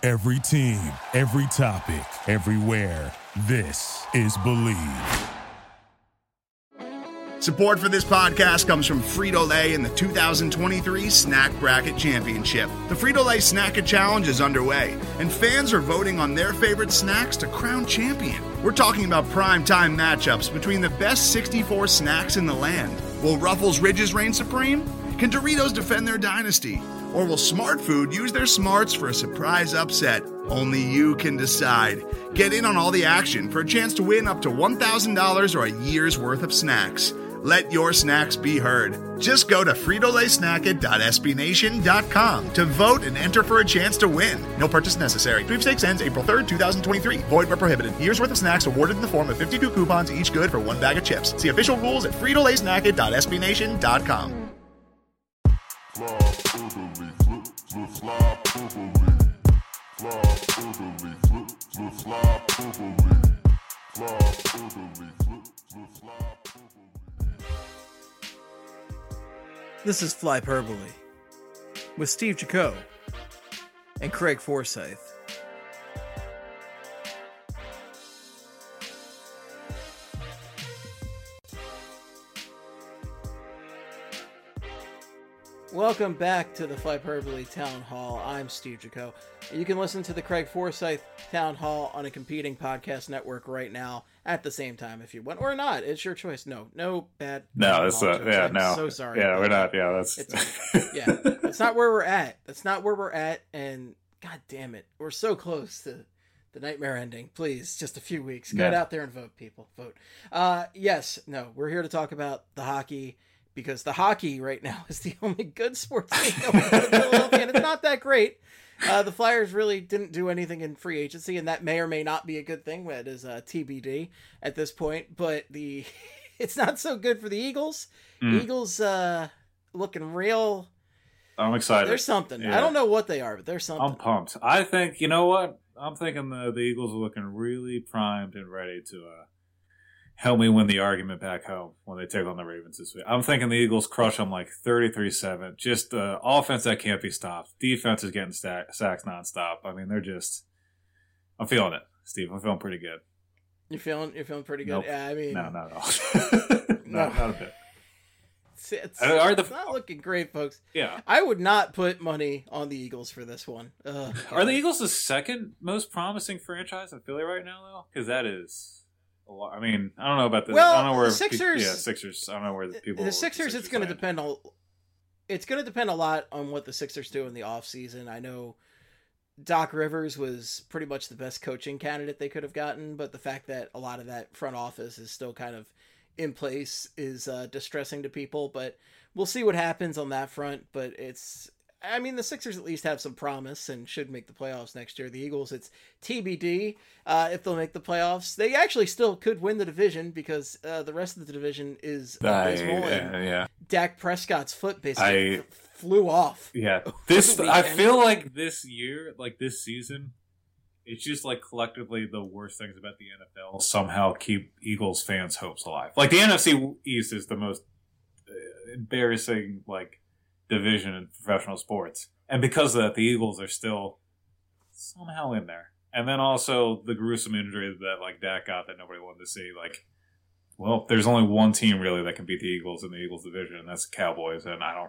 Every team, every topic, everywhere. This is Believe. Support for this podcast comes from Frito-Lay and the 2023 Snack Bracket Championship. The Frito-Lay Snack-It Challenge is underway, and fans are voting on their favorite snacks to crown champion. We're talking about prime-time matchups between the best 64 snacks in the land. Will Ruffles Ridges reign supreme? Can Doritos defend their dynasty? Or will Smart Food use their smarts for a surprise upset? Only you can decide. Get in on all the action for a chance to win up to $1,000 or a year's worth of snacks. Let your snacks be heard. Just go to fritolaysnacket.sbnation.com to vote and enter for a chance to win. No purchase necessary. Sweepstakes ends April 3rd, 2023. Void where prohibited. Year's worth of snacks awarded in the form of 52 coupons, each good for one bag of chips. See official rules at fritolaysnacket.sbnation.com. This is Flyperbole with Steve Jaco and Craig Forsyth. Welcome back to the Flyperbole Town Hall. I'm Steve Jaco. You can listen to the Craig Forsyth Town Hall on a competing podcast network right now at the same time if you want, or not. It's your choice. No bad. No, it's I'm no. so sorry. Yeah, we're not. Yeah, that's. That's not where we're at. That's not where we're at. And God damn it, we're so close to the nightmare ending. Please, just a few weeks. Get out there and vote, people. Vote. We're here to talk about the hockey. Because the hockey right now is the only good sports thing going on in Philadelphia, and it's not that great. The Flyers really didn't do anything in free agency, and that may or may not be a good thing. That is TBD at this point. But it's not so good for the Eagles. Eagles looking real. I'm excited. There's something. Yeah. I don't know what they are, but there's something. I'm pumped. I think, you know what? I'm thinking the Eagles are looking really primed and ready to help me win the argument back home when they take on the Ravens this week. I'm thinking the Eagles crush them like 33-7. Just offense that can't be stopped. Defense is getting sacks nonstop. I mean, I'm feeling it, Steve. I'm feeling pretty good. You're feeling pretty good? Nope. Yeah, I mean. No, not at all. No. Not a bit. It's not looking great, folks. Yeah. I would not put money on the Eagles for this one. Are the Eagles the second most promising franchise in Philly right now, though? Because that is... I mean, I don't know about the. Well, I don't know where the Sixers. Sixers. I don't know where the people. The Sixers. It's going to depend on. It's going to depend a lot on what the Sixers do in the offseason. I know Doc Rivers was pretty much the best coaching candidate they could have gotten, but the fact that a lot of that front office is still kind of in place is distressing to people. But we'll see what happens on that front. But I mean, the Sixers at least have some promise and should make the playoffs next year. The Eagles, it's TBD if they'll make the playoffs. They actually still could win the division because the rest of the division is abysmal. Yeah. Dak Prescott's foot basically flew off. Yeah. I feel like this year, like this season, it's just like collectively the worst things about the NFL somehow keep Eagles fans' hopes alive. Like the NFC East is the most embarrassing, like, division in professional sports, and because of that, the Eagles are still somehow in there. And then also the gruesome injury that like Dak got that nobody wanted to see. Like, well, there's only one team really that can beat the Eagles in the Eagles division, and that's the Cowboys. And I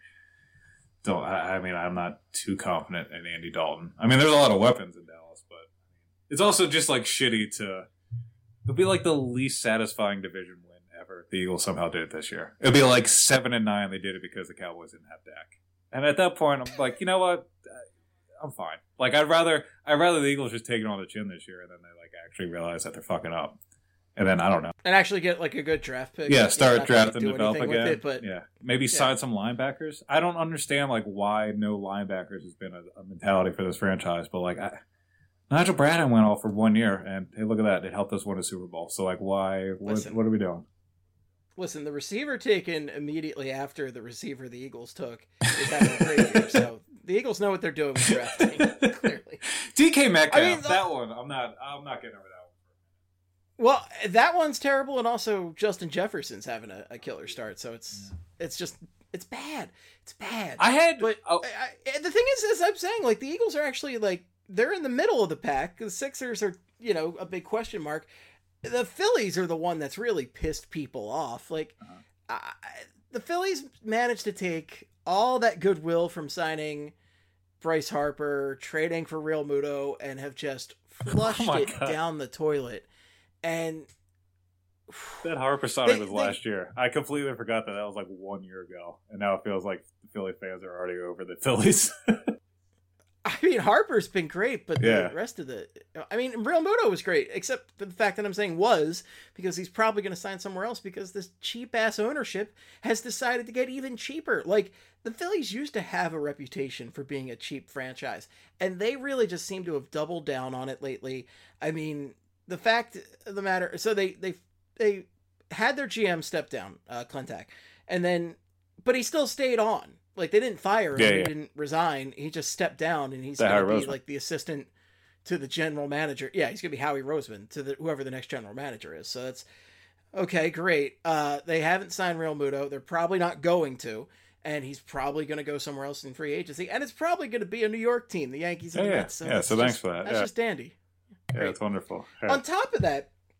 mean, I'm not too confident in Andy Dalton. I mean, there's a lot of weapons in Dallas, but it's also just like shitty to. It'd be like the least satisfying division win ever. The Eagles somehow did it this year. It'd be like 7-9. They did it because the Cowboys didn't have Dak. And at that point, I'm like, you know what? I'm fine. Like, I'd rather the Eagles just take it on the chin this year, and then they like actually realize that they're fucking up. And then I don't know. And actually get like a good draft pick. Yeah, start drafting and develop again. But maybe sign some linebackers. I don't understand like why no linebackers has been a mentality for this franchise, but like Nigel Bradham went off for 1 year, and hey, look at that. It helped us win a Super Bowl. So, like, why? What are we doing? Listen, the receiver taken immediately after the receiver the Eagles took is having a great year. So, the Eagles know what they're doing with drafting, clearly. DK Metcalf, that one, I'm not getting over that one. Well, that one's terrible, and also Justin Jefferson's having a killer start. So, it's bad. It's bad. The the thing is, as I'm saying, like, the Eagles are actually, like, they're in the middle of the pack. The Sixers are, a big question mark. The Phillies are the one that's really pissed people off. Like, the Phillies managed to take all that goodwill from signing Bryce Harper, trading for Real Muto, and have just flushed down the toilet. And that Harper signing was last year. I completely forgot that was like 1 year ago, and now it feels like the Philly fans are already over the Phillies. I mean, Harper's been great, but the rest of Real Muto was great, except for the fact that I'm saying was, because he's probably going to sign somewhere else because this cheap-ass ownership has decided to get even cheaper. Like, the Phillies used to have a reputation for being a cheap franchise, and they really just seem to have doubled down on it lately. I mean, the fact of the matter, so they had their GM step down, Klentak, but he still stayed on. Like, they didn't fire him. He didn't resign. He just stepped down, and he's going to be like the assistant to the general manager. Yeah, he's going to be Howie Roseman to whoever the next general manager is. So that's okay. Great. They haven't signed Real Muto. They're probably not going to, and he's probably going to go somewhere else in free agency. And it's probably going to be a New York team, the Yankees and the Mets. So so thanks for that. That's just dandy. Yeah, it's wonderful. Yeah. On top of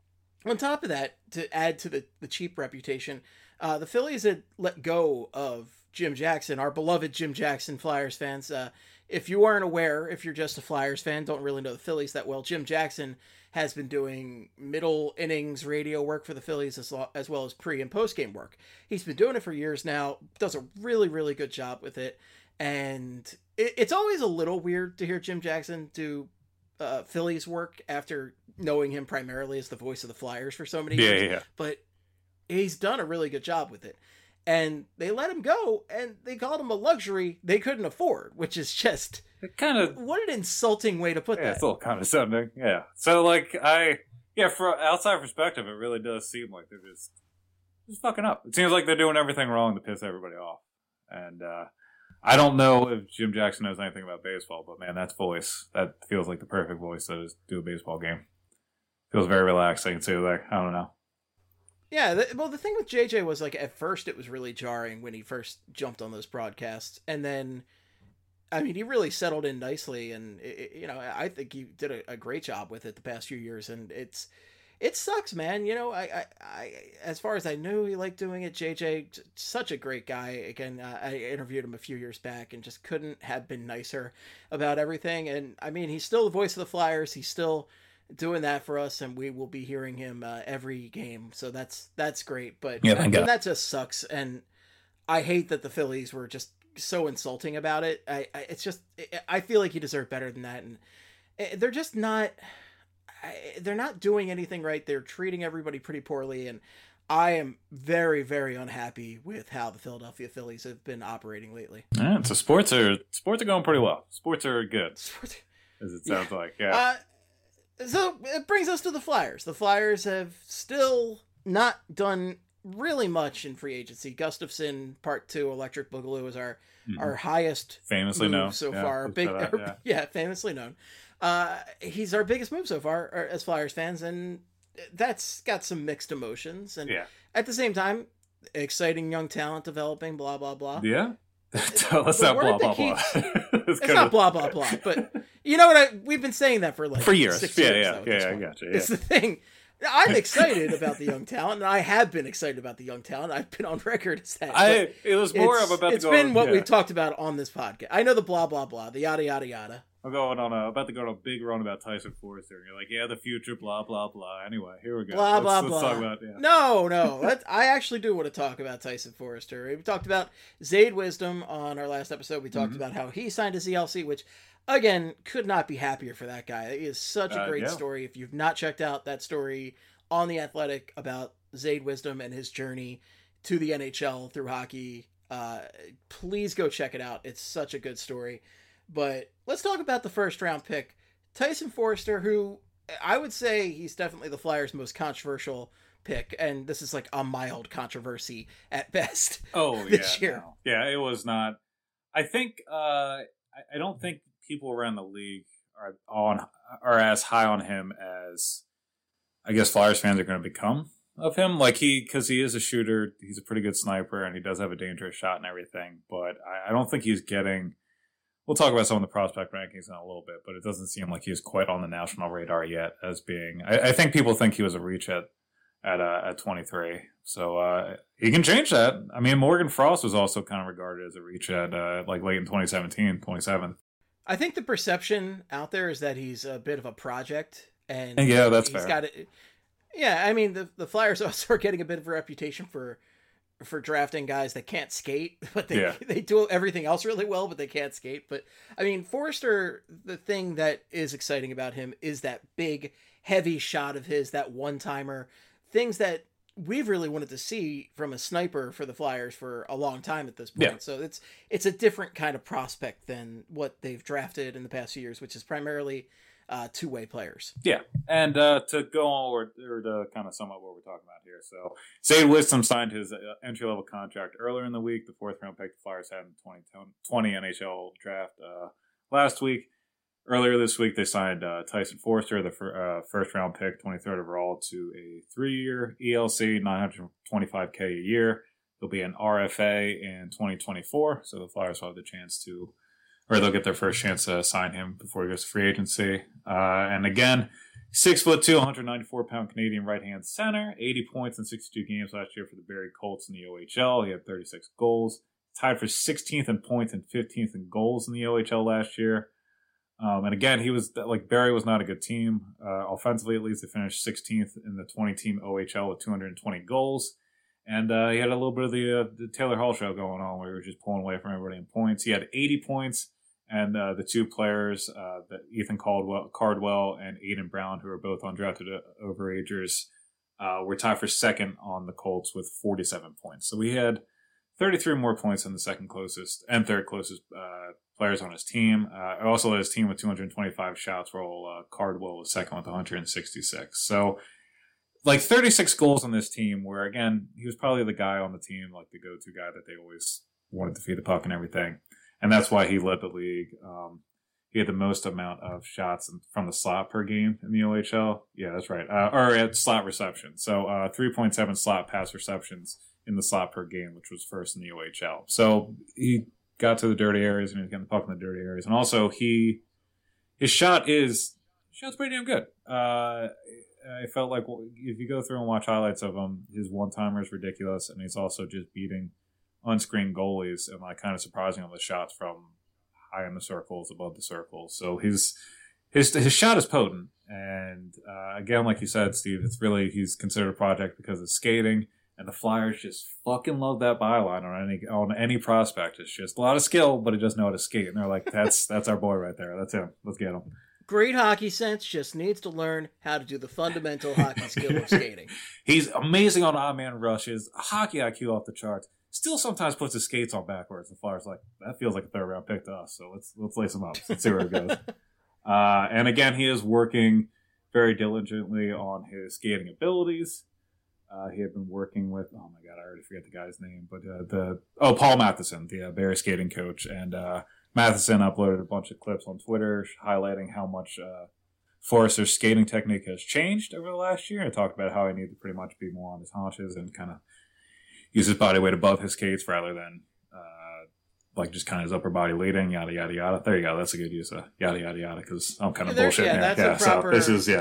that, to add to the cheap reputation, the Phillies had let go of Jim Jackson, our beloved Jim Jackson, Flyers fans. If you aren't aware, if you're just a Flyers fan, don't really know the Phillies that well, Jim Jackson has been doing middle innings radio work for the Phillies as well as pre- and post-game work. He's been doing it for years now, does a really, really good job with it. And it's always a little weird to hear Jim Jackson do Phillies work after knowing him primarily as the voice of the Flyers for so many years. Yeah. But he's done a really good job with it. And they let him go, and they called him a luxury they couldn't afford, which is just what an insulting way to put that. It's a little condescending. Yeah. So, like, for outside perspective, it really does seem like they're just fucking up. It seems like they're doing everything wrong to piss everybody off. And I don't know if Jim Jackson knows anything about baseball, but man, that feels like the perfect voice to do a baseball game. Feels very relaxing too. Like, I don't know. Yeah, the thing with JJ was, like, at first it was really jarring when he first jumped on those broadcasts, and then, I mean, he really settled in nicely, and I think he did a great job with it the past few years, and it sucks, man. I as far as I knew, he liked doing it. JJ, such a great guy. Again, I interviewed him a few years back, and just couldn't have been nicer about everything. And I mean, he's still the voice of the Flyers. He's still doing that for us, and we will be hearing him every game, so that's great. But that just sucks, and I hate that the Phillies were just so insulting about it. I feel like he deserved better than that, and they're just not. They're not doing anything right. They're treating everybody pretty poorly, and I am very, very unhappy with how the Philadelphia Phillies have been operating lately. Yeah, so sports are going pretty well. Sports are good, as it sounds like. Yeah. So it brings us to the Flyers. The Flyers have still not done really much in free agency. Gustafson Part 2 Electric Boogaloo is our highest famously known so far. Famously known. He's our biggest move so far as Flyers fans, and that's got some mixed emotions. And at the same time, exciting young talent developing, blah, blah, blah. Yeah. Let's not blah, blah, blah. It's not blah, blah, blah, but you know what? We've been saying that for years. 6 years. I got you. Yeah. It's the thing. I'm excited about the young talent, and I have been excited about the young talent. I've been on record as that. It was more of about it's been what we've talked about on this podcast. I know the blah, blah, blah, the yada, yada, yada. I'm about to go on a big run about Tyson Forrester. And you're like, yeah, the future, blah, blah, blah. Anyway, here we go. Blah, let's blah. Talk about, No. I actually do want to talk about Tyson Forrester. We talked about Zayd Wisdom on our last episode. We talked about how he signed his ELC, which, again, could not be happier for that guy. It is such a great story. If you've not checked out that story on The Athletic about Zayd Wisdom and his journey to the NHL through hockey, please go check it out. It's such a good story. But let's talk about the first round pick, Tyson Forrester, who I would say he's definitely the Flyers' most controversial pick. And this is like a mild controversy at best. This year. No. Yeah, it was not. I think, I don't think people around the league are as high on him as I guess Flyers fans are going to become of him. Like because he is a shooter, he's a pretty good sniper, and he does have a dangerous shot and everything. But I don't think he's getting we'll talk about some of the prospect rankings in a little bit, but it doesn't seem like he's quite on the national radar yet as being. I think people think he was a reach at 23. So he can change that. I mean, Morgan Frost was also kind of regarded as a reach at like late in 2017, 27th. I think the perception out there is that he's a bit of a project, and yeah, that's he's fair. got it. Yeah, I mean the Flyers also are getting a bit of a reputation for drafting guys that can't skate, but they do everything else really well, but they can't skate. But I mean, Forster, the thing that is exciting about him is that big, heavy shot of his, that one-timer, things that we've really wanted to see from a sniper for the Flyers for a long time at this point. Yeah. So it's a different kind of prospect than what they've drafted in the past few years, which is primarily two-way players. Yeah, and to go on or to kind of sum up what we're talking about here. So Zade Wisdom signed his entry-level contract earlier in the week, the fourth-round pick the Flyers had in the 2020 NHL draft last week. Earlier this week, they signed Tyson Forster, the first-round pick, 23rd overall, to a 3-year ELC, $925K a year. There'll be an RFA in 2024, so the Flyers will have the chance to, or they'll get their first chance to sign him before he goes to free agency. And again, 6'2", 194-pound Canadian right-hand center, 80 points in 62 games last year for the Barrie Colts in the OHL. He had 36 goals, tied for 16th in points and 15th in goals in the OHL last year. And again, he was like Barrie was not a good team. Offensively, at least, they finished 16th in the 20-team OHL with 220 goals. And he had a little bit of the Taylor Hall show going on where he was just pulling away from everybody in points. He had 80 points, and the two players, Ethan Cardwell and Aiden Brown, who are both undrafted overagers, were tied for second on the Colts with 47 points. So we had 33 more points than the second closest and third closest players on his team. Also led his team with 225 shots, while Cardwell was second with 166. So, like 36 goals on this team, where again, he was probably the guy on the team, like the go-to guy that they always wanted to feed the puck and everything. And that's why he led the league. He had the most amount of shots from the slot per game in the OHL. Yeah, that's right. Or at slot reception. So 3.7 slot pass receptions in the slot per game, which was first in the OHL. So he got to the dirty areas and he was getting the puck in the dirty areas. And also his shot's pretty damn good. I felt like if you go through and watch highlights of him, his one-timer is ridiculous, and he's also just beating unscreened goalies and like kind of surprising on the shots from high in the circles, above the circles. So his shot is potent, and again, like you said, Steve, he's considered a project because of skating. And the Flyers just fucking love that byline on any prospect. It's just a lot of skill, but he doesn't know how to skate. And they're like, that's our boy right there. That's him. Let's get him. Great hockey sense, just needs to learn how to do the fundamental hockey skill of skating. He's amazing on odd man rushes, hockey IQ off the charts. Still sometimes puts his skates on backwards. The Flyers like, that feels like a third round pick to us. So let's lace him up. Let's see where it goes. And again, he is working very diligently on his skating abilities. He had been working with, oh my God, I already forget the guy's name, but Paul Matheson, the Barrie skating coach. And Matheson uploaded a bunch of clips on Twitter highlighting how much Forrester's skating technique has changed over the last year. And talked about how he needed to pretty much be more on his haunches and kind of use his body weight above his skates rather than like just kind of his upper body leading, yada, yada, yada. There you go. That's a good use of yada, yada, yada, because I'm kind of bullshitting here. That's a proper... So this is,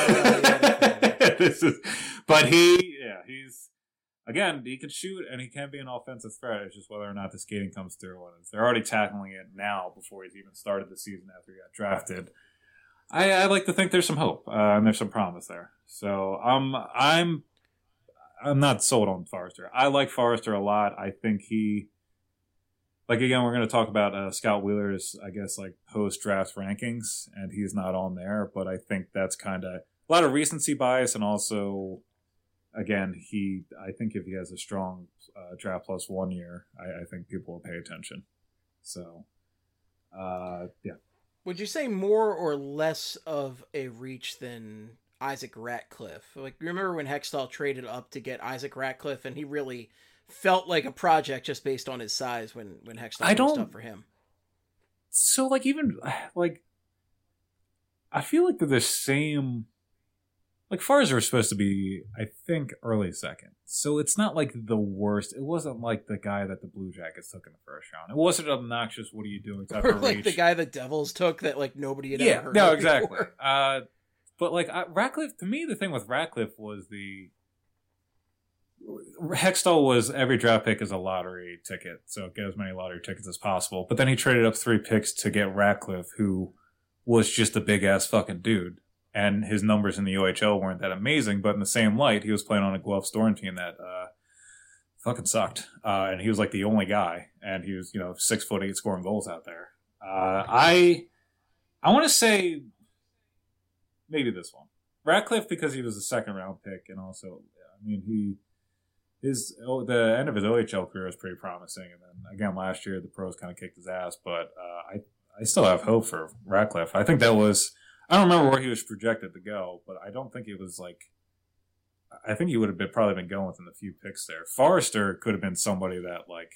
but he's, again, he can shoot and he can be an offensive threat. It's just whether or not the skating comes through. And they're already tackling it now before he's even started the season after he got drafted. I like to think there's some hope and there's some promise there. So I'm not sold on Forrester. I like Forrester a lot. I think again, we're going to talk about Scott Wheeler's, I guess, like post-draft rankings, and he's not on there. But I think that's kind of a lot of recency bias, and also, again, I think if he has a strong draft plus 1 year, I think people will pay attention. So, yeah. Would you say more or less of a reach than Isaac Ratcliffe? Like, remember when Hextall traded up to get Isaac Ratcliffe, and he really felt like a project just based on his size when Hextall was up for him. So, like, even, like, I feel like they're the same like Flyers were supposed to be, I think, early second. So it's not like the worst. It wasn't like the guy that the Blue Jackets took in the first round. It wasn't obnoxious, what are you doing type or of like reach. the guy the Devils took that like nobody had ever heard no, of exactly. before. But like Ratcliffe, to me, the thing with Ratcliffe was Hextall was every draft pick is a lottery ticket, so get as many lottery tickets as possible. But then he traded up 3 picks to get Ratcliffe, who was just a big ass fucking dude. And his numbers in the OHL weren't that amazing, but in the same light, he was playing on a Guelph Storm team that fucking sucked. And he was like the only guy, and he was 6'8" scoring goals out there. I want to say maybe this one, Ratcliffe, because he was a second round pick, and also the end of his OHL career was pretty promising, and then again last year the pros kind of kicked his ass. But I still have hope for Ratcliffe. I think that was. I don't remember where he was projected to go, but I don't think it was like. I think he would have probably been going within the few picks there. Forrester could have been somebody that, like.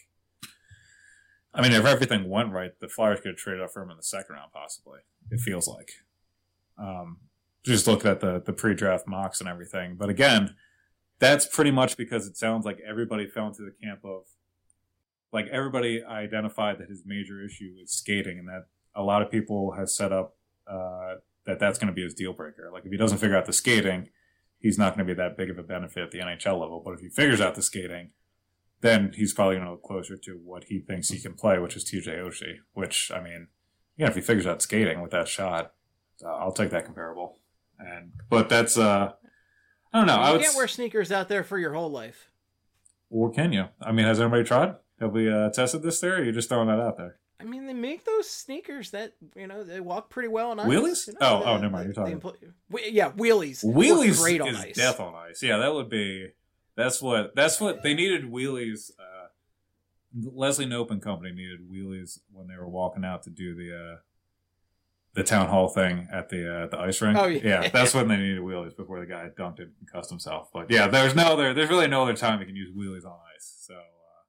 I mean, if everything went right, the Flyers could have traded up for him in the second round, possibly. It feels like. Just looking at the pre-draft mocks and everything. But again, that's pretty much because it sounds like everybody fell into the camp of. Like, everybody identified that his major issue is skating, and that a lot of people have set up. That's going to be his deal breaker. Like, if he doesn't figure out the skating, he's not going to be that big of a benefit at the NHL level. But if he figures out the skating, then he's probably going to look closer to what he thinks he can play, which is TJ Oshie. Which, I mean, if he figures out skating with that shot, I'll take that comparable. But that's, I don't know. You can't wear sneakers out there for your whole life. Or can you? I mean, has anybody tried? Have we tested this theory, or are you just throwing that out there? I mean, they make those sneakers that, they walk pretty well on ice. Wheelies? Never mind. You're talking. Wheelies. Wheelies great on is ice. death on ice. Yeah, that would be. That's what they needed. Wheelies. Leslie Knope and company needed wheelies when they were walking out to do the town hall thing at the ice rink. Oh yeah, that's when they needed wheelies before the guy dunked it and cussed himself. But yeah, there's really no other time you can use wheelies on ice. So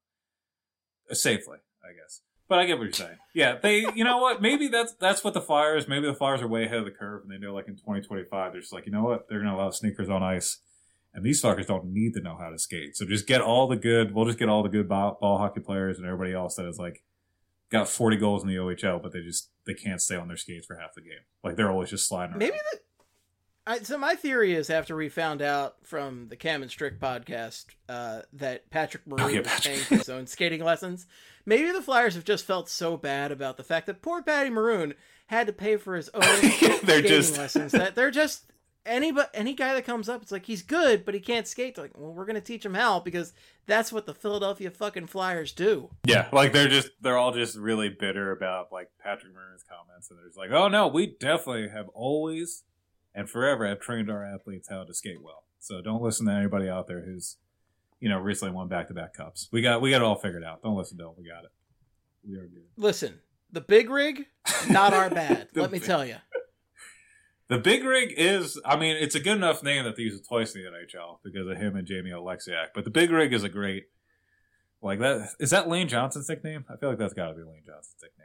safely, I guess. But I get what you're saying. Yeah, you know what? Maybe that's what the Flyers. Maybe the Flyers are way ahead of the curve, and they know, like in 2025, they're just like, you know what? They're going to allow sneakers on ice, and these fuckers don't need to know how to skate. So just get all the good. We'll just get all the good ball hockey players and everybody else that is like got 40 goals in the OHL, but they can't stay on their skates for half the game. Like they're always just sliding around. So my theory is, after we found out from the Cam and Strick podcast that Patrick Maroon was paying for his own skating lessons, maybe the Flyers have just felt so bad about the fact that poor Patty Maroon had to pay for his own skating lessons that they're just any guy that comes up, it's like he's good, but he can't skate. They're like, well, we're gonna teach him how, because that's what the Philadelphia fucking Flyers do. Yeah, like they're all just really bitter about like Patrick Maroon's comments, and they're just like, oh no, we definitely have always and forever have trained our athletes how to skate well. So don't listen to anybody out there who's, recently won back-to-back cups. We got it all figured out. Don't listen to them. We got it. We are good. Listen, the Big Rig, not our bad. Let me tell you. The Big Rig is, it's a good enough name that they use it twice in the NHL because of him and Jamie Oleksiak. But the Big Rig is a great, like that. Is that Lane Johnson's nickname? I feel like that's got to be Lane Johnson's nickname.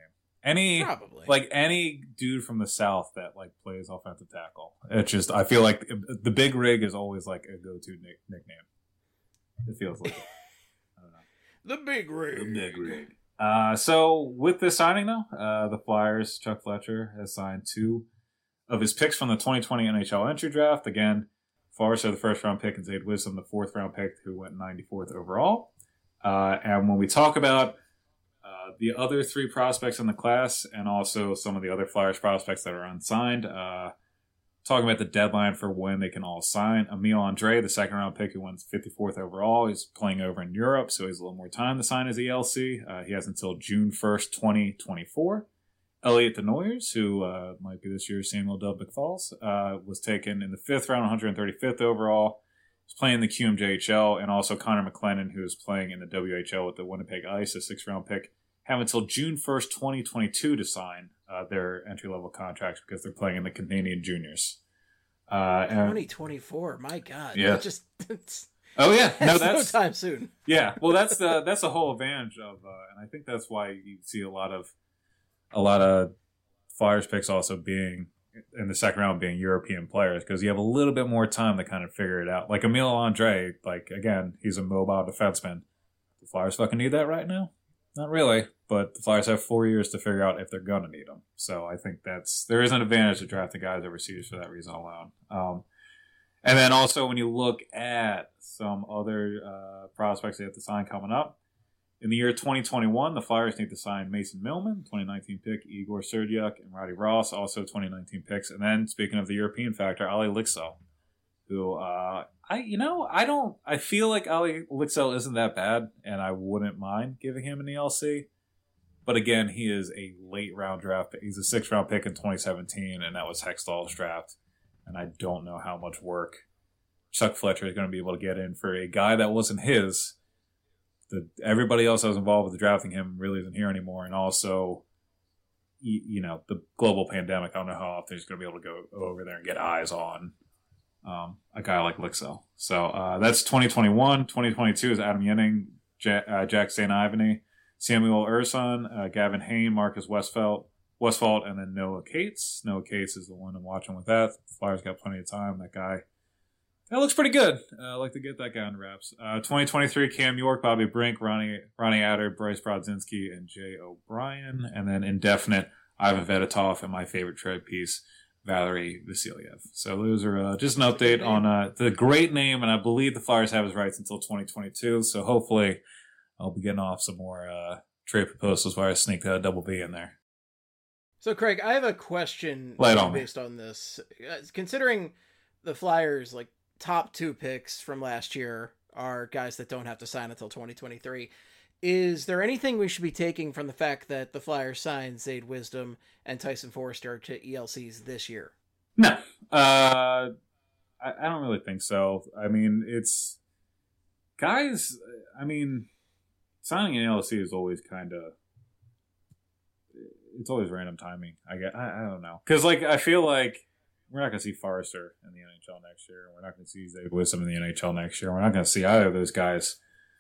Any dude from the South that like plays offensive tackle. It's just, I feel like the Big Rig is always like a go-to nickname. It feels like it. I don't know. The Big Rig. The Big Rig. So with this signing though, the Flyers, Chuck Fletcher has signed 2 of his picks from the 2020 NHL entry draft. Again, Forrester, the first round pick, and Zade Wisdom, the 4th round pick, who went 94th overall. And when we talk about the other 3 prospects in the class, and also some of the other Flyers prospects that are unsigned, talking about the deadline for when they can all sign. Emil Andre, the 2nd round pick, who went 54th overall, is playing over in Europe, so he has a little more time to sign his ELC. He has until June 1st, 2024. Elliot Denoyers, who might be this year's Samuel Dub McFalls, was taken in the 5th round, 135th overall. He's playing the QMJHL, and also Connor McLennan, who is playing in the WHL with the Winnipeg Ice, a 6th round pick, have until June 1st, 2022 to sign their entry-level contracts because they're playing in the Canadian Juniors. 2024, my God. Yeah. Oh, yeah. No, that's no time soon. Yeah. Well, that's the whole advantage of, and I think that's why you see a lot of Flyers picks also being in the second round being European players, because you have a little bit more time to kind of figure it out. Like Emile Andre, like, again, he's a mobile defenseman. The Flyers fucking need that right now? Not really, but the Flyers have 4 years to figure out if they're going to need them. So I think there is an advantage to drafting guys overseas for that reason alone. And then also when you look at some other prospects they have to sign coming up, in the year 2021, the Flyers need to sign Mason Millman, 2019 pick, Igor Serdyuk, and Roddy Ross, also 2019 picks. And then, speaking of the European factor, Ali Lixo, who I feel like Ali Lixo isn't that bad, and I wouldn't mind giving him an ELC. But again, he is a late round draft pick. He's a 6th round pick in 2017, and that was Hextall's draft. And I don't know how much work Chuck Fletcher is going to be able to get in for a guy that wasn't his. Everybody else that was involved with drafting him really isn't here anymore. And also, the global pandemic, I don't know how often he's going to be able to go over there and get eyes on a guy like Lixo. So that's 2021. 2022 is Adam Yenning, Jack St. Ivany, Samuel Urson, Gavin Hayne, Marcus Westphalt, and then Noah Cates. Noah Cates is the one I'm watching with that. The Flyers got plenty of time. That guy, that looks pretty good. I like to get that guy on wraps. 2023, Cam York, Bobby Brink, Ronnie Adder, Bryce Brodzinski, and Jay O'Brien. And then indefinite, Ivan Vedotov, and my favorite trade piece, Valery Vasilyev. So those are just an update on the great name, and I believe the Flyers have his rights until 2022. So hopefully I'll be getting off some more trade proposals where I sneak that double B in there. So Craig, I have a question based on this. Considering the Flyers, like, top 2 picks from last year are guys that don't have to sign until 2023. Is there anything we should be taking from the fact that the Flyers signed Zayde Wisdom and Tyson Forster to ELCs this year? No. I don't really think so. I mean, it's... Guys, I mean, signing an ELC is always kind of... It's always random timing. I don't know. Because, like, I feel like we're not going to see Forrester in the NHL next year. We're not going to see Zayde Wisdom in the NHL next year. We're not going to see either of those guys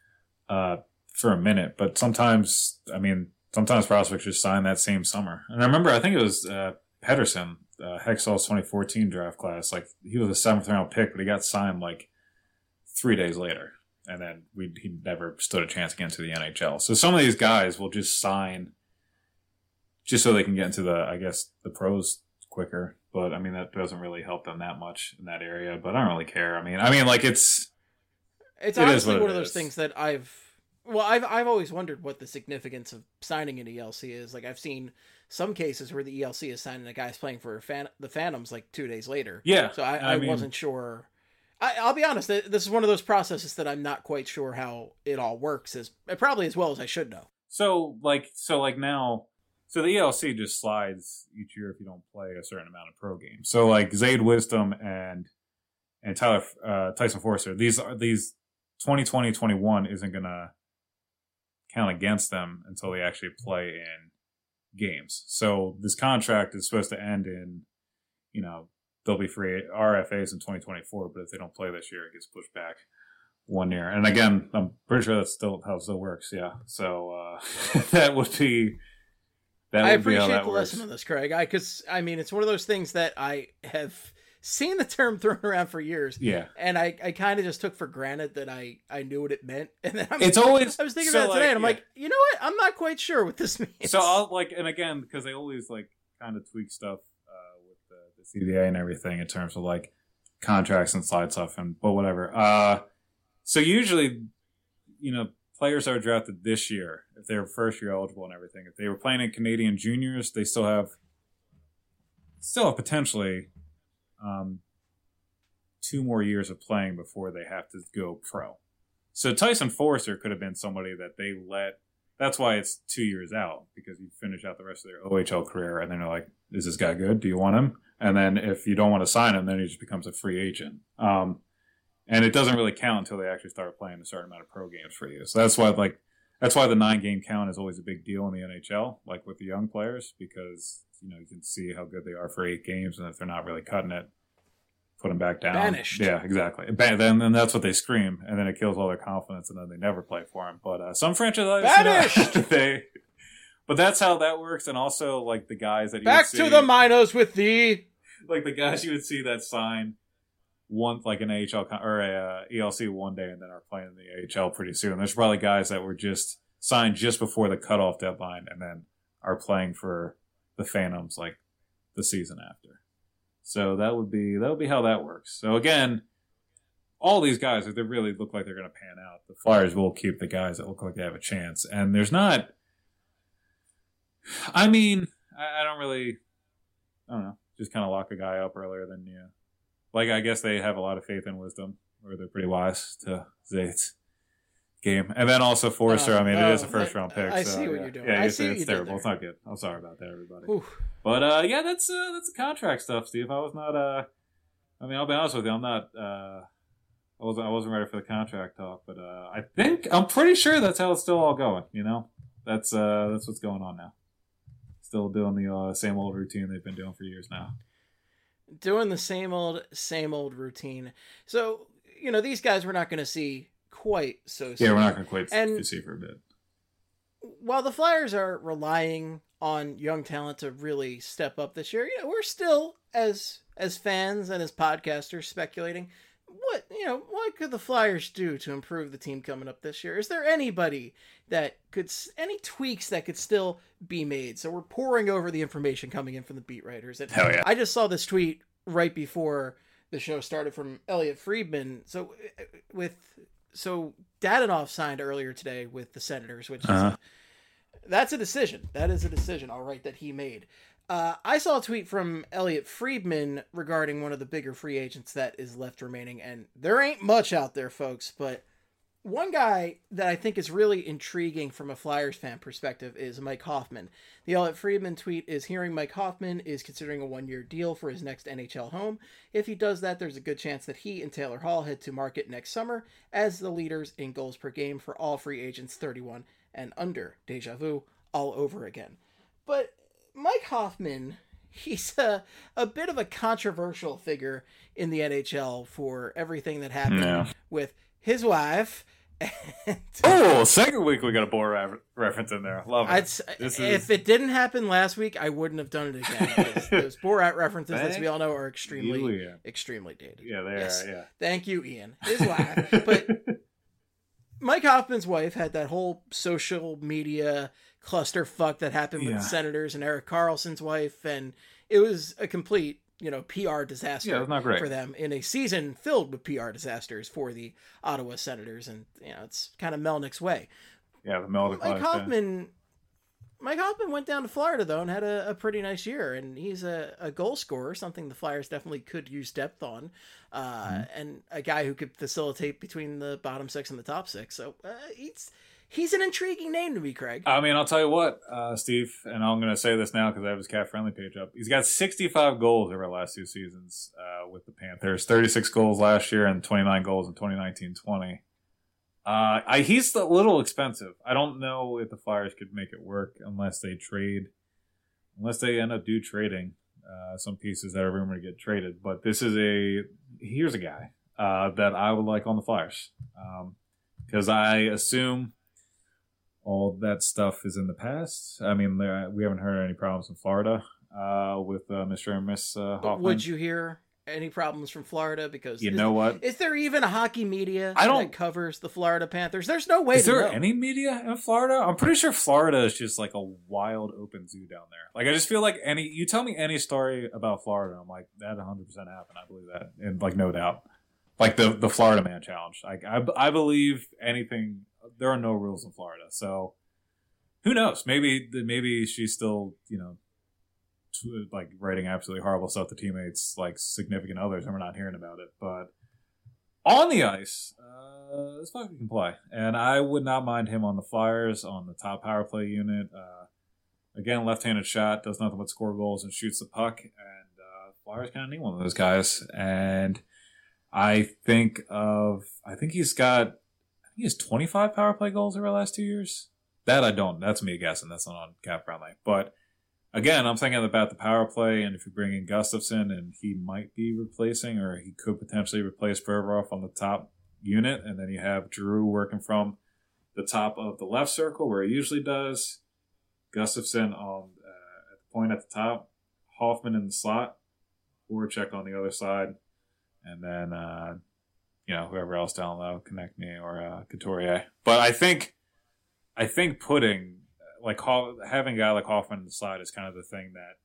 for a minute. But sometimes prospects just sign that same summer. And I remember, I think it was Pedersen, Hextall's 2014 draft class. Like, he was a 7th round pick, but he got signed like 3 days later. And then he never stood a chance again to the NHL. So some of these guys will just sign just so they can get into the pros quicker. But I mean, that doesn't really help them that much in that area. But I don't really care. I mean, like it's honestly one of those things that I've always wondered what the significance of signing an ELC is. Like, I've seen some cases where the ELC is signed and a guy's playing for the Phantoms like 2 days later. Yeah. So I wasn't sure. I'll be honest. This is one of those processes that I'm not quite sure how it all works. Probably as well as I should know. So the ELC just slides each year if you don't play a certain amount of pro games. So like Zayde Wisdom and Tyson Forster, these 2020-21 isn't gonna count against them until they actually play in games. So this contract is supposed to end in, they'll be free RFAs in 2024, but if they don't play this year, it gets pushed back 1 year. And again, I'm pretty sure that's still how it still works. Yeah. So that would be. I appreciate the lesson on this, Craig. Because it's one of those things that I have seen the term thrown around for years. Yeah. And I kind of just took for granted that I knew what it meant. And then I was thinking about it today, and I'm like, you know what? I'm not quite sure what this means. So I'll and again, because they always kind of tweak stuff with the CBA and everything in terms of contracts and slide stuff, but whatever. So usually, players that are drafted this year, if they're first year eligible and everything, if they were playing in Canadian juniors, they still have potentially 2 more years of playing before they have to go pro. So Tyson Forster could have been somebody that they let. That's why it's 2 years out, because you finish out the rest of their OHL career, and then they're like, "Is this guy good? Do you want him?" And then if you don't want to sign him, then he just becomes a free agent. And it doesn't really count until they actually start playing a certain amount of pro games for you. So that's why the 9-game count is always a big deal in the NHL, like with the young players, because you can see how good they are for 8 games, and if they're not really cutting it, put them back down. Banished. Yeah, exactly. Then that's what they scream, and then it kills all their confidence, and then they never play for him. But some franchises, banished. But that's how that works, and also the guys that back to the minors with the like the guys you would see that sign one like an AHL or a ELC one day and then are playing in the AHL pretty soon. There's probably guys that were just signed just before the cutoff deadline and then are playing for the Phantoms like the season after. So that would be how that works. So again, all these guys, if they really look like they're going to pan out, the Flyers will keep the guys that look like they have a chance. And there's not. I mean, I don't know. Just kind of lock a guy up earlier than you. Like, I guess they have a lot of faith in Wisdom, or they're pretty wise to Zait's game. And then also Forster, it is a first-round pick. I see what you're doing. Yeah, I see it's what you terrible. did there. It's not good. I'm sorry about that, everybody. Oof. But, that's the contract stuff, Steve. I was not, I'll be honest with you, I'm not, I wasn't ready for the contract talk, but I'm pretty sure that's how it's still all going, you know? That's what's going on now. Still doing the same old routine they've been doing for years now. Doing the same old routine. So, these guys we're not going to see quite so soon. Yeah, we're not going to quite see for a bit. While the Flyers are relying on young talent to really step up this year, we're still, as fans and as podcasters, speculating, what could the Flyers do to improve the team coming up this year? Is there anybody any tweaks that could still be made? So we're pouring over the information coming in from the beat writers. And hell yeah. I just saw this tweet right before the show started from Elliot Friedman. So Dadonov signed earlier today with the Senators, which is that's a decision. That is a decision, all right, that he made. I saw a tweet from Elliot Friedman regarding one of the bigger free agents that is left remaining, and there ain't much out there, folks, but one guy that I think is really intriguing from a Flyers fan perspective is Mike Hoffman. The Elliot Friedman tweet is hearing Mike Hoffman is considering a 1-year deal for his next NHL home. If he does that, there's a good chance that he and Taylor Hall head to market next summer as the leaders in goals per game for all free agents 31 and under. Deja vu all over again. But Mike Hoffman, he's a bit of a controversial figure in the NHL for everything that happened with his wife. Second week we got a Borat reference in there. Love it. If it didn't happen last week, I wouldn't have done it again. Those Borat references, as we all know, are extremely dated. Yeah, they are. Yeah. Thank you, Ian. His wife, but Mike Hoffman's wife had that whole social media clusterfuck that happened with the Senators and Erik Karlsson's wife, and it was a complete PR disaster it was not great for them in a season filled with PR disasters for the Ottawa Senators, and it's kind of Melnick's way. Yeah, the Melnick Mike Hoffman went down to Florida though and had a pretty nice year, and he's a goal scorer, something the Flyers definitely could use depth on, and a guy who could facilitate between the bottom six and the top six. So he's an intriguing name to me, Craig. I'll tell you what, Steve, and I'm going to say this now because I have his Cat Friendly page up. He's got 65 goals over the last 2 seasons with the Panthers. 36 goals last year and 29 goals in 2019-20. He's a little expensive. I don't know if the Flyers could make it work unless they end up trading some pieces that are rumored to get traded. But here's a guy that I would like on the Flyers because I assume all that stuff is in the past. I mean, we haven't heard any problems in Florida with Mr. and Miss Hoffman. Would you hear any problems from Florida? Because what? Is there even a hockey media that covers the Florida Panthers? There's no way to know. Is there any media in Florida? I'm pretty sure Florida is just like a wild open zoo down there. Like, I just feel like you tell me any story about Florida, I'm like, that 100% happened. I believe that. And like, no doubt. Like the Florida Man Challenge. Like, I believe anything. There are no rules in Florida. So who knows? Maybe she's still, like writing absolutely horrible stuff to teammates, like significant others, and we're not hearing about it. But on the ice, this fucker can play, and I would not mind him on the Flyers on the top power play unit. Again, left-handed shot, does nothing but score goals and shoots the puck, and Flyers kind of need one of those guys. And I think he has 25 power play goals over the last 2 years. That I don't. That's me guessing. That's not on Cap Friendly. But again, I'm thinking about the power play, and if you bring in Gustafsson, and he might be replacing, or he could potentially replace Provorov on the top unit, and then you have Giroux working from the top of the left circle where he usually does, Gustafsson at the point at the top, Hoffman in the slot. Voracek on the other side, and then whoever else down low, Konechny or Couturier. But I think putting having a guy like Hoffman on the side is kind of the thing that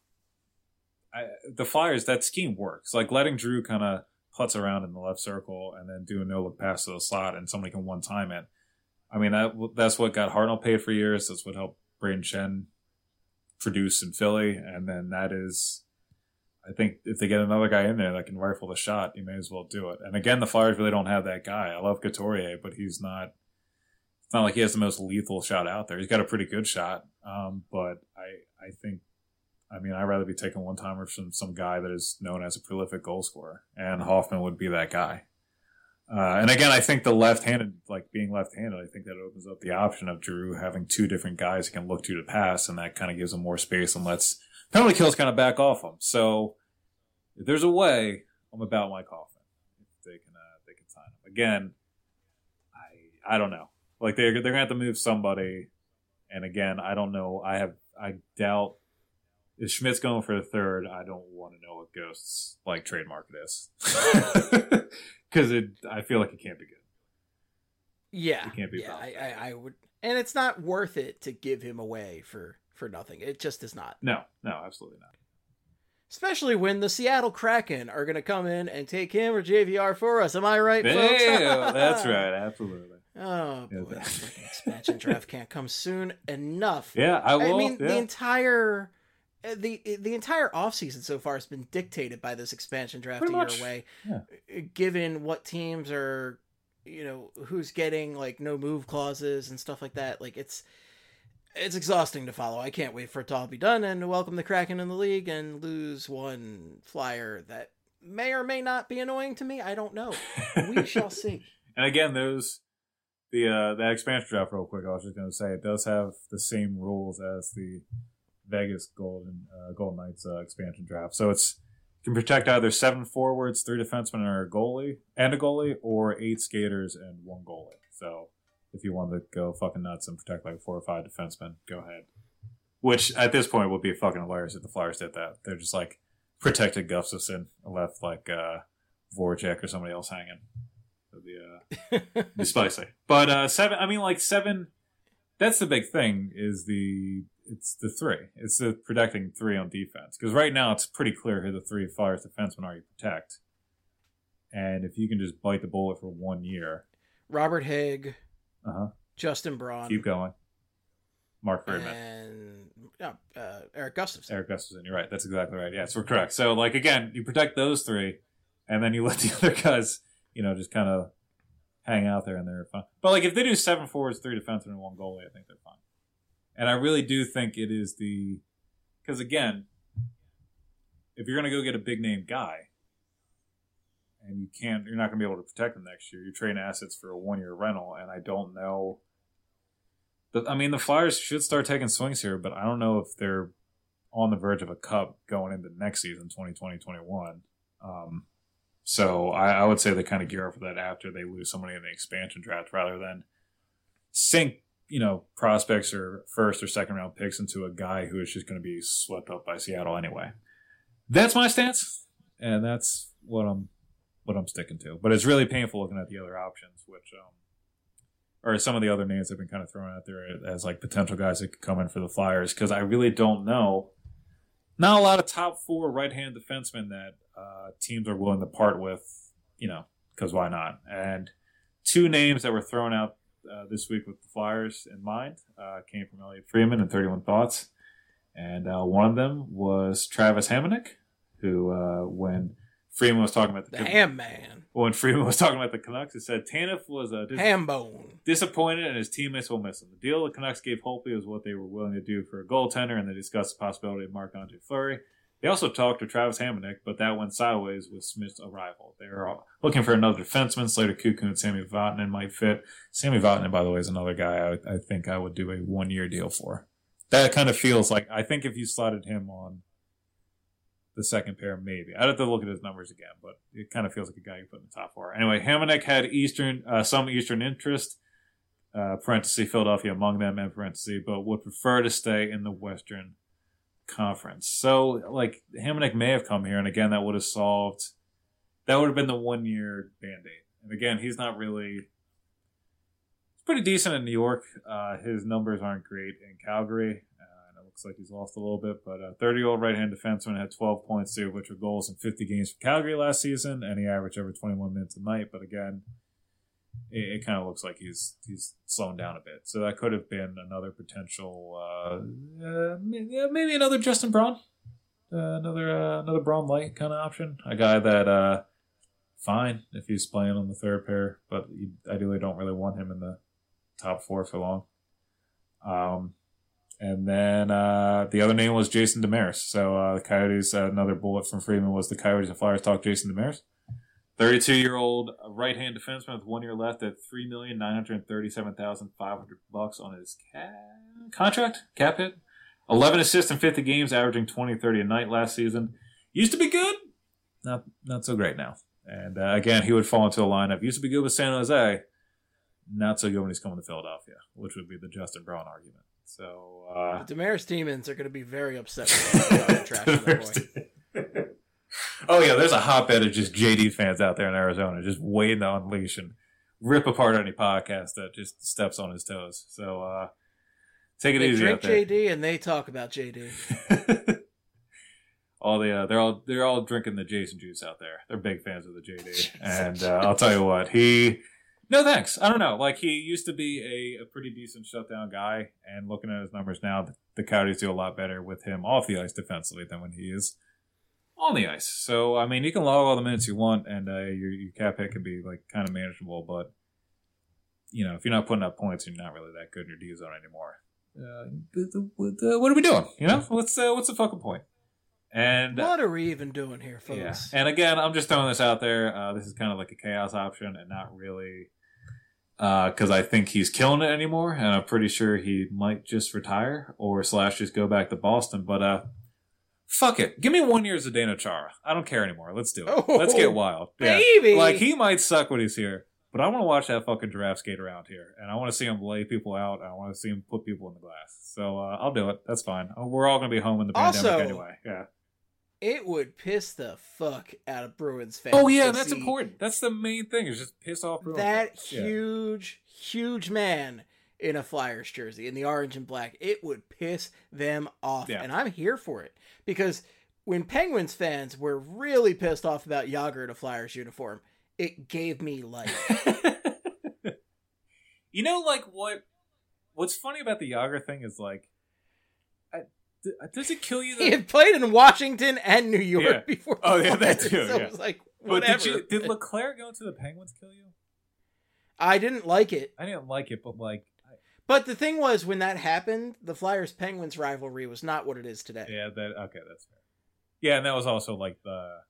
the Flyers, that scheme works. Like letting Drew kind of putz around in the left circle and then do a no look pass to the slot, and somebody can one time it. I mean, that's what got Hartnell paid for years. That's what helped Braden Shen produce in Philly. And then that is, I think if they get another guy in there that can rifle the shot, you may as well do it. And again, the Flyers really don't have that guy. I love Couturier, but it's not like he has the most lethal shot out there. He's got a pretty good shot. But I think, I'd rather be taking one-timer from some guy that is known as a prolific goal scorer. And Hoffman would be that guy. And again, I think being left-handed, I think that opens up the option of Drew having two different guys he can look to pass, and that kind of gives him more space and lets penalty kills kind of back off him. So if there's a way, I'm about Mike Hoffman. If they can sign him. Again, I don't know. Like they're gonna have to move somebody, and again, I don't know. I doubt if Schmidt's going for the third. I don't want to know what Ghost's trade market is. Because I feel like it can't be good. Yeah, it can't be. Yeah, I would, and it's not worth it to give him away for nothing. It just is not. No, absolutely not. Especially when the Seattle Kraken are going to come in and take him or JVR for us. Am I right, folks? Yeah, that's right. Absolutely. Oh boy, that fucking expansion draft can't come soon enough. Yeah, I will. The entire. The entire offseason so far has been dictated by this expansion draft a year away, given what teams are, who's getting no move clauses and stuff like that. It's exhausting to follow. I can't wait for it to all be done and to welcome the Kraken in the league and lose one Flyer that may or may not be annoying to me. I don't know. We shall see. And again, the expansion draft, real quick, I was just going to say, it does have the same rules as the Vegas Golden Knights expansion draft. So you can protect either 7 forwards, 3 defensemen, and a goalie, or 8 skaters and 1 goalie. So if you want to go fucking nuts and protect 4 or 5 defensemen, go ahead. Which at this point would be fucking hilarious if the Flyers did that. They're just protected Gustafsson and left Voracek or somebody else hanging. It'd be spicy. But 7. That's the big thing. It's the 3. It's the protecting 3 on defense. Because right now it's pretty clear who the 3 Flyers defensemen are you protect. And if you can just bite the bullet for 1 year. Robert Haig. Justin Braun. Keep going. Mark Friedman. And Eric Gustafsson. Eric Gustafsson, you're right. That's exactly right. Yes, we're correct. So, again, you protect those 3, and then you let the other guys, just kind of hang out there and they're fine. But, if they do 7 forwards, 3 defensemen, and 1 goalie, I think they're fine. And I really do think it is because again, if you're going to go get a big name guy and you're not going to be able to protect him next year, you're trading assets for a 1-year rental. And I don't know. The Flyers should start taking swings here, but I don't know if they're on the verge of a cup going into next season, 2020-21. So I would say they kind of gear up for that after they lose somebody in the expansion draft rather than sink prospects or first or second round picks into a guy who is just going to be swept up by Seattle anyway. That's my stance, and that's what I'm sticking to. But it's really painful looking at the other options, which or some of the other names that have been kind of thrown out there as potential guys that could come in for the Flyers, because I really don't know. Not a lot of top 4 right-hand defensemen that teams are willing to part with, because why not? And 2 names that were thrown out this week with the Flyers in mind came from Elliot Friedman and 31 Thoughts. And one of them was Travis Hamonic, who when Friedman was talking about the Ham Man. When Friedman was talking about the Canucks, he said Tanev was Hambone. Disappointed and his teammates will miss him. The deal the Canucks gave Holtby was what they were willing to do for a goaltender, and they discussed the possibility of Marc-Andre Fleury. They also talked to Travis Hamonic, but that went sideways with Smith's arrival. They were looking for another defenseman. Slater Koekkoek and Sami Vatanen might fit. Sami Vatanen, by the way, is another guy I think I would do a 1-year deal for. That kind of feels like, I think if you slotted him on the second pair, maybe. I'd have to look at his numbers again, but it kind of feels like a guy you put in the top 4. Anyway, Hamonic had some Eastern interest, parenthesis, Philadelphia among them, end parenthesis, but would prefer to stay in the Western conference. So, like, Hamonic may have come here, and again, that would have been the 1 year Band-Aid. And again, he's not really, he's pretty decent in New York. His numbers aren't great in Calgary. And it looks like he's lost a little bit, but a 30-year-old right-hand defenseman had 12 points, 2 of which were goals in 50 games for Calgary last season, and he averaged over 21 minutes a night. But again, it kind of looks like he's slowing down a bit. So that could have been another potential, maybe another Justin Braun, another Braun light kind of option. A guy that fine if he's playing on the third pair, but you ideally don't really want him in the top 4 for long. And then the other name was Jason Demers. So the Coyotes, another bullet from Freeman was the Coyotes and Flyers talk Jason Demers. 32-year-old right-hand defenseman with 1 year left at $3,937,500 on his contract, cap hit. 11 assists in 50 games, averaging 20-30 a night last season. Used to be good, not so great now. And again, he would fall into the lineup. Used to be good with San Jose, not so good when he's coming to Philadelphia, which would be the Justin Braun argument. So the Demers demons are going to be very upset with that trash that boy. Oh, yeah, there's a hotbed of just JD fans out there in Arizona just waiting to unleash and rip apart any podcast that just steps on his toes. So take it easy out there. They drink JD and they talk about JD. They're all drinking the Jason juice out there. They're big fans of the JD. And I'll tell you what, no thanks. I don't know. Like, he used to be a pretty decent shutdown guy, and looking at his numbers now, the Coyotes do a lot better with him off the ice defensively than when he is on the ice. So, I mean, you can log all the minutes you want, and your cap hit can be, like, kind of manageable, but, you know, if you're not putting up points, you're not really that good in your D zone anymore. What are we doing? You know? What's the fucking point? And what are we even doing here, folks? Yeah. And again, I'm just throwing this out there. This is kind of like a chaos option and not really because I think he's killing it anymore, and I'm pretty sure he might just retire or / just go back to Boston. But fuck it. Give me 1 year as Zdeno Chara. I don't care anymore. Let's do it. Let's get wild. Baby! Yeah. Like, he might suck when he's here, but I want to watch that fucking giraffe skate around here, and I want to see him lay people out, and I want to see him put people in the glass. So I'll do it. That's fine. We're all going to be home in the pandemic anyway. Yeah. It would piss the fuck out of Bruins fans. Oh, yeah, that's important. That's the main thing, is just piss off Bruins fans. Huge man in a Flyers jersey, in the orange and black. It would piss them off. Yeah. And I'm here for it. Because when Penguins fans were really pissed off about Jágr in a Flyers uniform, it gave me life. You know, like, what's funny about the Jágr thing is, like, does it kill you? He had played in Washington and New York before. Oh, yeah, that too. So it was like, whatever. But did Leclerc go to the Penguins kill you? I didn't like it. I didn't like it, but like... But the thing was, when that happened, the Flyers-Penguins rivalry was not what it is today. Yeah, okay, that's fair. Yeah, and that was also like that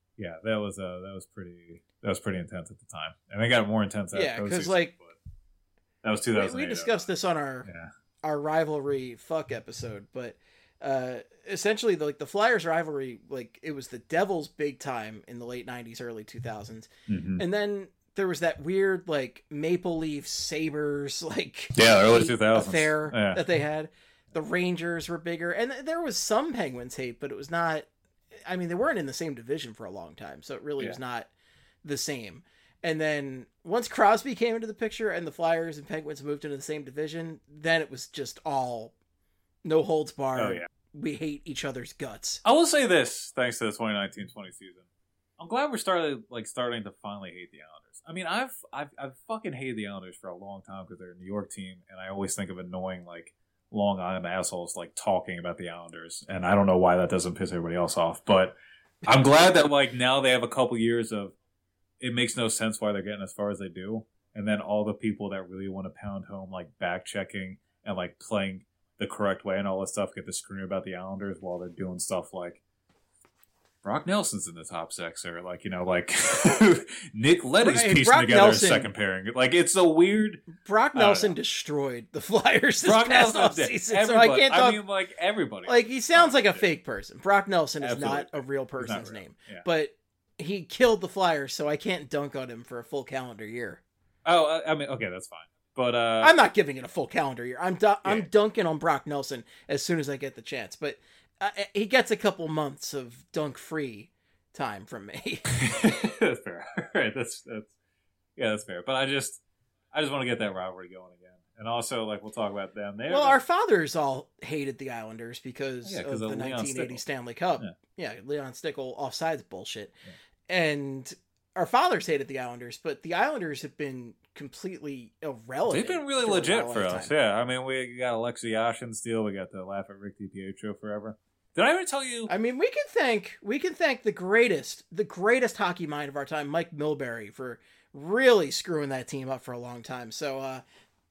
was pretty intense at the time. And it got more intense after. Yeah, because like... That was 2008. We discussed this on our rivalry fuck episode, but... essentially, the Flyers rivalry, like, it was the Devils big time in the late 90s, early 2000s. Mm-hmm. And then there was that weird, like, Maple Leaf Sabres, like, early 2000s affair that they had. The Rangers were bigger. And there was some Penguins hate, but it was not, I mean, they weren't in the same division for a long time, so it really was not the same. And then once Crosby came into the picture and the Flyers and Penguins moved into the same division, then it was just all no holds barred. Oh, yeah. We hate each other's guts. I will say this, thanks to the 2019-20 season. I'm glad we're starting to finally hate the Islanders. I mean, I've fucking hated the Islanders for a long time because they're a New York team, and I always think of annoying, like, Long Island assholes, like, talking about the Islanders, and I don't know why that doesn't piss everybody else off, but I'm glad that, like, now they have a couple years of it makes no sense why they're getting as far as they do, and then all the people that really want to pound home, like, back-checking and, like, playing the correct way and all this stuff get to scream about the Islanders while they're doing stuff like Brock Nelson's in the top six, or like, you know, like Nick Leddy's piecing Brock together Nelson, a second pairing. Like, it's a weird. Brock Nelson destroyed the Flyers this past offseason, so I can't talk. I mean, like, everybody. Like, he sounds like a fake person. Brock Nelson is not a real person's name, but he killed the Flyers, so I can't dunk on him for a full calendar year. Oh, I mean, okay, that's fine. But I'm not giving it a full calendar year. I'm dunking on Brock Nelson as soon as I get the chance. But he gets a couple months of dunk-free time from me. That's fair. All right, that's fair. But I just want to get that rivalry going again. And also, like, we'll talk about them. Our fathers all hated the Islanders because of the Leon 1980 Stickle. Stanley Cup. Yeah. Leon Stickle offsides bullshit. Yeah. And our fathers hated the Islanders, but the Islanders have been completely irrelevant. They've been really legit for us. Yeah, I mean, we got Alexei Yashin still. We got the laugh at Rick DiPietro forever. Did I ever tell you? I mean, we can thank the greatest hockey mind of our time, Mike Milbury, for really screwing that team up for a long time. So,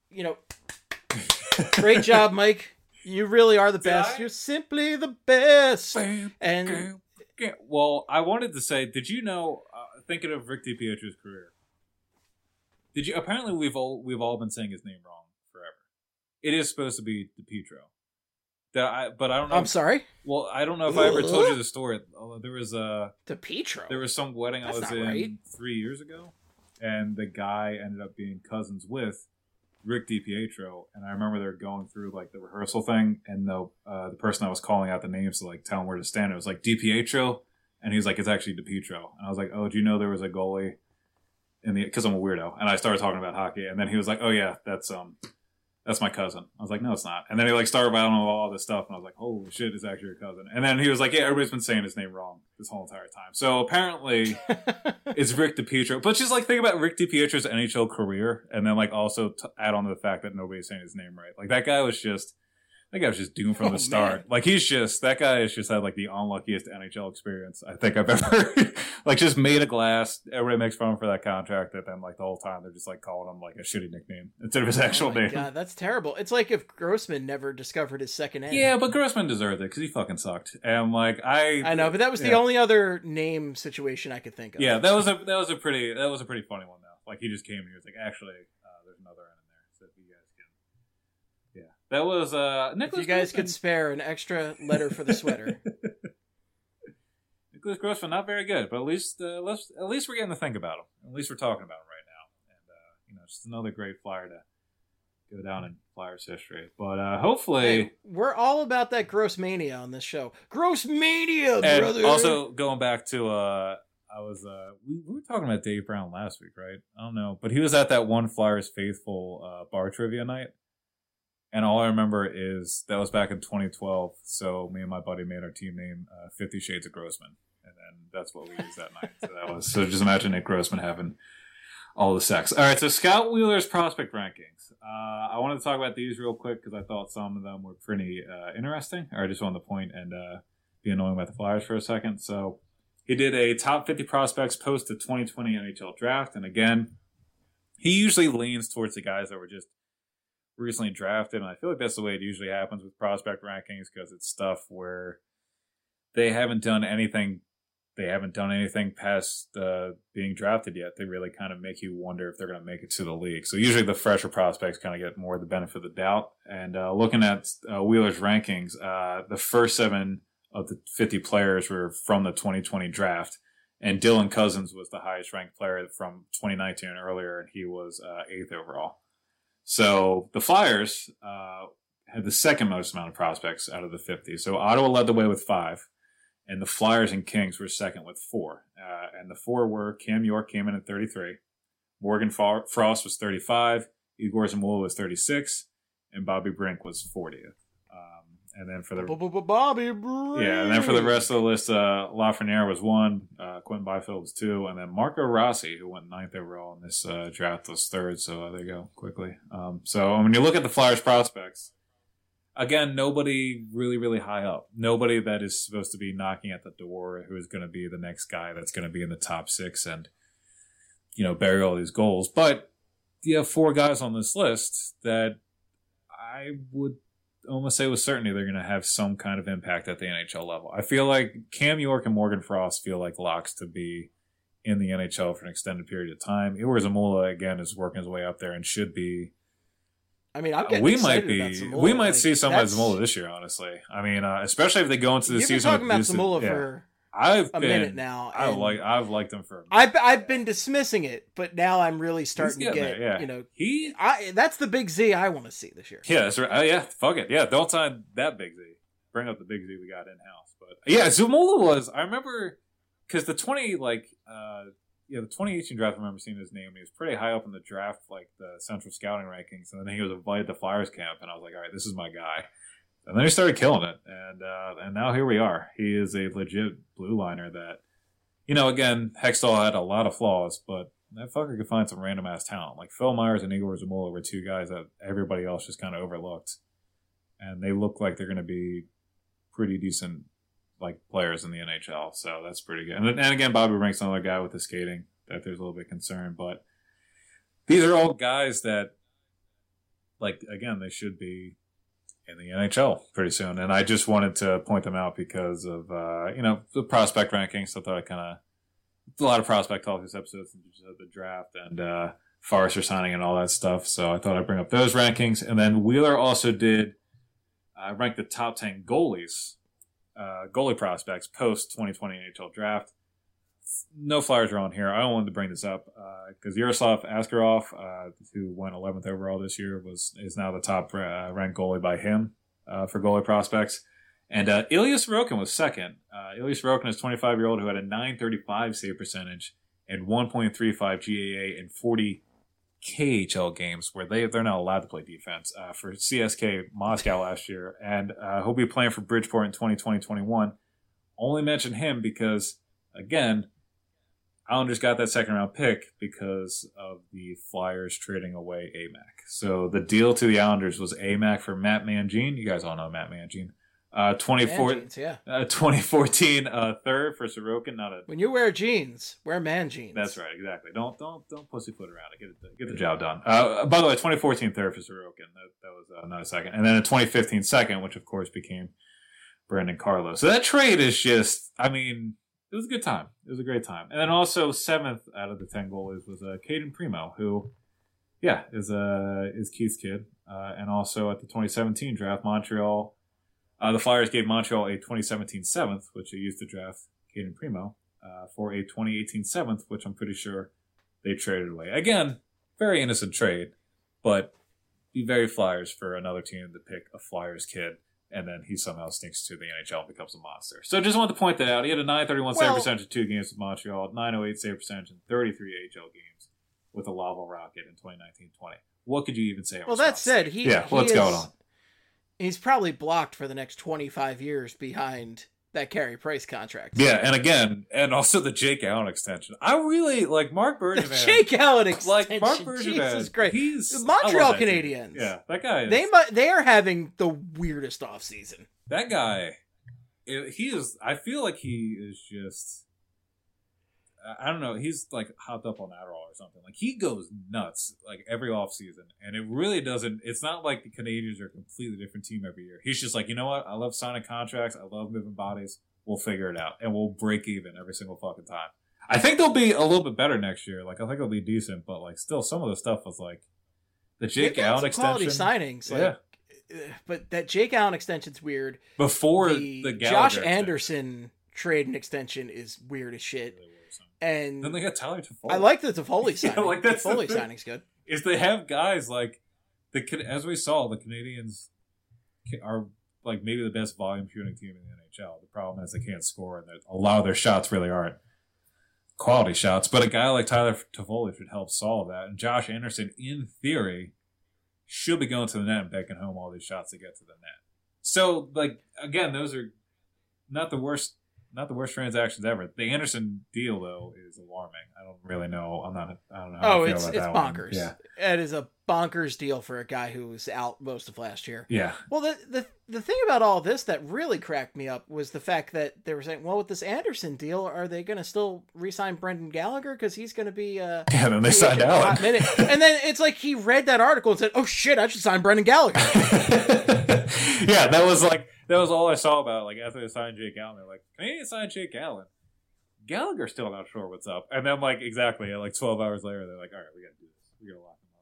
great job, Mike. You really are the best. You're simply the best. And well, I wanted to say, did you know? Thinking of Rick DiPietro's career, did you? Apparently, we've all been saying his name wrong forever. It is supposed to be DiPietro. But I don't know. I'm sorry. Well, I don't know if I ever told you the story. There was DiPietro. There was some wedding I was in right. 3 years ago, and the guy ended up being cousins with Rick DiPietro. And I remember they were going through like the rehearsal thing, and the person that was calling out the names to like tell him where to stand, it was like DiPietro. And he was like, it's actually DiPietro. And I was like, oh, do you know there was a goalie in the... Because I'm a weirdo. And I started talking about hockey. And then he was like, oh, yeah, that's my cousin. I was like, no, it's not. And then he like started battling all this stuff. And I was like, holy shit, it's actually your cousin. And then he was like, yeah, everybody's been saying his name wrong this whole entire time. So apparently it's Rick DiPietro. But just like think about Rick DiPietro's NHL career. And then like also add on to the fact that nobody's saying his name right. Like that guy was just doomed from the start. Man. Like that guy has just had like the unluckiest NHL experience I think I've ever like just made a glass. Everybody makes fun of him for that contract, and then like the whole time they're just like calling him like a shitty nickname instead of his actual name. God, that's terrible. It's like if Grossman never discovered his second name. Yeah, but Grossman deserved it because he fucking sucked. And like I know, but that was the only other name situation I could think of. Yeah, that was a pretty funny one though. Like he just came and he was like, actually, there's another end in there, so if you guys can. Yeah, that was Nicholas. If you guys could spare an extra letter for the sweater. Nicholas Grossman, not very good, but at least we're getting to think about him. At least we're talking about him right now, and just another great Flyer to go down in Flyers history. But hopefully, hey, we're all about that gross mania on this show. Gross mania, and brother. Also, going back to we were talking about Dave Brown last week, right? I don't know, but he was at that one Flyers faithful bar trivia night. And all I remember is that was back in 2012. So me and my buddy made our team name 50 Shades of Grossman. And then that's what we used that night. So just imagine Nick Grossman having all the sex. All right, so Scott Wheeler's prospect rankings. I wanted to talk about these real quick because I thought some of them were pretty interesting. Or I just wanted to point and be annoying about the Flyers for a second. So he did a top 50 prospects post the 2020 NHL draft. And again, he usually leans towards the guys that were just recently drafted, and I feel like that's the way it usually happens with prospect rankings because it's stuff where they haven't done anything past being drafted yet. They really kind of make you wonder if they're going to make it to the league. So usually the fresher prospects kind of get more of the benefit of the doubt. And looking at Wheeler's rankings, the first 7 of the 50 players were from the 2020 draft, and Dylan Cousins was the highest ranked player from 2019 and earlier, and he was 8th overall. So the Flyers had the second most amount of prospects out of the 50. So Ottawa led the way with 5, and the Flyers and Kings were second with 4. And the 4 were Cam York came in at 33, Morgan Frost was 35, Igor Zamula was 36, and Bobby Brink was 40th. And then for the Bobby Brink. Yeah, and then for the rest of the list, Lafreniere was 1, Quentin Byfield was 2, and then Marco Rossi, who went 9th overall in this draft, was 3rd. So there you go, quickly. So when you look at the Flyers prospects, again, nobody really, really high up. Nobody that is supposed to be knocking at the door who is going to be the next guy that's going to be in the top 6 and, bury all these goals. But you have 4 guys on this list that I would almost say with certainty they're going to have some kind of impact at the NHL level. I feel like Cam York and Morgan Frost feel like locks to be in the NHL for an extended period of time. Igor Zamula, again, is working his way up there and should be. I mean, I'm getting excited about Zamula. We might see some of Zamula this year, honestly. I mean, especially if they go into the season. You've been talking about Zamula for minute now. I've liked him for a minute. I've been dismissing it, but now I'm really starting to get there, that's the big Z I want to see this year. Yeah, that's right. Yeah, fuck it. Yeah, don't sign that big Z. bring up the big Z we got in house. But yeah, Zumola was. I remember because the 2018 draft. I remember seeing his name. He was pretty high up in the draft, like the Central Scouting rankings, and then he was invited to Flyers camp, and I was like, all right, this is my guy. And then he started killing it, and now here we are. He is a legit blue liner that, again, Hextall had a lot of flaws, but that fucker could find some random ass talent. Like Phil Myers and Igor Zamula were two guys that everybody else just kind of overlooked, and they look like they're going to be pretty decent like players in the NHL. So that's pretty good. And again, Bobby Rink's another guy with the skating that there's a little bit concerned, but these are all guys that, like, again, they should be in the NHL pretty soon. And I just wanted to point them out because of, the prospect rankings. So I thought I kind of, a lot of prospect talk this episode since the draft and Forrester signing and all that stuff. So I thought I'd bring up those rankings. And then Wheeler also did rank the top 10 goalies, goalie prospects post 2020 NHL draft. No Flyers are on here. I don't want to bring this up because Yaroslav Askarov, who went 11th overall this year, is now the top ranked goalie by him for goalie prospects. And Ilya Sorokin was second. Ilya Sorokin is a 25-year-old who had a .935 save percentage and 1.35 GAA in 40 KHL games where they're not allowed to play defense for CSK Moscow last year. And he'll be playing for Bridgeport in 2020-21. Only mention him because, again, Islanders got that second-round pick because of the Flyers trading away AMAC. So the deal to the Islanders was AMAC for Matt Mangine. You guys all know Matt Mangine. 2014 third for Sorokin. When you wear jeans, wear man jeans. That's right, exactly. Don't pussyfoot around it. Get the job done. By the way, 2014 third for Sorokin. That was not a second. And then a 2015 second, which of course became Brandon Carlo. So that trade is just, it was a good time. It was a great time. And then also 7th out of the 10 goalies was Caden Primo, who, is Keith's kid. And also at the 2017 draft, Montreal, the Flyers gave Montreal a 2017 7th, which they used to draft Caden Primo, for a 2018 7th, which I'm pretty sure they traded away. Again, very innocent trade, but be very Flyers for another team to pick a Flyers kid. And then he somehow sneaks to the NHL and becomes a monster. So just wanted to point that out. He had a .931 save percentage in 2 games with Montreal, .908 save percentage in 33 AHL games with the Laval Rocket in 2019-20. What could you even say? Well, that said, what's going on? He's probably blocked for the next 25 years behind that Carey Price contract. Yeah, and also the Jake Allen extension. I really like Mark Bergevin. The Jake Allen extension. Like Mark Bergevin. Jesus Christ. He's the Montreal Canadiens. Yeah, that guy is. They are having the weirdest offseason. That guy, he is. I feel like he is just. I don't know. He's like hopped up on Adderall or something. Like he goes nuts like every offseason. And it really doesn't. It's not like the Canadians are a completely different team every year. He's just like, you know what? I love signing contracts. I love moving bodies. We'll figure it out. And we'll break even every single fucking time. I think they'll be a little bit better next year. Like I think they'll be decent. But like still some of the stuff was like the Jake Allen extension. Quality signings. Like, but that Jake Allen extension's weird. Before the Josh Anderson trade and extension is weird as shit. And then they got Tyler Toffoli. I like the Toffoli signing. Yeah, like that's Toffoli signing's good. Is they have guys like as we saw, the Canadians are like maybe the best volume shooting team in the NHL. The problem is they can't score, and a lot of their shots really aren't quality shots. But a guy like Tyler Toffoli should help solve that. And Josh Anderson, in theory, should be going to the net and backing home all these shots to get to the net. So, like again, those are not the worst transactions ever. The Anderson deal, though, is alarming. I don't really know. I don't know how I feel about that bonkers. One. Yeah. It is a bonkers deal for a guy who was out most of last year. Yeah. Well, the thing about all this that really cracked me up was the fact that they were saying, well, with this Anderson deal, are they going to still re-sign Brendan Gallagher? Because he's going to be... then they signed Allen. And then it's like he read that article and said, oh, shit, I should sign Brendan Gallagher. Yeah, that was all I saw about, like, after they signed Jake Allen. They're like, Canadians signed Jake Allen. Gallagher's still not sure what's up. And then, like, exactly, like 12 hours later, they're like, all right, we got to do this. We got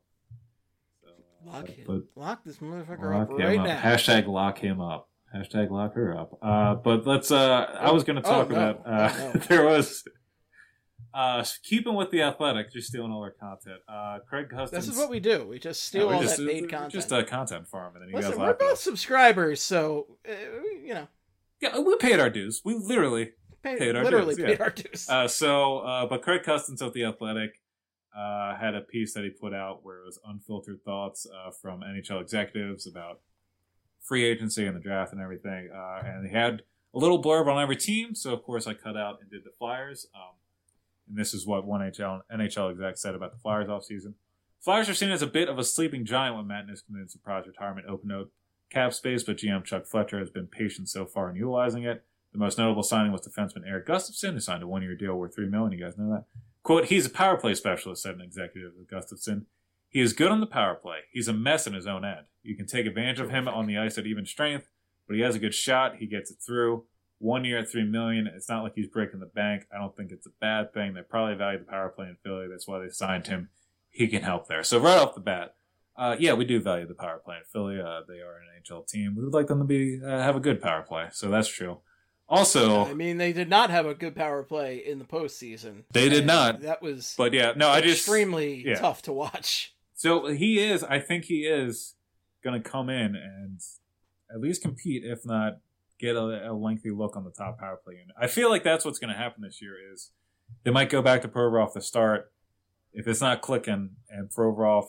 to lock him up. Lock this motherfucker up right now. Hashtag lock him up. Hashtag lock her up. But let's, I was going to talk about, there was, Keeping with the Athletic, just stealing all our content. Craig Custance. This is what we do. We just steal all that paid content. Just a content farm, and then you Listen, guys we're laugh both subscribers, so Yeah, we paid our dues. We literally paid our dues. But Craig Custance of the Athletic had a piece that he put out where it was unfiltered thoughts from NHL executives about free agency and the draft and everything. And he had a little blurb on every team, so of course I cut out and did the Flyers. And this is what one NHL exec said about the Flyers offseason. Flyers are seen as a bit of a sleeping giant when Matt Niskanen surprise retirement opened up cap space, but GM Chuck Fletcher has been patient so far in utilizing it. The most notable signing was defenseman Eric Gustafsson, who signed a one-year deal worth $3 million. You guys know that. Quote, he's a power play specialist, said an executive of Gustafsson. He is good on the power play. He's a mess in his own end. You can take advantage of him on the ice at even strength, but he has a good shot. He gets it through. 1 year at $3 million. It's not like he's breaking the bank. I don't think it's a bad thing. They probably value the power play in Philly. That's why they signed him. He can help there. So right off the bat, yeah, we do value the power play in Philly. They are an NHL team. We would like them to be have a good power play. So that's true. Also, I mean, they did not have a good power play in the postseason. They did not. That was, but yeah, no, extremely tough to watch. So I think he is going to come in and at least compete, if not get a lengthy look on the top power play unit. I feel like that's what's going to happen this year is they might go back to Provorov to start. If it's not clicking and Provorov,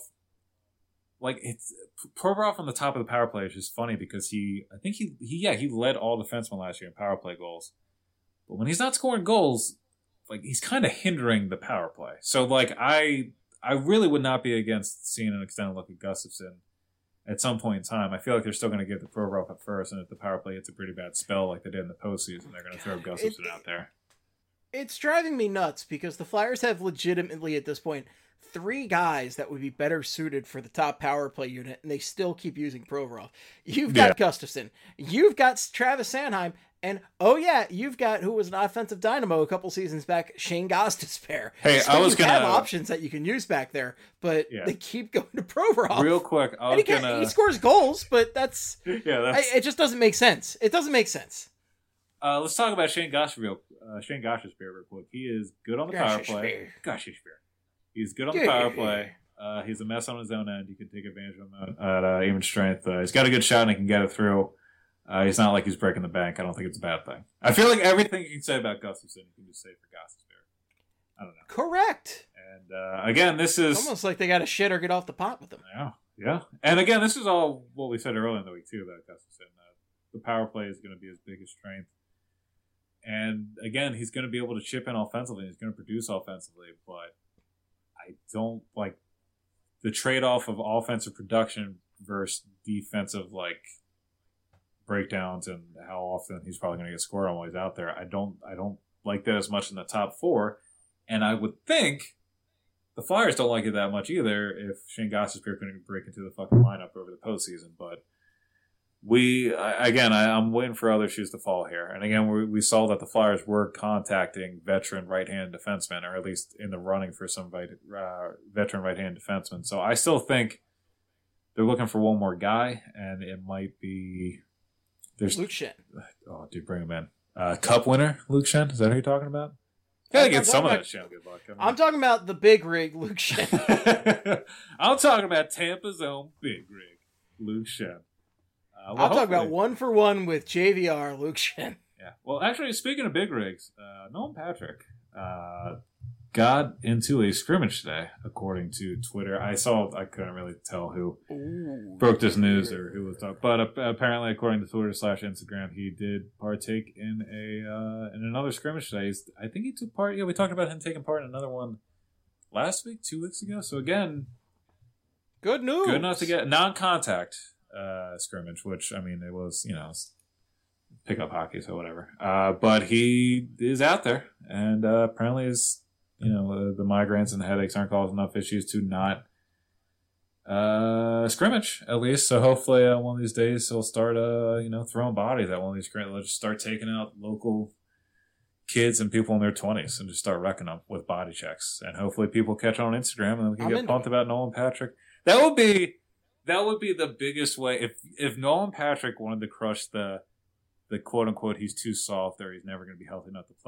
Provorov on the top of the power play is just funny because he led all defensemen last year in power play goals. But when he's not scoring goals, he's kind of hindering the power play. So I really would not be against seeing an extended look at Gustafsson at some point in time. I feel like they're still going to give the Provorov at first, and if the power play hits a pretty bad spell like they did in the postseason, they're going to throw Gustafsson out there. It's driving me nuts because the Flyers have legitimately, at this point, 3 guys that would be better suited for the top power play unit, and they still keep using Provorov. You've got Gustafsson. You've got Travis Sanheim. And, you've got, who was an offensive dynamo a couple seasons back, Shane Gostisbehere. Hey, so you have options that you can use back there, but they keep going to Provorov. Real quick, he scores goals, but it just doesn't make sense. It doesn't make sense. Let's talk about Shane Gostisbehere real quick. He is good on the power play. Gostisbehere. He's good on the power play. He's a mess on his own end. You can take advantage of him at even strength. He's got a good shot and he can get it through. He's not like he's breaking the bank. I don't think it's a bad thing. I feel like everything you can say about Gustafsson, you can just say for Gostisbehere. I don't know. Correct. And again, this is it's almost like they got to shit or get off the pot with him. Yeah. And again, this is all what we said earlier in the week too about Gustafsson. The power play is going to be his biggest strength. And again, he's going to be able to chip in offensively. He's going to produce offensively, but I don't like the trade-off of offensive production versus defensive breakdowns and how often he's probably going to get scored on while he's out there. I don't like that as much in the top 4, and I would think the Flyers don't like it that much either if Shane Gostisbehere couldn't break into the fucking lineup over the postseason. But I'm waiting for other shoes to fall here. And again, we saw that the Flyers were contacting veteran right-handed defensemen, or at least in the running for some veteran right-handed defensemen. So I still think they're looking for one more guy, and it might be Luke Schenn. Oh, dude, bring him in. Cup winner, Luke Schenn? Is that who you're talking about? Gotta get some of that Schenn good luck. I'm talking about the big rig, Luke Schenn. I'm talking about Tampa's own big rig, Luke Schenn. I'm talking about 1-for-1 with JVR, Luke Schenn. Yeah. Well, actually, speaking of big rigs, Nolan Patrick got into a scrimmage today, according to Twitter. I couldn't really tell who broke this news or who was talking, but apparently, according to Twitter / Instagram, he did partake in in another scrimmage today. I think he took part. Yeah, we talked about him taking part in another one last week, 2 weeks ago. So again, good news. Good enough to get non-contact scrimmage, which I mean, it was pickup hockey, so whatever. But he is out there, and apparently is. The migraines and the headaches aren't causing enough issues to not scrimmage, at least. So hopefully one of these days he'll start, throwing bodies at one of these scrimmages. They'll just start taking out local kids and people in their 20s and just start wrecking them with body checks. And hopefully people catch on Instagram and then we can get pumped about Nolan Patrick. That would be the biggest way. If Nolan Patrick wanted to crush the quote-unquote he's too soft or he's never going to be healthy enough to play,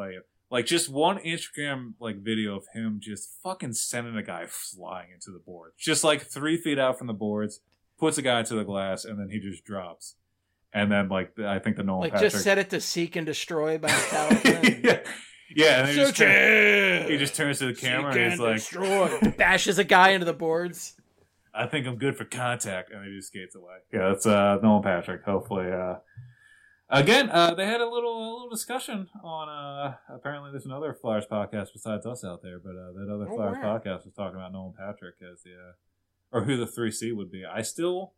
Like, just one Instagram, like, video of him just fucking sending a guy flying into the boards. Just, like, 3 feet out from the boards, puts a guy to the glass, and then he just drops. And then, like, I think the Nolan Patrick... just set it to seek and destroy by Metallica. And... yeah, and then he just turns to the camera and he's like... destroy. Bashes a guy into the boards. I think I'm good for contact. And he just skates away. Yeah, that's Nolan Patrick. Hopefully... Again, they had a little discussion on, apparently there's another Flyers podcast besides us out there, but that other Flyers podcast was talking about Nolan Patrick as the, or who the 3C would be. I still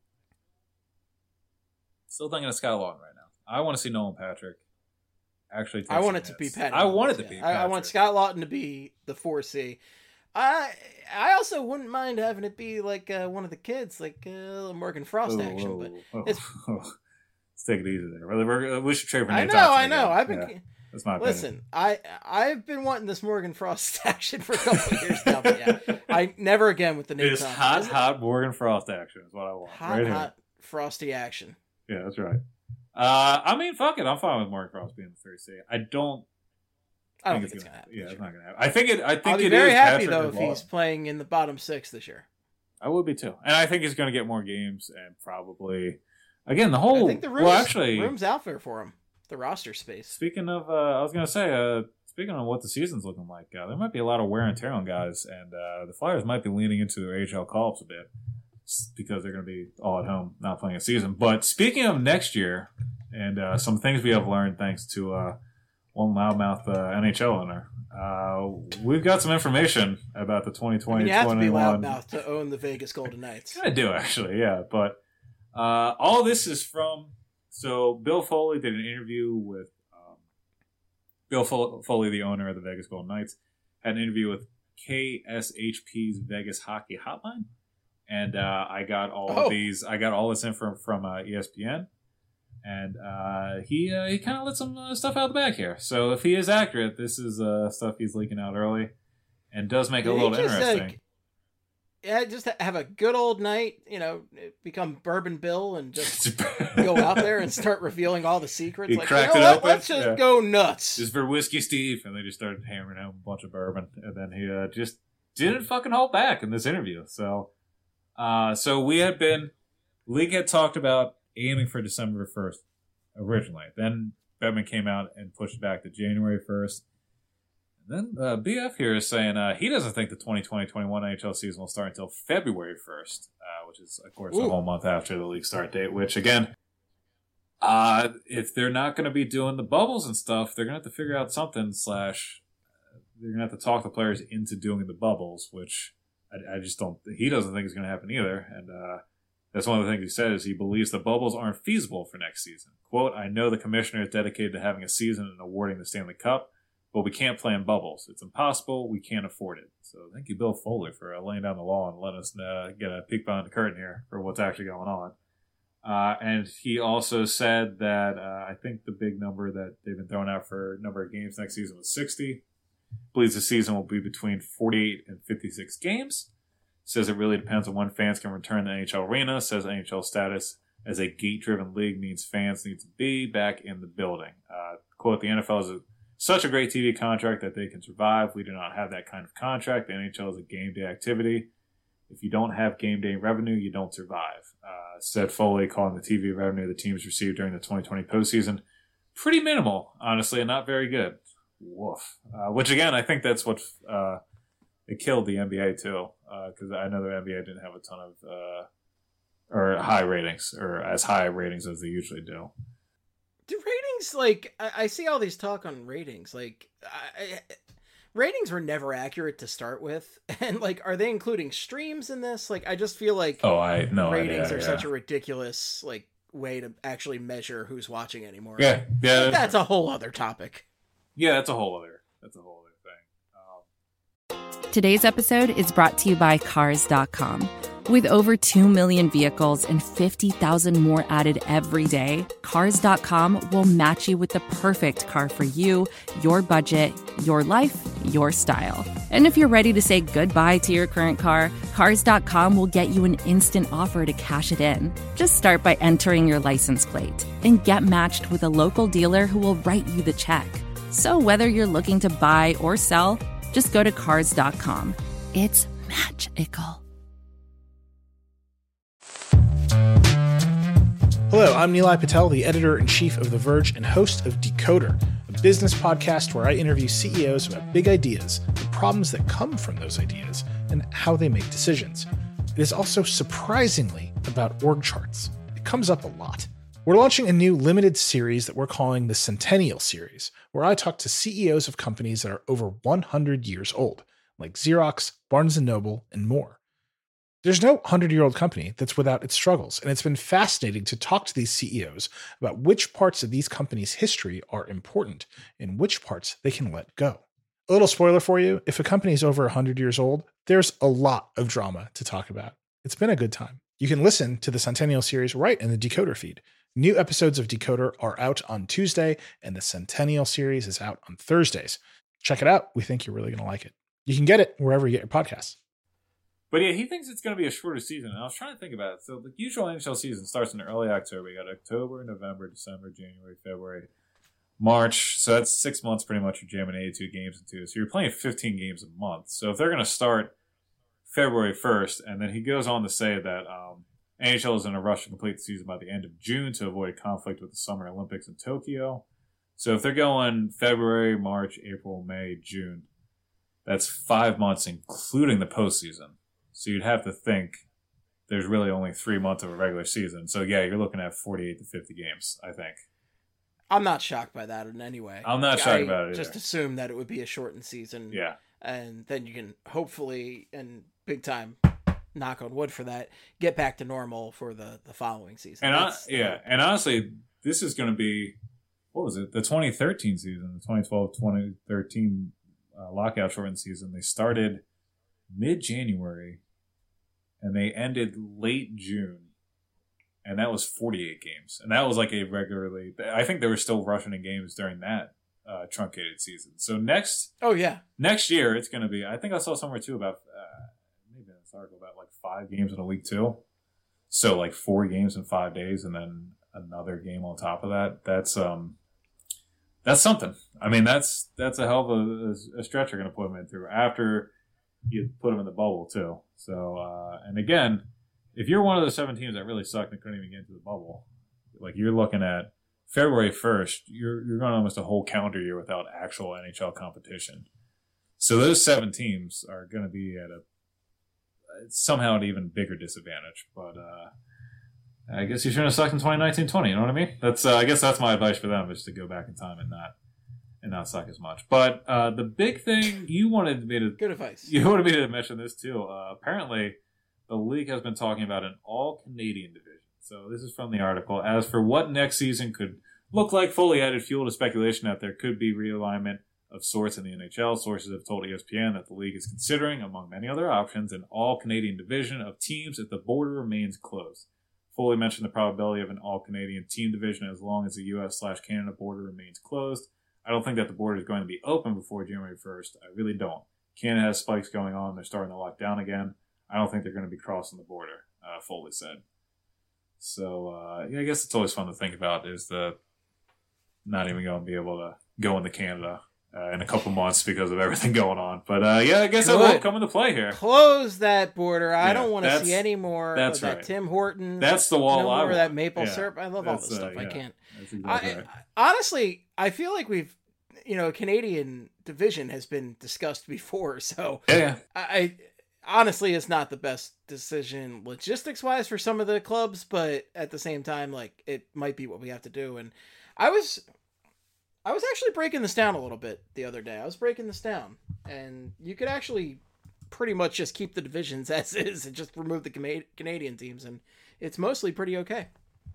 thinking of Scott Laughton right now. I want to see Nolan Patrick actually take I want it hits. to be Patrick. I want it to be Patrick. I want Scott Laughton to be the 4C. I also wouldn't mind having it be like one of the kids, like Morgan Frost action, but it's... Let's take it easy there. We should trade for Nate I know. I've been. That's my opinion. I've been wanting this Morgan Frost action for a couple of years now. But yeah, I never again with the Nate Thompson. It's hot Morgan Frost action is what I want. Hot frosty action. Yeah, that's right. I mean, fuck it. I'm fine with Morgan Frost being the 3C. I don't think it's gonna happen. Yeah, it's not gonna happen. I think I'll be very happy though if he's playing in the bottom 6 this year. I would be too, and I think he's gonna get more games and probably. Again, the whole... I think the room's out there for him. The roster space. Speaking of... I was going to say, speaking of what the season's looking like, there might be a lot of wear and tear on guys, and the Flyers might be leaning into their AHL call-ups a bit because they're going to be all at home, not playing a season. But speaking of next year, and some things we have learned thanks to one loudmouth NHL owner, we've got some information about the 2020-21... you have to be loudmouth to own the Vegas Golden Knights. I do, actually, yeah, but... all this is from... So, Bill Foley did an interview with... Bill Foley, the owner of the Vegas Golden Knights, had an interview with KSHP's Vegas Hockey Hotline. And I got all these... I got all this info from ESPN. And he kind of let some stuff out of the bag here. So, if he is accurate, this is stuff he's leaking out early. And does make it a little interesting. Yeah, just have a good old night, become Bourbon Bill and just go out there and start revealing all the secrets. He cracked it open. Let's just go nuts. Just for Whiskey Steve. And they just started hammering out a bunch of bourbon. And then he just didn't fucking hold back in this interview. So we had been... League had talked about aiming for December 1st originally. Then Bettman came out and pushed it back to January 1st. Then BF here is saying he doesn't think the 2020-21 NHL season will start until February 1st, which is, of course, a whole month after the league start date, which, again, if they're not going to be doing the bubbles and stuff, they're going to have to figure out something / they're going to have to talk the players into doing the bubbles, which I just don't... He doesn't think is going to happen either, and that's one of the things he said is he believes the bubbles aren't feasible for next season. Quote, I know the commissioner is dedicated to having a season and awarding the Stanley Cup, but we can't play in bubbles. It's impossible. We can't afford it. So thank you, Bill Foley, for laying down the law and letting us get a peek behind the curtain here for what's actually going on. And he also said that I think the big number that they've been throwing out for number of games next season was 60. Believes the season will be between 48 and 56 games. Says it really depends on when fans can return to the NHL arena. Says NHL status as a gate-driven league means fans need to be back in the building. Quote, the NFL is such a great TV contract that they can survive. We do not have that kind of contract. The NHL is a game day activity. If you don't have game day revenue, you don't survive. Said Foley, calling the TV revenue the teams received during the 2020 postseason pretty minimal, honestly, and not very good. Woof. Which, again, I think that's what it killed the NBA, too, because I know the NBA didn't have a ton of or high ratings, or as high ratings as they usually do. Do ratings, like, I see all these talk on ratings, like, ratings were never accurate to start with, and, like, are they including streams in this? Like, I just feel like ratings are such a ridiculous, like, way to actually measure who's watching anymore. Yeah. That's a whole other topic. Yeah, that's a whole other thing. Today's episode is brought to you by Cars.com. With over 2 million vehicles and 50,000 more added every day, Cars.com will match you with the perfect car for you, your budget, your life, your style. And if you're ready to say goodbye to your current car, Cars.com will get you an instant offer to cash it in. Just start by entering your license plate and get matched with a local dealer who will write you the check. So whether you're looking to buy or sell, just go to Cars.com. It's magical. Hello, I'm Nilay Patel, the editor-in-chief of The Verge and host of Decoder, a business podcast where I interview CEOs about big ideas, the problems that come from those ideas, and how they make decisions. It is also surprisingly about org charts. It comes up a lot. We're launching a new limited series that we're calling the Centennial Series, where I talk to CEOs of companies that are over 100 years old, like Xerox, Barnes & Noble, and more. There's no 100-year-old company that's without its struggles, and it's been fascinating to talk to these CEOs about which parts of these companies' history are important and which parts they can let go. A little spoiler for you, if a company is over 100 years old, there's a lot of drama to talk about. It's been a good time. You can listen to the Centennial Series right in the Decoder feed. New episodes of Decoder are out on Tuesday, and the Centennial Series is out on Thursdays. Check it out. We think you're really going to like it. You can get it wherever you get your podcasts. But yeah, he thinks it's going to be a shorter season. And I was trying to think about it. So the usual NHL season starts in early October. You got October, November, December, January, February, March. So that's 6 months pretty much. You're jamming 82 games into. So you're playing 15 games a month. So if they're going to start February 1st, and then he goes on to say that NHL is in a rush to complete the season by the end of June to avoid conflict with the Summer Olympics in Tokyo. So if they're going February, March, April, May, June, that's 5 months, including the postseason. So you'd have to think there's really only 3 months of a regular season. So yeah, you're looking at 48 to 50 games, I think. I'm not shocked by that in any way. I'm not shocked about it either. Just assume that it would be a shortened season. Yeah. And then you can hopefully, and big time, knock on wood for that, get back to normal for the following season. And and honestly, this is going to be, what was it? The 2013 season, the 2012-2013 lockout shortened season. They started mid-January and they ended late June, and that was 48 games. And that was like a regularly, I think they were still rushing in games during that truncated season. So next year it's going to be, I think I saw somewhere too about maybe in this article about like 5 games in a week too. So like 4 games in 5 days and then another game on top of that. That's something. I mean, that's a hell of a stretch you're going to put them in through after you put them in the bubble too. So, and again, if you're one of the 7 teams that really sucked and couldn't even get into the bubble, like you're looking at February 1st, you're going almost a whole calendar year without actual NHL competition. So those 7 teams are going to be at somehow an even bigger disadvantage. But I guess you shouldn't have sucked in 2019-20. You know what I mean? That's I guess that's my advice for them, is to go back in time and not suck as much. But the big thing you wanted me to good advice. You wanted me to mention this too. Apparently, the league has been talking about an all-Canadian division. So this is from the article. As for what next season could look like, fully added fuel to speculation that there could be realignment of sorts in the NHL. Sources have told ESPN that the league is considering, among many other options, an all-Canadian division of teams if the border remains closed. Fully mentioned the probability of an all-Canadian team division as long as the U.S./Canada border remains closed. I don't think that the border is going to be open before January 1st. I really don't. Canada has spikes going on. They're starting to lock down again. I don't think they're going to be crossing the border, Foley said. So, I guess it's always fun to think about is the not even going to be able to go into Canada in a couple months because of everything going on. But, I guess that won't come into play here. Close that border. I don't want to see any more of that right. Tim Hortons. That's the wall I want. Or that maple syrup. I love all this stuff. I can't. That's exactly right. Honestly, I feel like we've, Canadian division has been discussed before. So yeah. I honestly, it's not the best decision logistics wise for some of the clubs, but at the same time, like, it might be what we have to do. And I was actually breaking this down a little bit the other day. I was breaking this down, and you could actually pretty much just keep the divisions as is and just remove the Canadian teams, and it's mostly pretty okay.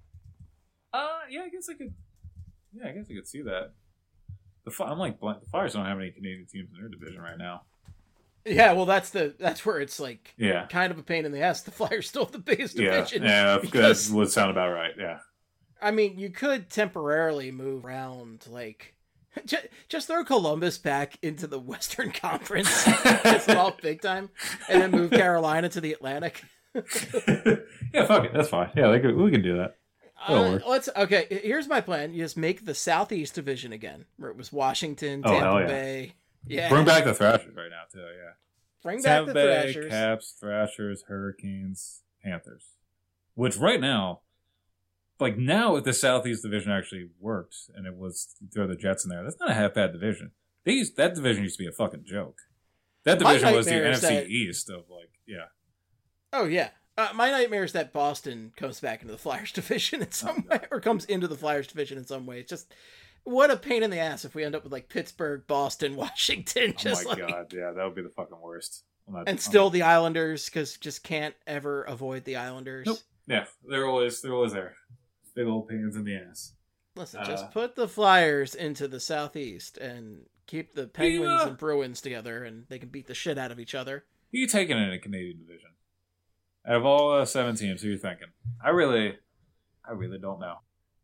I guess I could see that. The Flyers don't have any Canadian teams in their division right now. Yeah, well, that's where it's like kind of a pain in the ass. The Flyers still have the biggest division. Yeah, that would sound about right. Yeah. I mean, you could temporarily move around, like, just throw Columbus back into the Western Conference, piss them off big time, and then move Carolina to the Atlantic. Yeah, fuck it, that's fine. Yeah, we can do that. Here's my plan. You just make the Southeast Division again, where it was Washington, Oh, hell Tampa yeah. Bay. Yeah. Bring back the Thrashers right now, too, yeah. Bring back Tampa the Bay, Thrashers. Caps, Thrashers, Hurricanes, Panthers. Which right now, like now if the Southeast Division actually worked and it was throw the Jets in there, that's not a half bad division. That division used to be a fucking joke. That division was the NFC East of like, yeah. Oh, yeah. My nightmare is that Boston comes back into the Flyers division in some way, or comes into the Flyers division in some way. It's just, what a pain in the ass if we end up with like Pittsburgh, Boston, Washington. Oh my God, yeah, that would be the fucking worst. Still the Islanders, because just can't ever avoid the Islanders. Nope. Yeah, they're always there. Big old pains in the ass. Listen, just put the Flyers into the Southeast and keep the Penguins and Bruins together, and they can beat the shit out of each other. Who are you taking in a Canadian division? Out of all 7 teams, who are you thinking? I really don't know.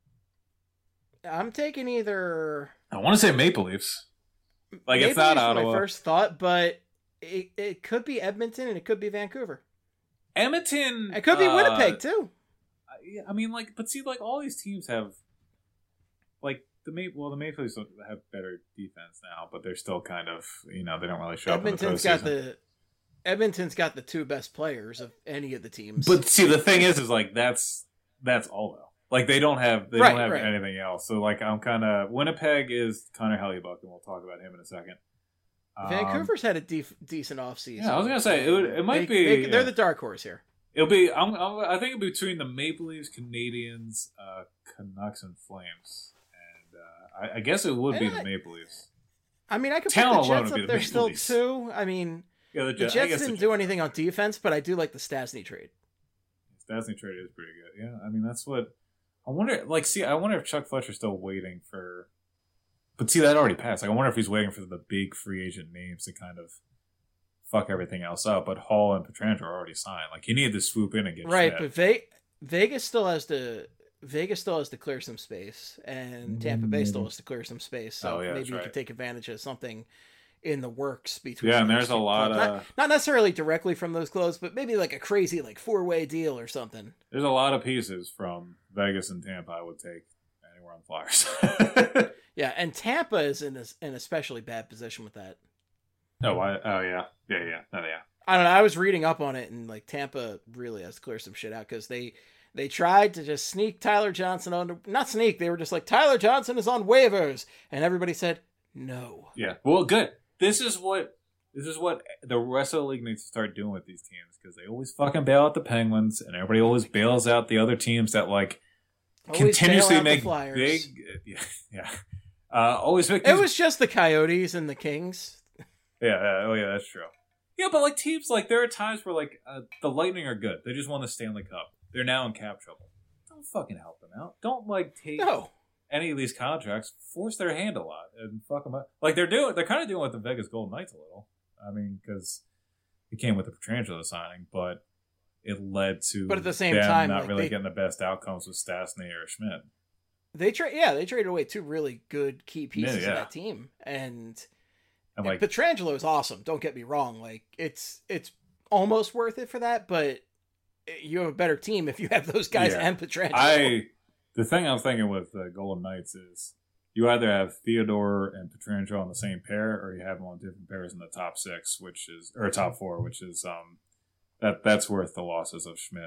I'm taking either. I want to say Maple Leafs. Like Maple it's not Leafs Ottawa. my first thought, but it could be Edmonton and it could be Vancouver. Edmonton. It could be Winnipeg too. I mean, like, but see, like all these teams have, like the Maple Leafs have better defense now, but they're still kind of, they don't really show up in the postseason. Edmonton's got the 2 best players of any of the teams. But see, the thing is like that's all though. Like they don't have anything else. So like I'm kind of Winnipeg is Connor Hellebuyck, and we'll talk about him in a second. Vancouver's had a decent offseason. Yeah, I was gonna say it might be. They're the dark horse here. It'll be. I think it'll be between the Maple Leafs, Canadians, Canucks, and Flames, and I guess it would be the Maple Leafs. I mean, I could put the Jets up there still too. I mean, the Jets didn't do anything on defense, but I do like the Stastny trade. Stastny trade is pretty good. Yeah, I mean that's what I wonder. Like, see, I wonder if Chuck Fletcher's still waiting for. But see, that already passed. Like, I wonder if he's waiting for the big free agent names to kind of fuck everything else up. But Hall and Pietrangelo are already signed. Like, he needed to swoop in and get right. Schmidt. But Vegas still has to clear some space, and Tampa Bay still has to clear some space. So maybe you could take advantage of something in the works between. Yeah, and there's a lot of not necessarily directly from those clubs, but maybe like a crazy 4-way deal or something. There's a lot of pieces from Vegas and Tampa I would take anywhere on Flyers. Yeah, and Tampa is in an especially bad position with that. Yeah. I don't know. I was reading up on it, and Tampa really has to clear some shit out because they tried to just sneak Tyler Johnson on. Not sneak. They were just like, Tyler Johnson is on waivers, and everybody said no. Yeah. Well, good. This is what the rest of the league needs to start doing with these teams, because they always fucking bail out the Penguins, and everybody always bails out the other teams that always continuously make big. Yeah. Always make. It was just the Coyotes and the Kings. Yeah. Oh yeah, that's true. Yeah, but teams there are times where the Lightning are good. They just won the Stanley Cup. They're now in cap trouble. Don't fucking help them out. Don't take any of these contracts. Force their hand a lot and fuck them up. They're kind of doing with the Vegas Golden Knights a little. I mean, because it came with the Pietrangelo signing, but it led to. But at the same time, not really getting the best outcomes with Stastny or Schmidt. They traded away 2 really good key pieces of that team, and Pietrangelo is awesome. Don't get me wrong; it's almost worth it for that, but you have a better team if you have those guys and Pietrangelo. The thing I'm thinking with the Golden Knights is you either have Theodore and Pietrangelo on the same pair, or you have them on different pairs in the top 6, or top 4, which is that's worth the losses of Schmidt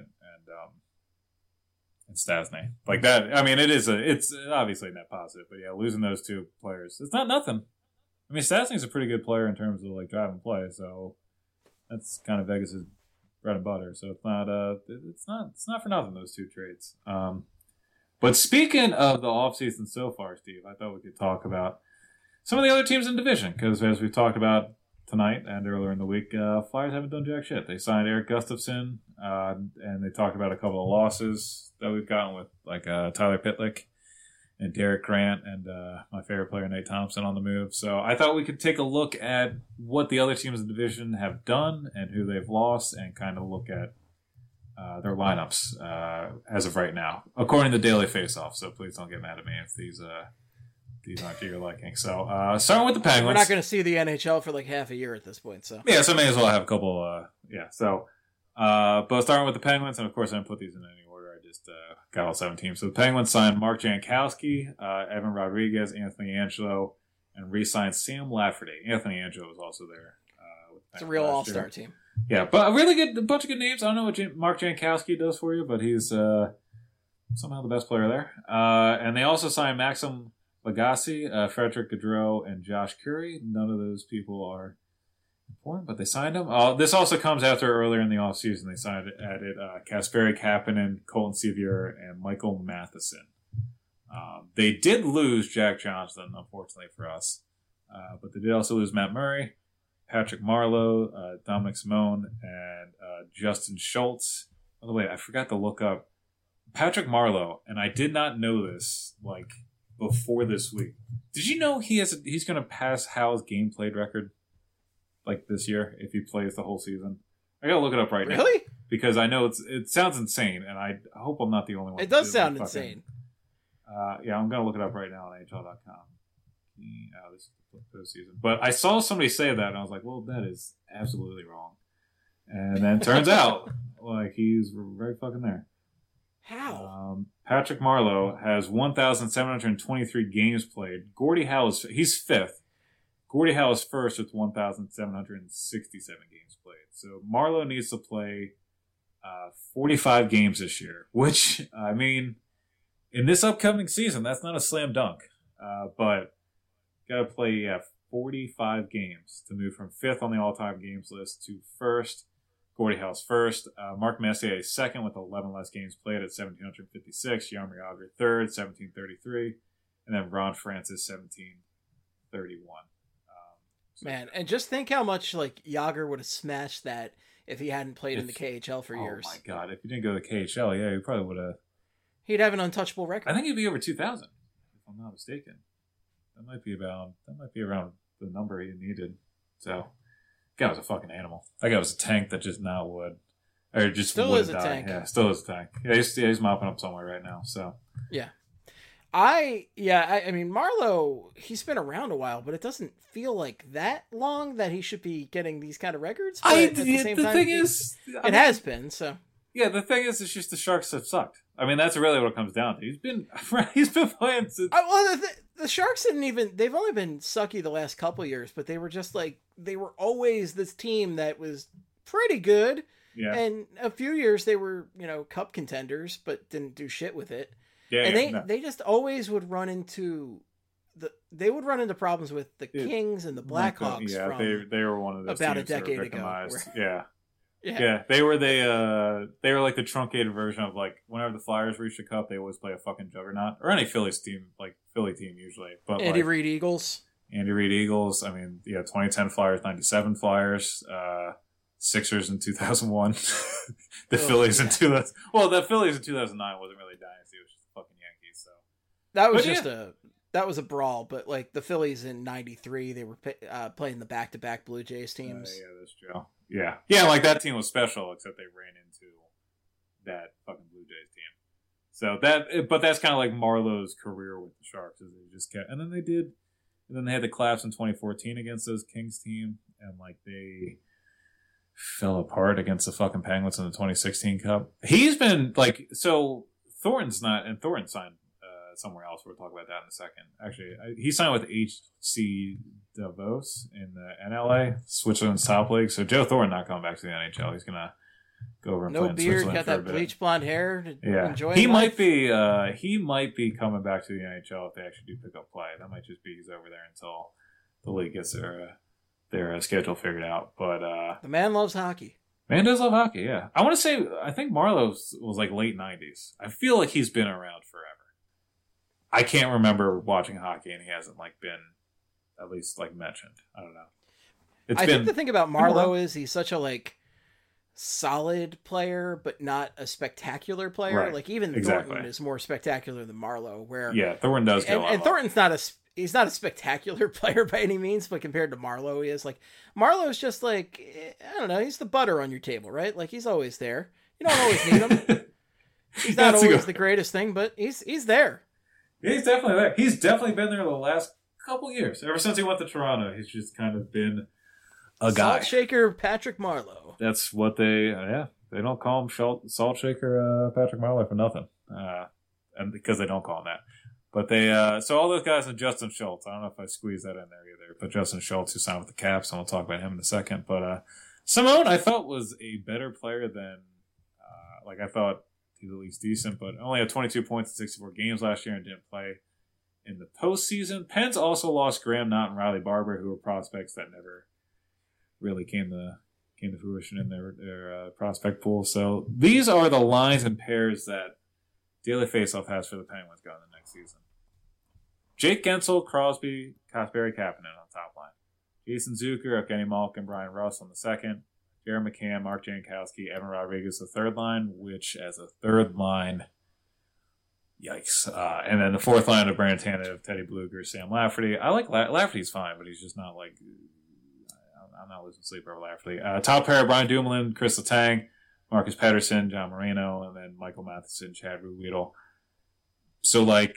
and Stastny. That, I mean, it's obviously net positive, but yeah, losing those 2 players, it's not nothing. I mean, Stastny's a pretty good player in terms of driving play, so that's kind of Vegas's bread and butter. So it's not for nothing, those 2 trades. But speaking of the offseason so far, Steve, I thought we could talk about some of the other teams in the division, because as we've talked about tonight and earlier in the week, Flyers haven't done jack shit. They signed Eric Gustafson, and they talked about a couple of losses that we've gotten with Tyler Pitlick and Derek Grant and my favorite player Nate Thompson on the move. So I thought we could take a look at what the other teams in the division have done and who they've lost, and kind of look at their lineups as of right now, according to Daily Faceoff. So please don't get mad at me if these aren't to your liking. So starting with the Penguins. We're not going to see the NHL for half a year at this point. So yeah, so may as well have a couple. But starting with the Penguins, and of course I didn't put these in any order. I just got all 7 teams. So the Penguins signed Mark Jankowski, Evan Rodriguez, Anthony Angelo, and re-signed Sam Lafferty. Anthony Angelo was also there. It's a real all-star team. Yeah, but a bunch of good names. I don't know what Mark Jankowski does for you, but he's somehow the best player there. And they also signed Maxim Lagacé, Frederick Gaudreau, and Josh Curry. None of those people are important, but they signed him. This also comes after earlier in the offseason they added Kasperi Kapanen, Colton Sevier, and Michael Matheson. They did lose Jack Johnson, unfortunately for us, but they did also lose Matt Murray, Patrick Marleau, Dominic Simone, and Justin Schultz. By the way, I forgot to look up Patrick Marleau, and I did not know this before this week. Did you know he's going to pass Hal's game played record this year if he plays the whole season? I gotta look it up right now. Really? Because I know it sounds insane, and I hope I'm not the only one. It does sound insane. Yeah, I'm gonna look it up right now on NHL.com. This is the postseason. But I saw somebody say that, and I was like, well, that is absolutely wrong. And then it turns out, he's right fucking there. How? Patrick Marleau has 1,723 games played. Gordie Howe he's 5th. Gordie Howe is 1st with 1,767 games played. So Marleau needs to play 45 games this year, which, I mean, in this upcoming season, that's not a slam dunk. But got to play 45 games to move from 5th on the all-time games list to 1st. Gordie Howe's 1st. Mark Messier is 2nd with 11 less games played at 1,756. Jaromir Jagr 3rd, 1,733. And then Ron Francis, 1,731. Man, and just think how much Jagr would have smashed that if he hadn't played in the KHL for years. Oh my God! If he didn't go to the KHL, yeah, he probably would have. He'd have an untouchable record. I think he'd be over 2,000, if I'm not mistaken. That might be around the number he needed. So, that guy was a fucking animal. That guy was a tank that just now would, or just still would is die. A tank. Yeah, still is a tank. Yeah, he's mopping up somewhere right now. So, yeah. I mean, Marleau, he's been around a while, but it doesn't feel like that long that he should be getting these kind of records. But at the same time, it has been, so. Yeah, the thing is, it's just the Sharks have sucked. I mean, that's really what it comes down to. He's been playing since... Well, the Sharks they've only been sucky the last couple of years, but they were just they were always this team that was pretty good. Yeah. And a few years they were, cup contenders, but didn't do shit with it. Yeah, and they just always would run into problems with the Kings and the Blackhawks. Yeah, they were one of those about teams a decade that were ago. Yeah, they were like the truncated version of whenever the Flyers reach the cup, they always play a fucking juggernaut, or any Phillies team, Philly team usually. But Andy Reid Eagles. I mean, 2010 Flyers, 97 Flyers, Sixers in 2001, the Phillies in 2000. Well, the Phillies in 2009 wasn't really dynasty; it was just fucking Yankees. So that was a brawl. But the Phillies in '93, they were playing the back-to-back Blue Jays teams. Yeah, that's true. Yeah, that team was special, except they ran into that fucking Blue Jays team. So but that's kind of like Marleau's career with the Sharks, is they just kept, and then they had the collapse in 2014 against those Kings team, and they fell apart against the fucking Penguins in the 2016 Cup. He's been Thornton signed somewhere else. We'll talk about that in a second. Actually, he signed with HC Davos in the NLA, Switzerland's top league. So Joe Thornton not coming back to the NHL. He's gonna go over and play in Switzerland. Got that bleach blonde hair. Enjoy. He might be coming back to the NHL if they actually do pick up play. That might just be he's over there until the league gets their schedule figured out. But the man loves hockey. Man does love hockey. Yeah, I think Marleau was late 90s. I feel like he's been around forever. I can't remember watching hockey and he hasn't been at least mentioned. I don't know. I think the thing about Marleau is he's such a solid player, but not a spectacular player. Right. Even Thornton is more spectacular than Marleau. Thornton does get a lot. And Thornton's he's not a spectacular player by any means, but compared to Marleau, he is. Marleau's just I don't know. He's the butter on your table, right? He's always there. You don't always need him. He's not always the greatest thing, but he's there. Yeah, he's definitely there. He's definitely been there the last couple years. Ever since he went to Toronto, he's just kind of been a guy. Salt shaker Patrick Marleau. That's what they, They don't call him Salt Shaker Patrick Marleau for nothing. And because they don't call him that. But they, so all those guys and Justin Schultz. I don't know if I squeezed that in there either. But Justin Schultz, who signed with the Caps, and we'll talk about him in a second. But Simone, I felt, was a better player than, I thought he was at least decent, but only had 22 points in 64 games last year and didn't play in the postseason. Pens also lost Graham Knott and Riley Barber, who were prospects that never really came to fruition in their prospect pool. So these are the lines and pairs that Daily Faceoff has for the Penguins going the next season. Jake Gensel, Crosby, Kasperi Kapanen on top line. Jason Zucker, Evgeny Malkin, Brian Russ on the second. Jared McCann, Mark Jankowski, Evan Rodriguez, the third line, which as a third line, yikes. And then the fourth line of Brandon Tanev, Teddy Blueger, Sam Lafferty. I like Lafferty's fine, but he's just not I'm not losing sleep over Lafferty. Top pair, Brian Dumoulin, Chris Letang, Marcus Pettersson, John Moreno, and then Michael Matheson, Chad Ruhwedel. So, they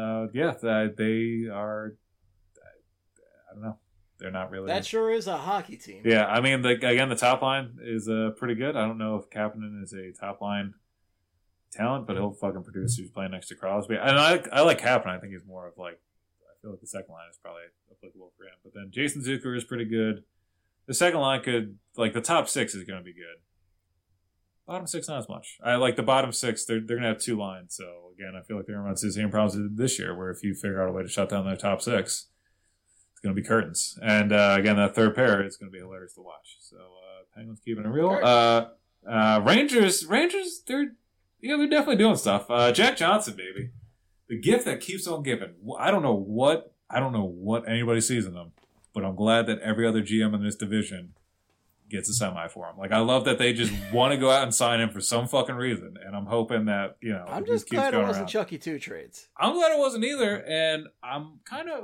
are, I don't know. They're not really. That sure is a hockey team. Yeah, I mean, the top line is pretty good. I don't know if Kapanen is a top line talent, but he'll fucking produce. He's playing next to Crosby. And I like Kapanen. I think he's more of I feel like the second line is probably applicable for him. But then Jason Zucker is pretty good. The second line could, the top six is going to be good. Bottom six, not as much. I like the bottom six. They're going to have two lines. So, again, I feel like they're going to run into the same problems this year, where if you figure out a way to shut down their top six, it's going to be curtains. And, again, that third pair, it's going to be hilarious to watch. So, Penguins keeping it real. Rangers, they're definitely doing stuff. Jack Johnson, baby. The gift that keeps on giving. I don't know what anybody sees in them, but I'm glad that every other GM in this division gets a semi for him. I love that they just want to go out and sign him for some fucking reason, and I'm hoping that, I'm just glad it wasn't Chucky 2 trades. I'm glad it wasn't either, and I'm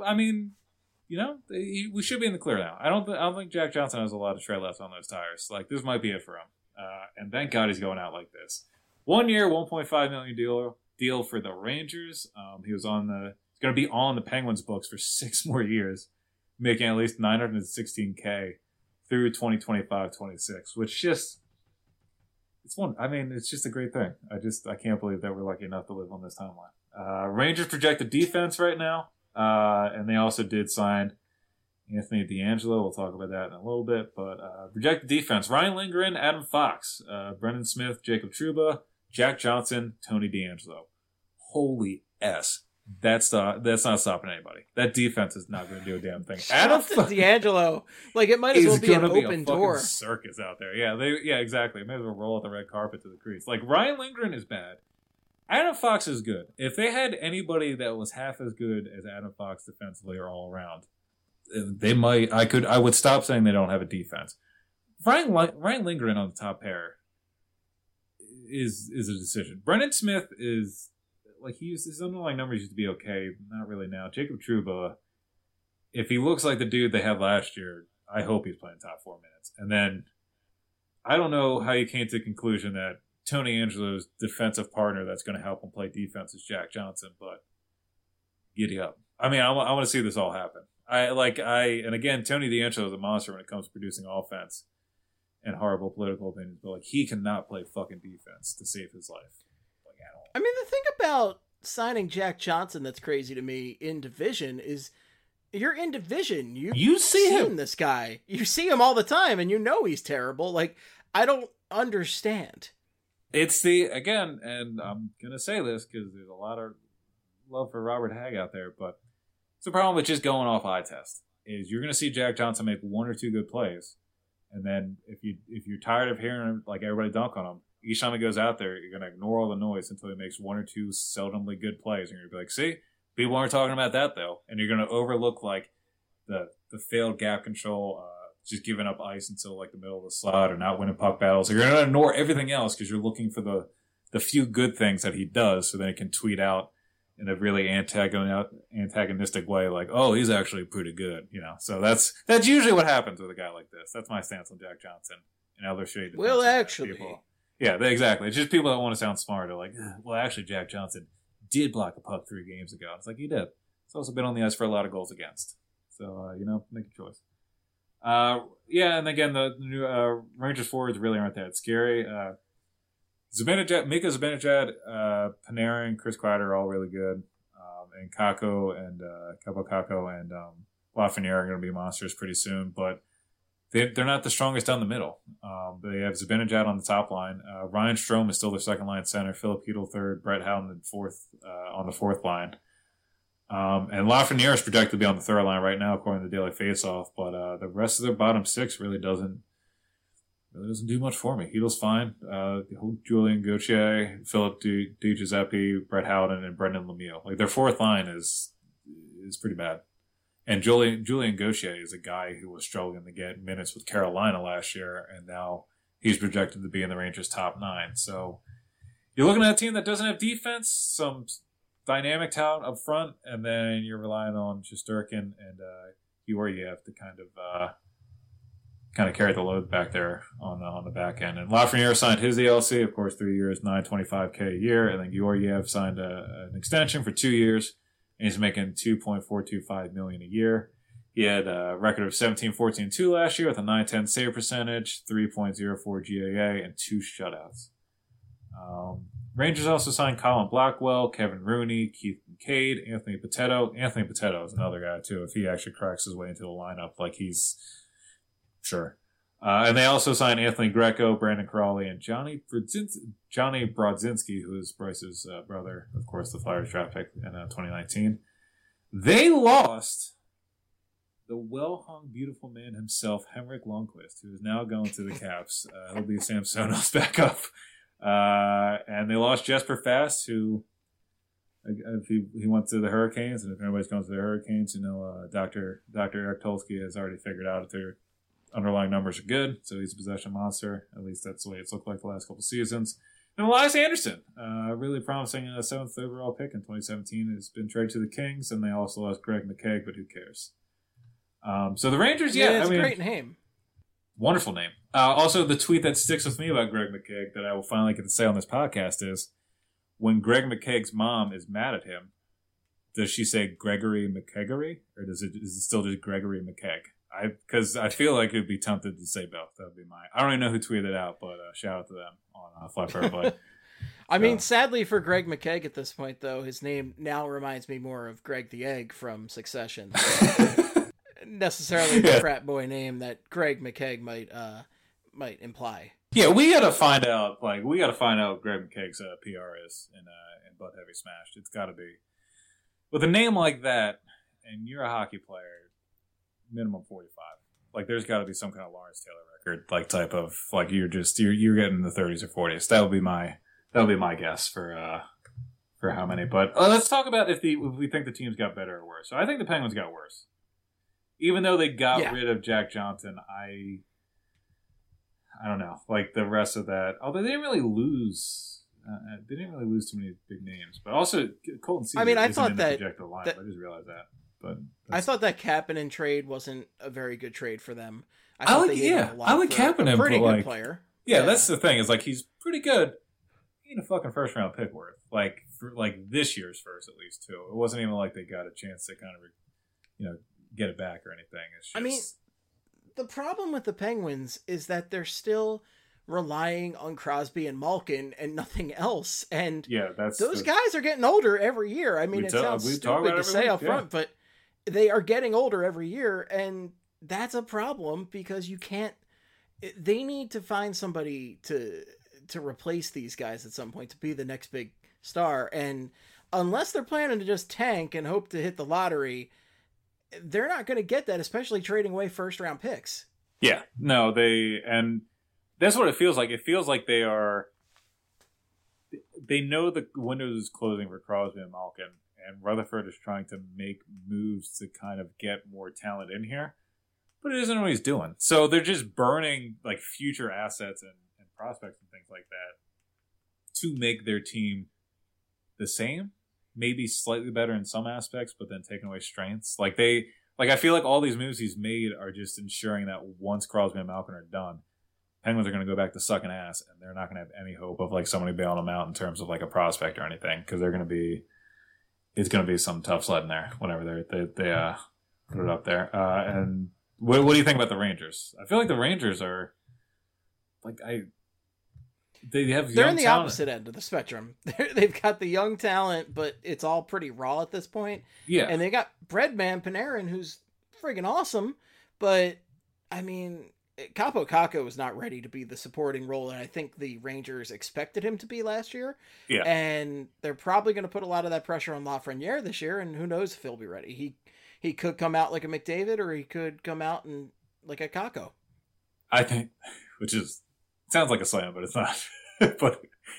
we should be in the clear now. I don't think Jack Johnson has a lot of tread left on those tires. This might be it for him. And thank God he's going out like this. 1 year, $1.5 million deal for the Rangers. He's going to be on the Penguins books for 6 more years, making at least $916K through 2025-26, which it's just a great thing. I can't believe that we're lucky enough to live on this timeline. Rangers projected defense right now, and they also did sign Anthony DeAngelo. We'll talk about that in a little bit, but projected defense: Ryan Lindgren, Adam Fox, Brendan Smith, Jacob Trouba, Jack Johnson, Tony DeAngelo. Holy S. That's not stopping anybody. That defense is not going to do a damn thing. Adam DeAngelo, it might as well be an open door. Circus out there. Yeah, exactly. May as well roll out the red carpet to the crease. Ryan Lindgren is bad. Adam Fox is good. If they had anybody that was half as good as Adam Fox defensively or all around, they might. I would stop saying they don't have a defense. Ryan Lindgren on the top pair is a decision. Brendan Smith is. His underlying numbers used to be okay, not really now. Jacob Trouba, if he looks like the dude they had last year, I hope he's playing top 4 minutes. And then, I don't know how you came to the conclusion that Tony Angelo's defensive partner that's going to help him play defense is Jack Johnson, but giddy up. I want to see this all happen. And again, Tony DeAngelo is a monster when it comes to producing offense and horrible political opinions, but he cannot play fucking defense to save his life. The thing about signing Jack Johnson that's crazy to me in division is you're in division. You see him, this guy. You see him all the time, and he's terrible. I don't understand. It's again, and I'm going to say this because there's a lot of love for Robert Hagg out there, but it's the problem with just going off eye test is you're going to see Jack Johnson make 1 or 2 good plays, and then if you're tired of hearing everybody dunk on him, each time he goes out there, you're going to ignore all the noise until he makes 1 or 2 seldomly good plays. And you're going to be see, people aren't talking about that, though. And you're going to overlook, the failed gap control, just giving up ice until, the middle of the slot or not winning puck battles. You're going to ignore everything else because you're looking for the few good things that he does so then he can tweet out in a really antagonistic way, oh, he's actually pretty good, So that's usually what happens with a guy like this. That's my stance on Jack Johnson and other shade. Well, actually... people. Yeah, exactly. It's just people that want to sound smart are well, actually, Jack Johnson did block a puck 3 games ago. It's he did. He's also been on the ice for a lot of goals against. So, make a choice. And again, the new Rangers forwards really aren't that scary. Mika Zibanejad, Panarin, Chris Kreider are all really good. And Kakko and Kaapo Kakko and Lafreniere are going to be monsters pretty soon. But they're not the strongest down the middle. They have Zibanejad on the top line. Ryan Strome is still their second line center. Philip Hedl third. Brett Howden on the fourth line. And Lafreniere is projected to be on the third line right now, according to the Daily Faceoff. But the rest of their bottom six really doesn't do much for me. Hedl's fine. Julian Gauthier, Philip Di Giuseppe, Brett Howden, and Brendan Lemieux. Like their fourth line is pretty bad. And Julian Gauthier is a guy who was struggling to get minutes with Carolina last year, and now he's projected to be in the Rangers' top 9. So you're looking at a team that doesn't have defense, some dynamic talent up front, and then you're relying on Shesterkin and Georgiev to kind of carry the load back there on the back end. And Lafreniere signed his ELC, of course, 3 years, $925K a year, and then Georgiev signed an extension for 2 years. And he's making $2.425 million a year. He had a record of 17-14-2 last year with a .910 save percentage, 3.04 GAA, and 2 shutouts. Rangers also signed Colin Blackwell, Kevin Rooney, Keith Kincaid, Anthony Potetto. Anthony Potetto is another guy, too, if he actually cracks his way into the lineup, like he's sure. And they also signed Anthony Greco, Brandon Crawley, and Johnny Brodzinski, who is Bryce's brother, of course, the Flyers draft pick in 2019. They lost the well-hung, beautiful man himself, Henrik Lundqvist, who is now going to the Caps. He'll be Samsonov's backup. And they lost Jesper Fast, who he went to the Hurricanes, and if anybody's going to the Hurricanes, Dr. Eric Tulsky has already figured out if they're underlying numbers are good, so he's a possession monster. At least that's the way it's looked like the last couple seasons. And Elias Anderson, really promising 7th overall pick in 2017, has been traded to the Kings, and they also lost Greg McKegg, but who cares? So the Rangers, it's a great name. Wonderful name. Also, the tweet that sticks with me about Greg McKegg that I will finally get to say on this podcast is, when Greg McKegg's mom is mad at him, does she say Gregory McKeggery, or is it still just Gregory McKegg? Because I feel like it would be tempted to say both. That would be I don't even know who tweeted it out, but shout out to them on Flat But I mean, sadly for Greg McKegg at this point, though, his name now reminds me more of Greg the Egg from Succession. Necessarily the frat boy name that Greg McKegg might imply. Yeah, we got to find out. Like, we got to find out what Greg McKegg's PR is in Butt Heavy Smashed. It's got to be with a name like that, and you're a hockey player. Minimum 45. Like, there's got to be some kind of Lawrence Taylor record, like type of like you're getting in the 30s or 40s. That would be my guess for how many. But let's talk about if we think the teams got better or worse. So I think the Penguins got worse, even though they got rid of Jack Johnson. I don't know, like the rest of that. Although they didn't really lose. They didn't really lose too many big names, but also Colton Seager. I mean, I thought that projected line. I just realized that. But I thought that Kapanen trade wasn't a very good trade for them. I like Kapanen, pretty but good player. Yeah, that's the thing. Is like he's pretty good. He ain't a fucking first round pick worth. Like for this year's first at least too. It wasn't even like they got a chance to kind of get it back or anything. It's just... I mean, the problem with the Penguins is that they're still relying on Crosby and Malkin and nothing else. And those guys are getting older every year. I mean, it sounds stupid to say up front, but they are getting older every year, and that's a problem because you can't. They need to find somebody to replace these guys at some point to be the next big star. And unless they're planning to just tank and hope to hit the lottery, they're not going to get that, especially trading away first round picks. Yeah, no, and that's what it feels like. It feels like they know the window is closing for Crosby and Malkin, and Rutherford is trying to make moves to kind of get more talent in here, but it isn't what he's doing. So they're just burning like future assets and prospects and things like that to make their team the same, maybe slightly better in some aspects, but then taking away strengths. I feel like all these moves he's made are just ensuring that once Crosby and Malkin are done, Penguins are going to go back to sucking ass, and they're not going to have any hope of like somebody bailing them out in terms of like a prospect or anything, because it's going to be some tough sledding there whenever they put it up there. And what do you think about the Rangers? I feel like the Rangers are like They have They're young in the talent. opposite end of the spectrum. They've got the young talent, but it's all pretty raw at this point. Yeah. And they got Breadman Panarin, who's friggin' awesome, but I mean, Capo Caco was not ready to be the supporting role that I think the Rangers expected him to be last year. Yeah. And they're probably going to put a lot of that pressure on Lafreniere this year, and who knows if he'll be ready. He could come out like a McDavid, or he could come out and like a Caco. I think, which is sounds like a slam, but it's not. But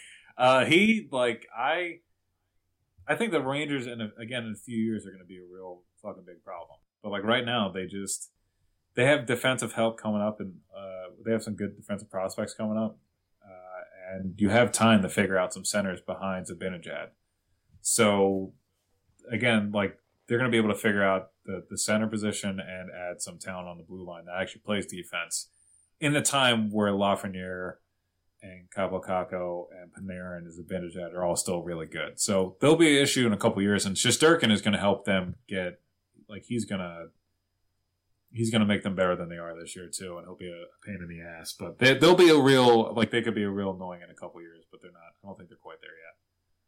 I think the Rangers, in a few years, are going to be a real fucking big problem. But like right now, they have defensive help coming up, and they have some good defensive prospects coming up, and you have time to figure out some centers behind Zibanejad. So again, like they're going to be able to figure out the center position and add some talent on the blue line that actually plays defense in the time where Lafreniere and Capo Caco and Panarin and Zibanejad are all still really good. So there'll be an issue in a couple years, and Shesterkin is going to help them get, like, he's going to make them better than they are this year too, and he'll be a pain in the ass. But they'll be a real, like, they could be a real annoying in a couple years, but they're not. I don't think they're quite there yet.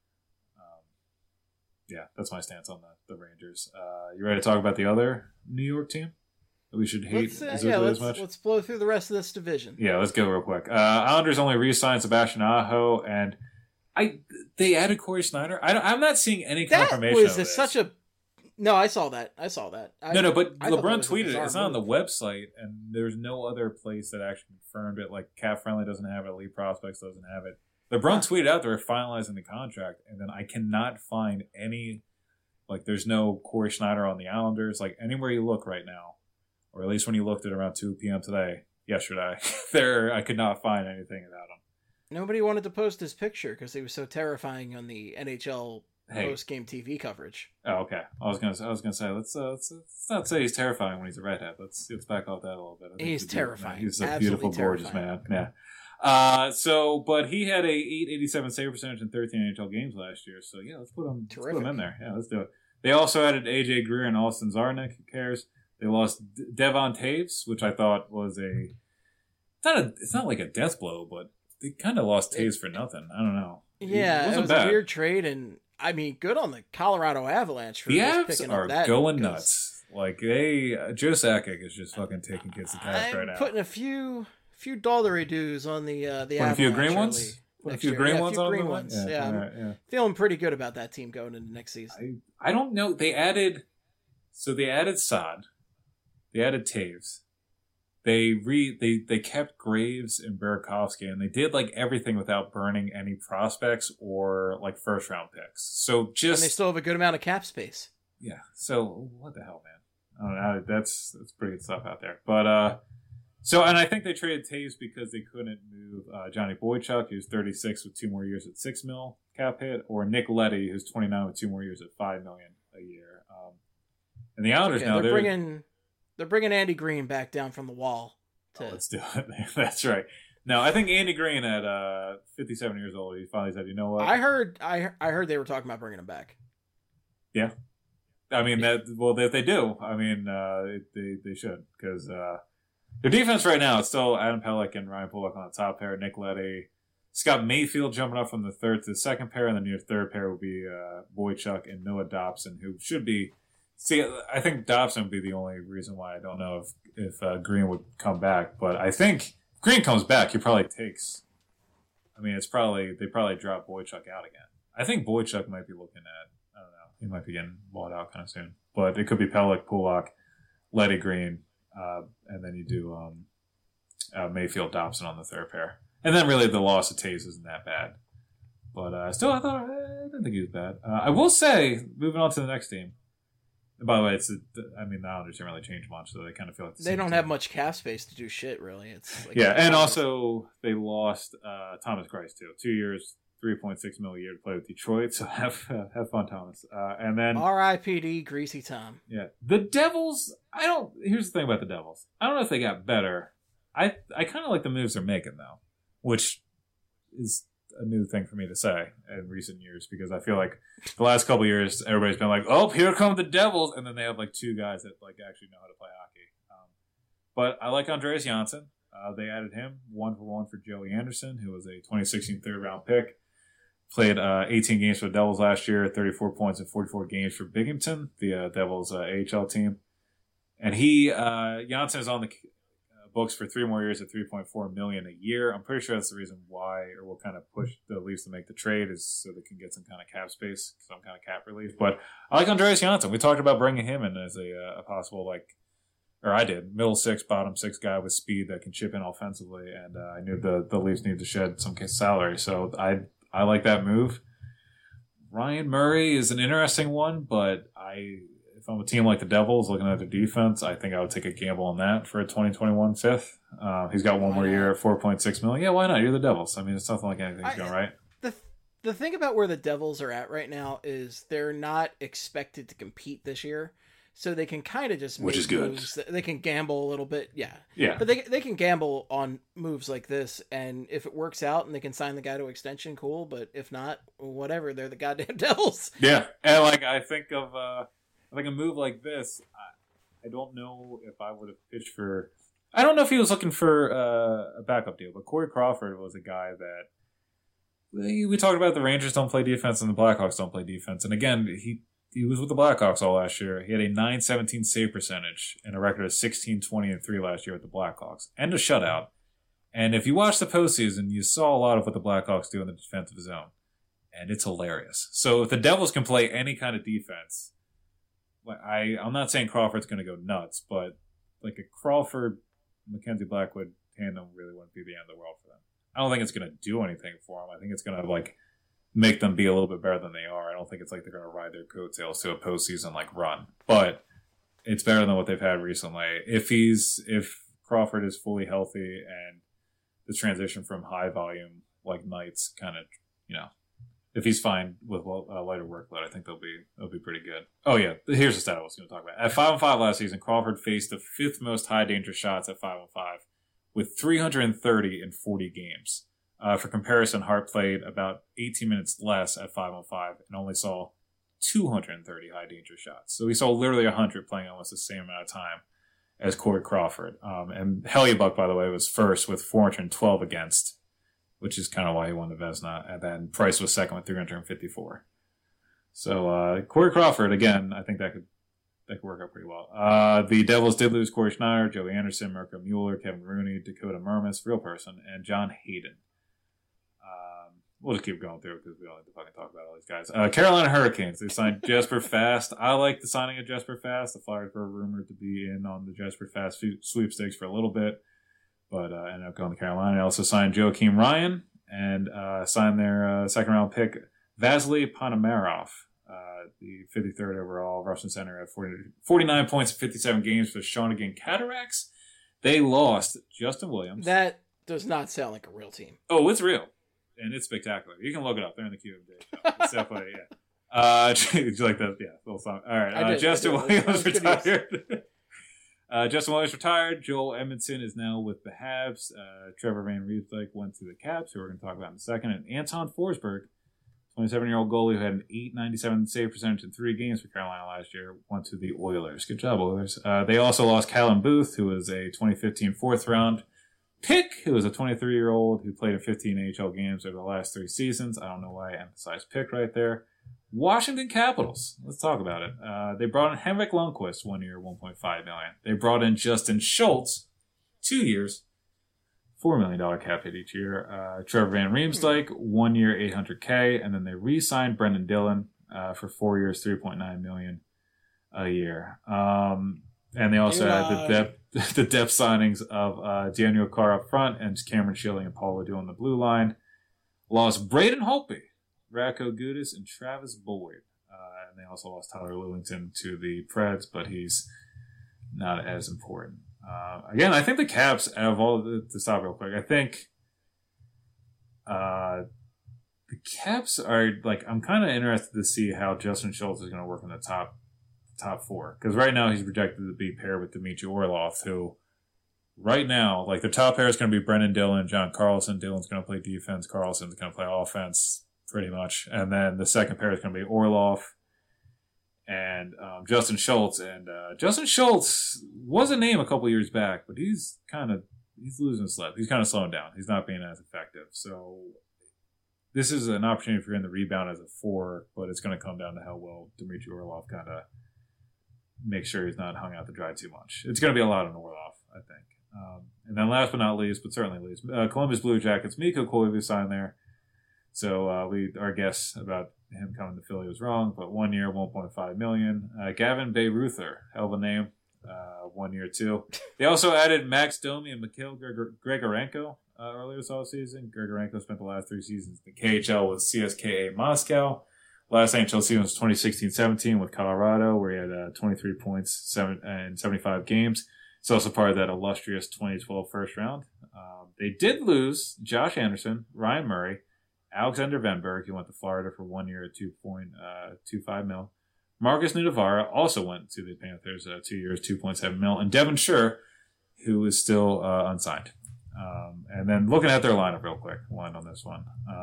Yeah, that's my stance on the Rangers. You ready to talk about the other New York team that we should hate as much? Let's blow through the rest of this division. Yeah, let's go real quick. Islanders only re-signed Sebastian Aho, and they added Corey Schneider. I'm not seeing any confirmation of this. No, I saw that. But LeBron tweeted it. It's not on the website, and there's no other place that actually confirmed it. Like Cap Friendly doesn't have it. Elite Prospects doesn't have it. LeBron tweeted out they were finalizing the contract, and then I cannot find any. Like, there's no Corey Schneider on the Islanders. Like, anywhere you look right now, or at least when you looked at around 2 p.m. yesterday, I could not find anything about him. Nobody wanted to post his picture because he was so terrifying on the NHL post-game TV coverage. Oh, okay. I was gonna say let's not say he's terrifying when he's a redhead. Let's back off that a little bit. He's terrifying. He's a absolutely beautiful, gorgeous man. Yeah. But he had a 887 save percentage in 13 NHL games last year. So yeah, let's put him in there. Yeah, let's do it. They also added AJ Greer and Austin Czarnik. Who cares? They lost Devon Taves, which I thought was it's not like a death blow, but they kind of lost Taves for nothing. I don't know. Yeah, it was a weird trade, and I mean, good on the Colorado Avalanche for the Avs picking are up that. Going nuts. Like Joe Sakic is just fucking taking kids to task right now. Putting a few dollary dues on the Avalanche. A few green ones. A few green ones. Yeah. Feeling pretty good about that team going into next season. I don't know. They added Saad. They added Taves. They kept Graves and Burakovsky, and they did like everything without burning any prospects or like first round picks. So and they still have a good amount of cap space. Yeah. So what the hell, man? I don't know. That's pretty good stuff out there. But and I think they traded Taves because they couldn't move Johnny Boychuk, who's 36 with 2 more years at $6 million cap hit, or Nick Leddy, who's 29 with 2 more years at $5 million a year. And the Islanders now they're bringing Andy Green back down from the wall. Let's do it. That's right. No, I think Andy Green at 57 years old, he finally said, "You know what?" I heard they were talking about bringing him back. Yeah, I mean if they do, I mean they should, because their defense right now, it's still Adam Pelech and Ryan Pulock on the top pair, Nick Leddy, Scott Mayfield jumping up from the third to the second pair, and then your third pair will be Boychuk and Noah Dobson, who should be. See, I think Dobson would be the only reason why I don't know if Green would come back. But I think if Green comes back, he probably takes. I mean, they probably drop Boychuk out again. I think Boychuk might be looking at. I don't know. He might be getting bought out kind of soon. But it could be Pelech, Pulock, Leddy, Green, and then you do Mayfield, Dobson on the third pair, and then really the loss of Taves isn't that bad. But still, I didn't think he was bad. I will say, moving on to the next team. By the way, the Islanders didn't really change much, so they kind of feel like they don't have much cap space to do shit, really. It's like and also they lost Thomas Greiss too. 2 years, $3.6 million a year to play with Detroit. So have fun, Thomas. And then R.I.P.D. Greasy Tom. Yeah, the Devils. Here's the thing about the Devils. I don't know if they got better. I kind of like the moves they're making though, which is a new thing for me to say in recent years, because I feel like the last couple of years everybody's been like, "Oh, here come the Devils," and then they have like 2 guys that like actually know how to play hockey. But I like Andreas Janssen. They added him 1-for-1 for Joey Anderson, who was a 2016 third-round pick. Played 18 games for the Devils last year, 34 points in 44 games for Binghamton, the Devils AHL team. And Janssen is on the books for 3 more years at $3.4 million a year. I'm pretty sure that's the reason why, or will kind of push the Leafs to make the trade, is so they can get some kind of cap space, some kind of cap relief. But I like Andreas Janssen. We talked about bringing him in as a possible, or I did, middle six, bottom six guy with speed that can chip in offensively. And I knew the Leafs needed to shed some salary, so I like that move. Ryan Murray is an interesting one, but if I'm a team like the Devils looking at their defense, I think I would take a gamble on that for a 2021 fifth. He's got one more year at $4.6 million. Yeah, why not? You're the Devils. I mean, it's nothing like anything's going right. The thing about where the Devils are at right now is they're not expected to compete this year. So they can kind of just make moves. They can gamble a little bit, yeah. But they can gamble on moves like this, and if it works out and they can sign the guy to extension, cool. But if not, whatever. They're the goddamn Devils. Yeah, and I think of a move like this. I don't know if I would have pitched for. I don't know if he was looking for a backup deal, but Corey Crawford was a guy that we talked about. The Rangers don't play defense and the Blackhawks don't play defense, and again He was with the Blackhawks all last year. He had a .917 save percentage and a record of 16-20-3 last year with the Blackhawks, and a shutout. And if you watch the postseason, you saw a lot of what the Blackhawks do in the defensive zone, and it's hilarious. So if the Devils can play any kind of defense, I'm not saying Crawford's going to go nuts, but like a Crawford Mackenzie Blackwood tandem really wouldn't be the end of the world for them. I don't think it's going to do anything for them. I think it's going to make them be a little bit better than they are. I don't think it's like they're going to ride their coattails to a postseason run, but it's better than what they've had recently. If Crawford is fully healthy and the transition from high volume nights if he's fine with a lighter workload, I think they'll be pretty good. Oh yeah, here's the stat I was going to talk about. At 5-on-5 last season, Crawford faced the 5th most high danger shots at 5-on-5 with 330 in 40 games. For comparison, Hart played about 18 minutes less at 5-on-5 and only saw 230 high danger shots. So he saw literally 100 playing almost the same amount of time as Corey Crawford. And Hellebuyck, by the way, was first with 412 against, which is kind of why he won the Vezina. And then Price was second with 354. So Corey Crawford, again, I think that could work out pretty well. The Devils did lose Corey Schneider, Joey Anderson, Mirko Mueller, Kevin Rooney, Dakota Murmas, real person, and John Hayden. We'll just keep going through it because we don't have to fucking talk about all these guys. Carolina Hurricanes, they signed Jesper Fast. I like the signing of Jesper Fast. The Flyers were rumored to be in on the Jesper Fast sweepstakes for a little bit, but ended up going to Carolina. They also signed Joakim Ryan and signed their second-round pick, Vasily Ponomarev, the 53rd overall Russian center at 49 points in 57 games for Shawinigan Cataracts. They lost Justin Williams. That does not sound like a real team. Oh, it's real. And it's spectacular. You can look it up. They're in the QMD. It's definitely, yeah. Did you like that? Yeah, little song. All right. Justin Williams retired. Justin Williams retired. Joel Edmondson is now with the Habs. Trevor Van Riemsdyk went to the Caps, who we're going to talk about in a second. And Anton Forsberg, 27-year-old goalie who had an .897 save percentage in 3 games for Carolina last year, went to the Oilers. Good job, Oilers. They also lost Callum Booth, who was a 2015 4th-round pick, who was a 23-year-old who played in 15 AHL games over the last 3 seasons. I don't know why I emphasized pick right there. Washington Capitals. Let's talk about it. They brought in Henrik Lundqvist, 1 year, $1.5 million. They brought in Justin Schultz, 2 years, $4 million cap hit each year. Trevor Van Riemsdyk, 1 year, $800K, and then they re-signed Brendan Dillon for 4 years, $3.9 million a year. And they also had the depth signings of Daniel Carr up front and Cameron Schilling and Paul LaDue on the blue line. Lost Braden Holtby, Radko Gudas, and Travis Boyd. And they also lost Tyler Lillington to the Preds, but he's not as important. Again, I think the Caps, out of all to stop real quick, I think the Caps are, I'm kind of interested to see how Justin Schultz is going to work in the top 4. Because right now he's projected to be paired with Dmitry Orlov, who right now, the top pair is going to be Brendan Dillon and John Carlson. Dillon's going to play defense. Carlson's going to play offense, pretty much. And then the second pair is going to be Orlov and Justin Schultz. And Justin Schultz was a name a couple years back, but he's kind of he's losing a slip. He's kind of slowing down. He's not being as effective. So this is an opportunity for him to rebound as a 4, but it's going to come down to how well Dmitry Orlov kind of makes sure he's not hung out to dry too much. It's going to be a lot on Orlov, I think. And then last but not least, but certainly least, Columbus Blue Jackets, Mikko Koivu signed there. So our guess about him coming to Philly was wrong, but 1 year, $1.5 million. Gavin Bayreuther, hell of a name, 1 year too. They also added Max Domi and Mikhail Grigorenko earlier this offseason. Grigorenko spent the last 3 seasons in the KHL with CSKA Moscow. Last NHL season was 2016-17 with Colorado, where he had 23 points in 75 games. He's also part of that illustrious 2012 first round. They did lose Josh Anderson, Ryan Murray, Alexander Venberg, who went to Florida for 1 year at $2.25 million. Marcus Nudavara also went to the Panthers 2 years, $2.7 million. And Devin Schur, who is still unsigned. And then looking at their lineup real quick, we'll end on this one.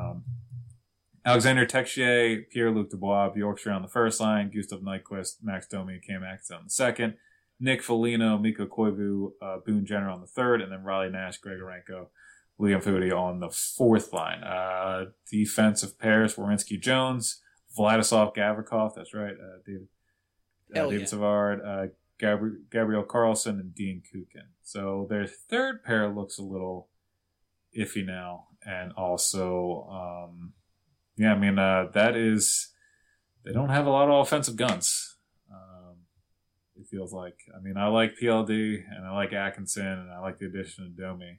Alexander Texier, Pierre-Luc Dubois, Bjorkstrand on the first line, Gustav Nyquist, Max Domi, and Cam Atkinson on the second, Nick Foligno, Mikko Koivu, Boone Jenner on the third, and then Riley Nash, Grigorenko, Liam Foudy on the fourth line. Defensive pairs, Werenski Jones, Vladislav Gavrikov, that's right, David Savard, Gabriel Carlson, and Dean Kukin. So their third pair looks a little iffy now, and also... that is, they don't have a lot of offensive guns. It feels like, I like PLD and I like Atkinson and I like the addition of Domi.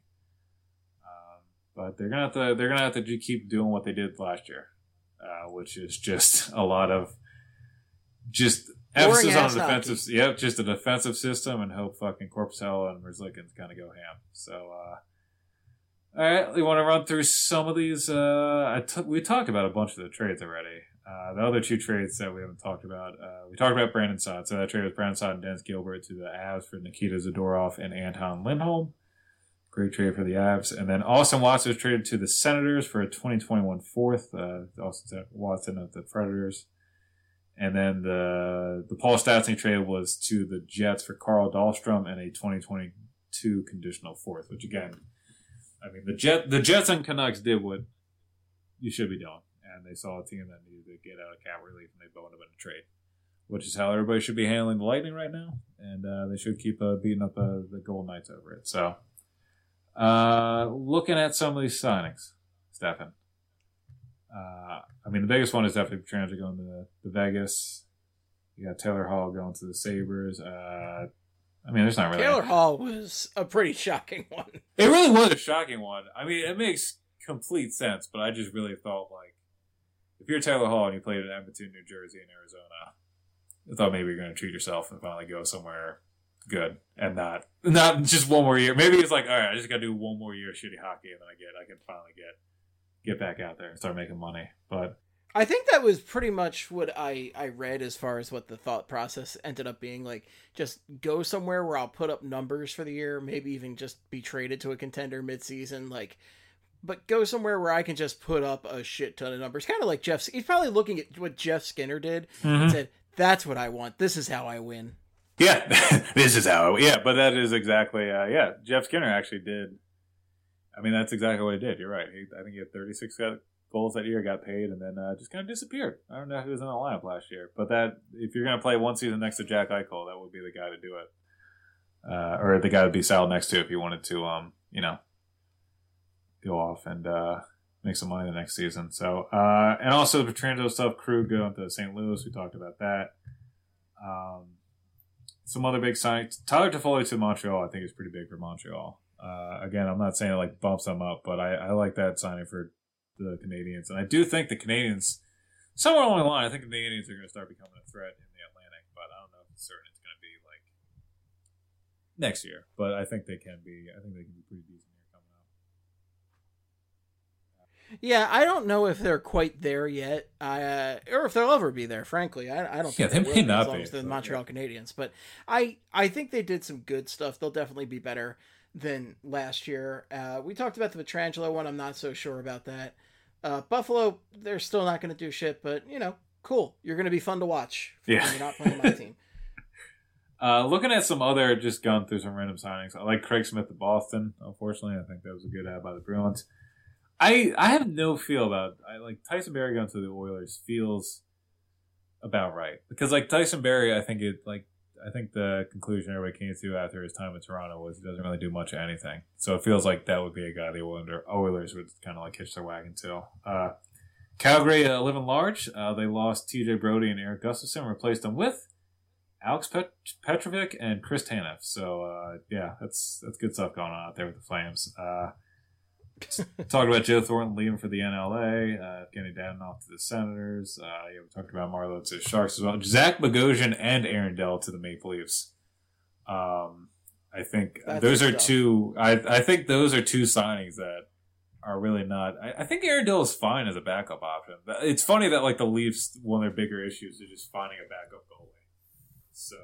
But they're gonna have to keep doing what they did last year, which is just a lot of just emphasis on the defensive. Hockey. Yep, just a defensive system, and hope fucking Korpisalo and Merzlikins kind of go ham. So. All right, we want to run through some of these. We talked about a bunch of the trades already. The other 2 trades that we haven't talked about, we talked about Brandon Saad. So that trade was Brandon Saad and Dennis Gilbert to the Avs for Nikita Zadorov and Anton Lindholm. Great trade for the Avs. And then Austin Watson was traded to the Senators for a 2021 fourth. Austin Watson of the Predators. And then the Paul Stastny trade was to the Jets for Carl Dahlstrom and a 2022 conditional fourth, which again... the Jets and Canucks did what you should be doing, and they saw a team that needed to get out of cap relief, and they boned them in a trade, which is how everybody should be handling the Lightning right now, and they should keep beating up the Golden Knights over it. So, looking at some of these signings, Stefan, the biggest one is definitely Pietrangelo going to Vegas. You got Taylor Hall going to the Sabres. There's not really... Taylor Hall was a pretty shocking one. It really was a shocking one. It makes complete sense, but I just really thought, if you're Taylor Hall and you played in Edmonton, New Jersey, and Arizona, I thought maybe you're going to treat yourself and finally go somewhere good and not just one more year. Maybe it's like, all right, I just got to do one more year of shitty hockey, and then I can finally get back out there and start making money. But... I think that was pretty much what I read as far as what the thought process ended up being. Just go somewhere where I'll put up numbers for the year, maybe even just be traded to a contender midseason, but go somewhere where I can just put up a shit ton of numbers. Kind of like he's probably looking at what Jeff Skinner did and said, that's what I want. This is how I win. Yeah, this is how but that is exactly, Jeff Skinner actually did. That's exactly what he did. You're right. I think he had 36 goals that year, got paid, and then just kind of disappeared. I don't know who was in the lineup last year, but that if you're going to play one season next to Jack Eichel, that would be the guy to do it, or the guy to be saddled next to if you wanted to, go off and make some money the next season. So, and also the Pietrangelo stuff, Krug going to St. Louis. We talked about that. Some other big signings. Tyler Toffoli to Montreal, I think is pretty big for Montreal. Again, I'm not saying it bumps them up, but I like that signing for the Canadians. And I do think the Canadians, somewhere along the line, I think the Canadians are going to start becoming a threat in the Atlantic, but I don't know if it's certain it's going to be next year. But I think they can be. I think they can be pretty decent here coming up. Yeah, I don't know if they're quite there yet, or if they'll ever be there. Frankly, I don't think they may not be. The Montreal Canadiens, but I think they did some good stuff. They'll definitely be better than last year. We talked about the Pietrangelo one. I'm not so sure about that. Buffalo, they're still not going to do shit, but cool. You're going to be fun to watch. Yeah, you're not playing my team. Looking at some other, just gone through some random signings. I like Craig Smith of Boston. Unfortunately, I think that was a good ad by the Bruins. I have no feel about. I like Tyson Barrie going to the Oilers feels about right because like Tyson Barrie, I think the conclusion everybody came to after his time in Toronto was he doesn't really do much of anything. So it feels like that would be a guy the Oilers would kind of like hitch their wagon to. Calgary living large. They lost T.J. Brody and Eric Gustafson, and replaced them with Alex Petrovic and Chris Tanev. So that's good stuff going on out there with the Flames. Talked about Joe Thornton leaving for the NLA, Kenny Dadenoff to the Senators. We talked about Marleau to the Sharks as well. Zach Bogosian and Aaron Dell to the Maple Leafs. I think those are two. I think those are two signings that are really not. I think Aaron Dell is fine as a backup option. It's funny that like the Leafs, one of their bigger issues is just finding a backup goalie. So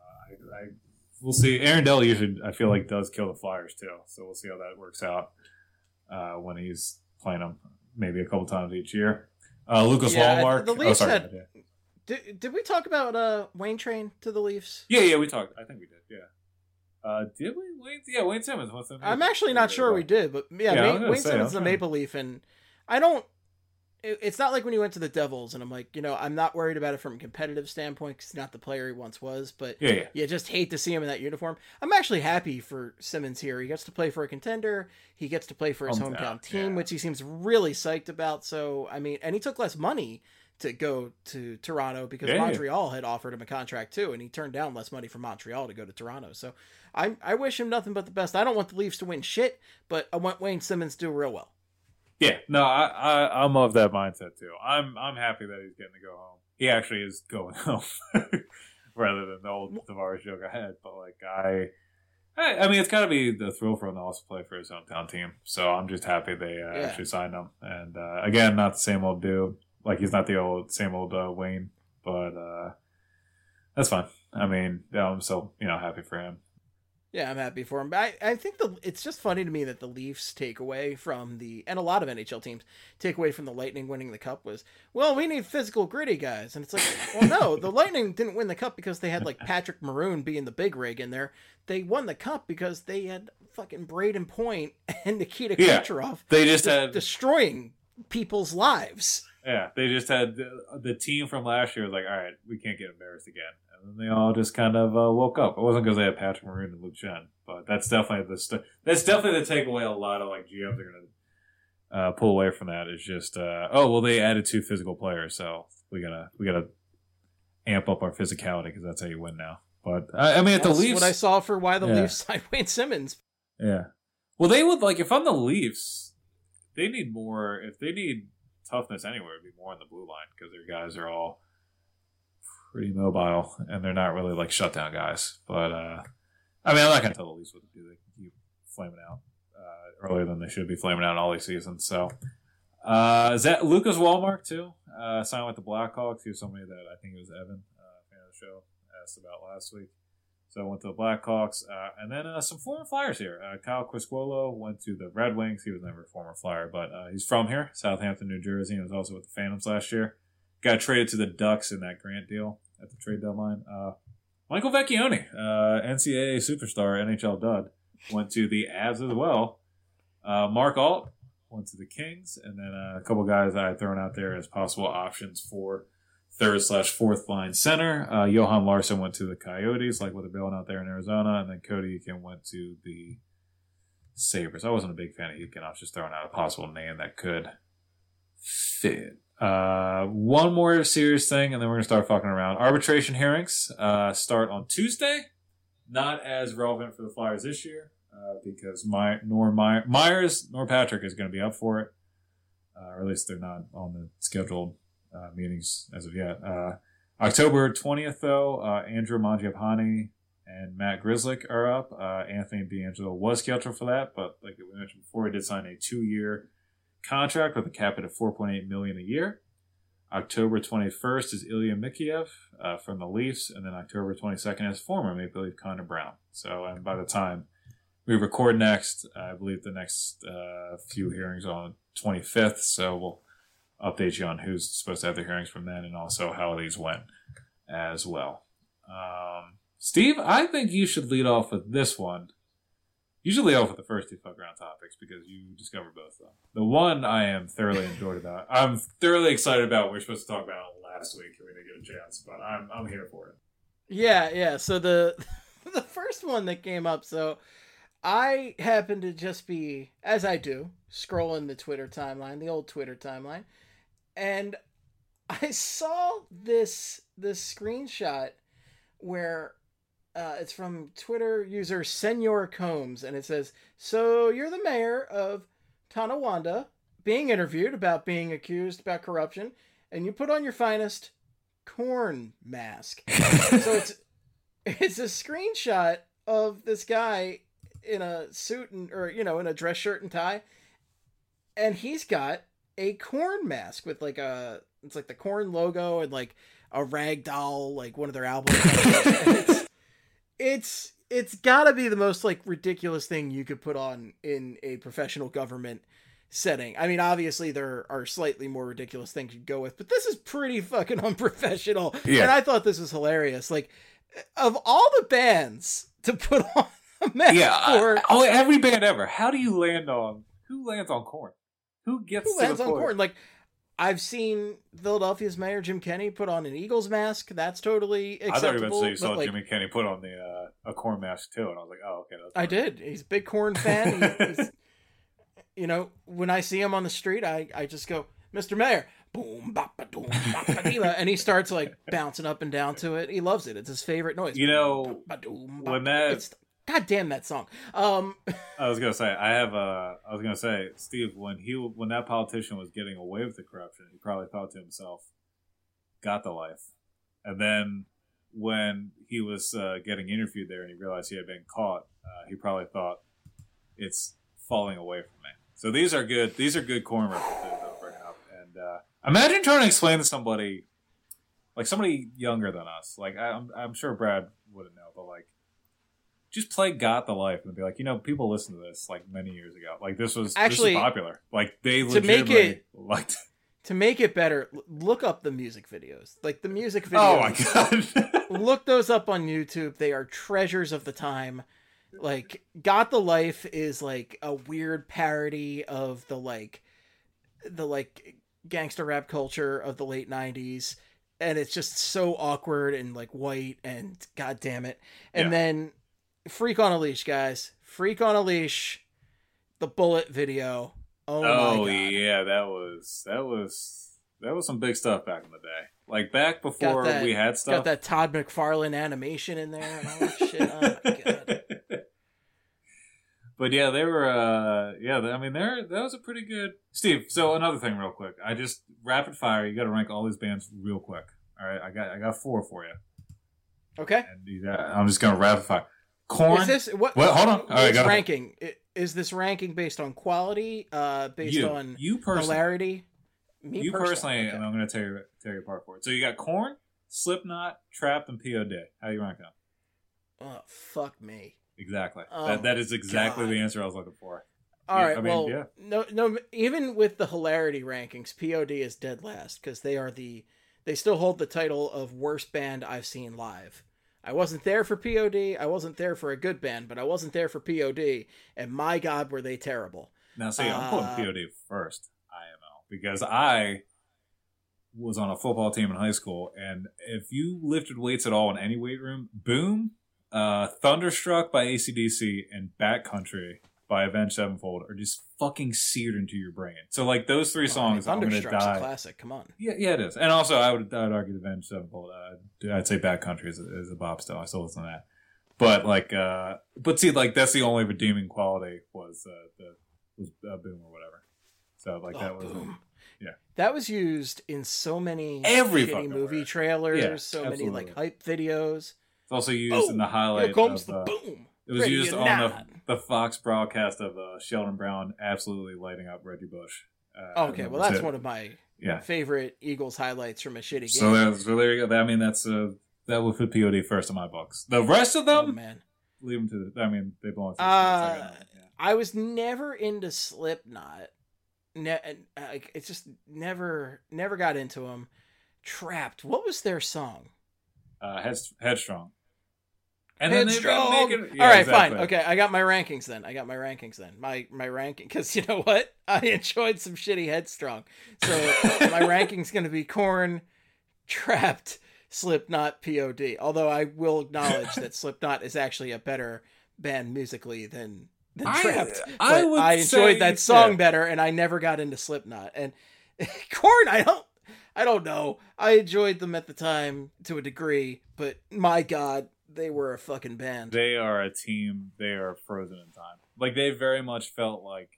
we'll see. Aaron Dell usually I feel like does kill the Flyers too. So we'll see how that works out. When he's playing them maybe a couple times each year. Lucas Wallmark. The Leafs did we talk about Wayne Train to the Leafs? Yeah, we talked. I think we did, yeah. Did we? Wayne Simmons. I'm actually not sure we did, but Wayne Simmons is a Maple Leaf, and I don't... It's not like when he went to the Devils, and I'm like, I'm not worried about it from a competitive standpoint because he's not the player he once was, but you just hate to see him in that uniform. I'm actually happy for Simmons here. He gets to play for a contender. He gets to play for his hometown team, which he seems really psyched about. So, and he took less money to go to Toronto because Montreal had offered him a contract too, and he turned down less money from Montreal to go to Toronto. So I wish him nothing but the best. I don't want the Leafs to win shit, but I want Wayne Simmons to do real well. Yeah, no, I'm of that mindset too. I'm happy that he's getting to go home. He actually is going home rather than the old Tavares joke I had. But like I mean, it's got to be the thrill for him to also play for his hometown team. So I'm just happy they actually signed him. And again, not the same old dude. Like he's not the same old Wayne, but that's fine. I mean, I'm so happy for him. Yeah, I'm happy for him. But I think it's just funny to me that the Leafs take away from and a lot of NHL teams take away from the Lightning winning the Cup was, well, we need physical, gritty guys. And it's like, well, no, the Lightning didn't win the Cup because they had like Patrick Maroon being the big rig in there. They won the Cup because they had fucking Braden Point and Nikita Kucherov. They just had destroying people's lives. Yeah, they just had the team from last year was like, all right, we can't get embarrassed again. And then they all just kind of woke up. It wasn't because they had Patrick Maroon and Luke Schenn, but that's definitely the takeaway. A lot of like GMs are going to pull away from that. Is just they added 2 physical players, so we gotta amp up our physicality because that's how you win now. But I mean, at the Leafs, what I saw for why the Leafs signed Wayne Simmons. Yeah, well, they would like if I'm the Leafs, they need more. If they need toughness anywhere, it'd be more on the blue line because their guys are all pretty mobile, and they're not really like shutdown guys. But I mean, I'm not going to tell the Leafs what to do. They can keep flaming out earlier than they should be flaming out all these seasons. So is that Lucas Wallmark too? Signed with the Blackhawks. He was somebody that I think it was Evan, fan of the show, asked about last week. So I went to the Blackhawks, and then some former Flyers here. Kyle Quisquolo went to the Red Wings. He was never a former Flyer, but he's from here, Southampton, New Jersey, and was also with the Phantoms last year. Got traded to the Ducks in that Grant deal at the trade deadline. Michael Vecchione, NCAA superstar, NHL dud, went to the Avs as well. Mark Alt went to the Kings, and then a couple guys I had thrown out there as possible options for third/fourth line center. Johan Larsson went to the Coyotes, like what they're building out there in Arizona, and then Cody Eakin went to the Sabres. I wasn't a big fan of Eakin. I was just throwing out a possible name that could fit. One more serious thing, and then we're going to start fucking around. Arbitration hearings start on Tuesday. Not as relevant for the Flyers this year because nor Myers nor Patrick is going to be up for it. Or at least they're not on the scheduled meetings as of yet. October 20th, though, Andrew Mangiapane and Matt Grzelcyk are up. Anthony DeAngelo was scheduled for that, but like we mentioned before, he did sign a 2-year contract with a cap at $4.8 million a year. October 21st is Ilya Mikheyev from the Leafs, and then October 22nd is former Maple Leaf Connor Brown. So, and by the time we record next, I believe the next few hearings are on the 25th, so we'll update you on who's supposed to have the hearings from then and also how these went as well. Steve, I think you should lead off with this one. You should lead off with the first two fuck around topics because you discovered both of them. The one I am thoroughly enjoyed about. I'm thoroughly excited about. We were supposed to talk about it last week and we didn't get a chance, but I'm here for it. Yeah. So the first one that came up. So I happened to just be, as I do, scrolling the Twitter timeline, the old Twitter timeline, and I saw this screenshot where it's from Twitter user Senor Combs, and it says, "So you're the mayor of Tonawanda being interviewed about being accused about corruption, and you put on your finest corn mask." So it's a screenshot of this guy in a suit in a dress shirt and tie, and he's got a corn mask with it's like the corn logo and like a rag doll, like one of their albums. It's gotta be the most like ridiculous thing you could put on in a professional government setting. I mean, obviously there are slightly more ridiculous things you'd go with, but this is pretty fucking unprofessional. Yeah. And I thought this was hilarious. Like, of all the bands to put on a mask for, every band ever. How do you land on? Who lands on corn? Who lands on corn? Like, I've seen Philadelphia's mayor Jim Kenney put on an Eagles mask. That's totally acceptable. I thought you were going to say you saw Jimmy Kenney put on a corn mask too, and I was like, oh, okay. That's I did. He's a big corn fan. He's, when I see him on the street, I just go, "Mr. Mayor," boom, bapa, doom, bapa, and he starts like bouncing up and down to it. He loves it. It's his favorite noise. When that. God damn that song. I was gonna say, Steve, when that politician was getting away with the corruption, he probably thought to himself, "Got the life." And then when he was getting interviewed there and he realized he had been caught, he probably thought, "It's falling away from me." So these are good corn references that I'll bring up. And imagine trying to explain to somebody, like somebody younger than us. Like I'm sure Brad wouldn't know, but like, just play "Got the Life" and be like, people listen to this like many years ago. Like this was popular. Like they legitimately liked. To make it better, look up the music videos. Like the music videos. Oh my god! Look those up on YouTube. They are treasures of the time. Like "Got the Life" is like a weird parody of the gangster rap culture of the late 90s. And it's just so awkward and like white and god damn it. And then Freak on a Leash, guys. Freak on a Leash. The Bullet video. Oh my god. Yeah, that was some big stuff back in the day. Like back before we had stuff. Got that Todd McFarlane animation in there and all that shit. Oh my god. But yeah, they were that was a pretty good Steve, so another thing real quick. I just rapid fire, you gotta rank all these bands real quick. Alright, I got 4 for you. Okay. And I'm just gonna rapid fire. Korn. Is this what? Well, hold on. All right, ranking. Is this ranking based on quality? Based on hilarity? You personally, okay. And I'm going to tear you apart for it. So you got Korn, Slipknot, Trapt, and POD. How do you rank them? Oh, fuck me. Exactly. That is exactly the answer I was looking for. All right. No. Even with the hilarity rankings, POD is dead last because they still hold the title of worst band I've seen live. I wasn't there for POD. I wasn't there for a good band, but I wasn't there for POD. And my God, were they terrible. Now, see, I'm putting POD first, IMO, because I was on a football team in high school. And if you lifted weights at all in any weight room, Boom, Thunderstruck by AC/DC, and Backcountry by Avenged Sevenfold are just fucking seared into your brain. So, like, those 3 songs, I'm going to die. Thunderstruck's a classic, come on. Yeah, it is. And also, I would argue the Avenged Sevenfold. I'd say Backcountry is a bop still. I still listen to that. But, like, see, like, that's the only redeeming quality was Boom or whatever. So, like, that was... Boom. Yeah. That was used in so many shitty movie trailers, so absolutely. Many, like, hype videos. It's also used in the highlight here comes the boom. It was used on the Fox broadcast of Sheldon Brown absolutely lighting up Reggie Bush. Okay, well, that's one of my favorite Eagles highlights from a shitty game. So there you go. I mean, that would put POD first in my books. The rest of them, leave them to they belong to the I was never into Slipknot. It's just never got into them. Trapt. What was their song? Headstrong. And then Headstrong. they've been making... All right, fine. Okay, I got my rankings then. My ranking, because you know what? I enjoyed some shitty Headstrong. So my ranking's going to be Korn, Trapped, Slipknot, POD. Although I will acknowledge that Slipknot is actually a better band musically than Trapped. I enjoyed that song better, and I never got into Slipknot. And Korn, I don't know. I enjoyed them at the time to a degree, but my God, they were a fucking band. They are a team. They are frozen in time. Like, they very much felt like...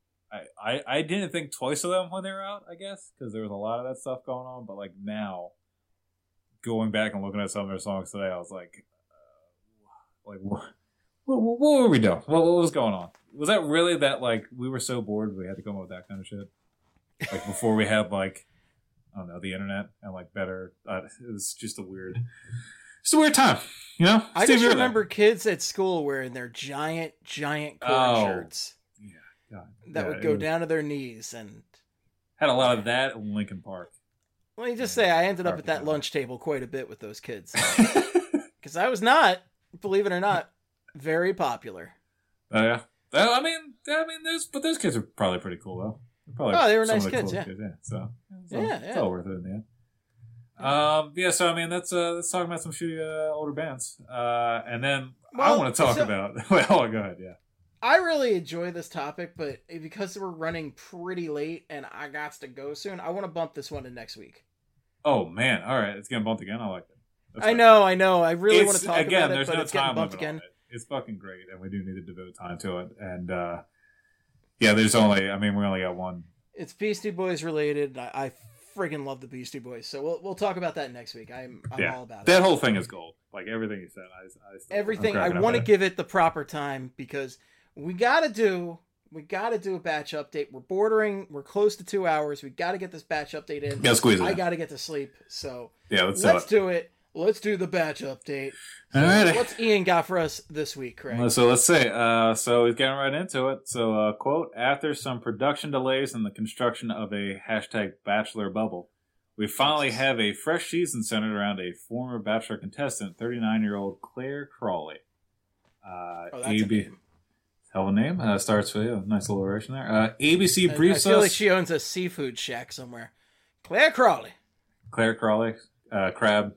I didn't think twice of them when they were out, I guess, because there was a lot of that stuff going on. But, like, now, going back and looking at some of their songs today, I was like, what were we doing? What was going on? Was that really that, like, we were so bored we had to come up with that kind of shit? Like, before we had, like, I don't know, the internet and, like, better... it was just a weird time, you know? I just remember kids at school wearing their giant Korn shirts. Yeah, God. That would go down to their knees and... Had a lot of that in Linkin Park. Let me just say, I ended up at that lunch table quite a bit with those kids. Because I was not, believe it or not, very popular. Oh, yeah. Well, I mean, those kids are probably pretty cool, though. They were nice kids, yeah. So, it's all worth it in the end. So I mean, let's talk about some shitty older bands, and then I want to talk about. Well, go ahead, yeah. I really enjoy this topic, but because we're running pretty late and I got to go soon, I want to bump this one to next week. Oh man, all right, it's getting bumped again. I like it. I know. I really want to talk about it, but no it's getting time bumped limit on again. It's fucking great, and we do need to devote time to it. And there's only. I mean, we only got one. It's Beastie Boys related. I friggin' love the Beastie Boys, so we'll talk about that next week. I'm all about it. That whole thing is gold. Like everything you said, everything. I want to give it the proper time because we gotta do a batch update. We're close to 2 hours. We gotta get this batch update in. Yeah, squeeze it. I gotta get to sleep. So yeah, let's do it. Let's do the batch update. So all right. What's Ian got for us this week, Craig? So let's say, so he's getting right into it. So, quote, after some production delays in the construction of a #Bachelor bubble, we finally have a fresh season centered around a former Bachelor contestant, 39-year-old Claire Crawley. That's a name. Hell of a name. Starts with a nice little oration there. ABC briefs us. I feel like she owns a seafood shack somewhere. Claire Crawley. Claire Crawley. Crab.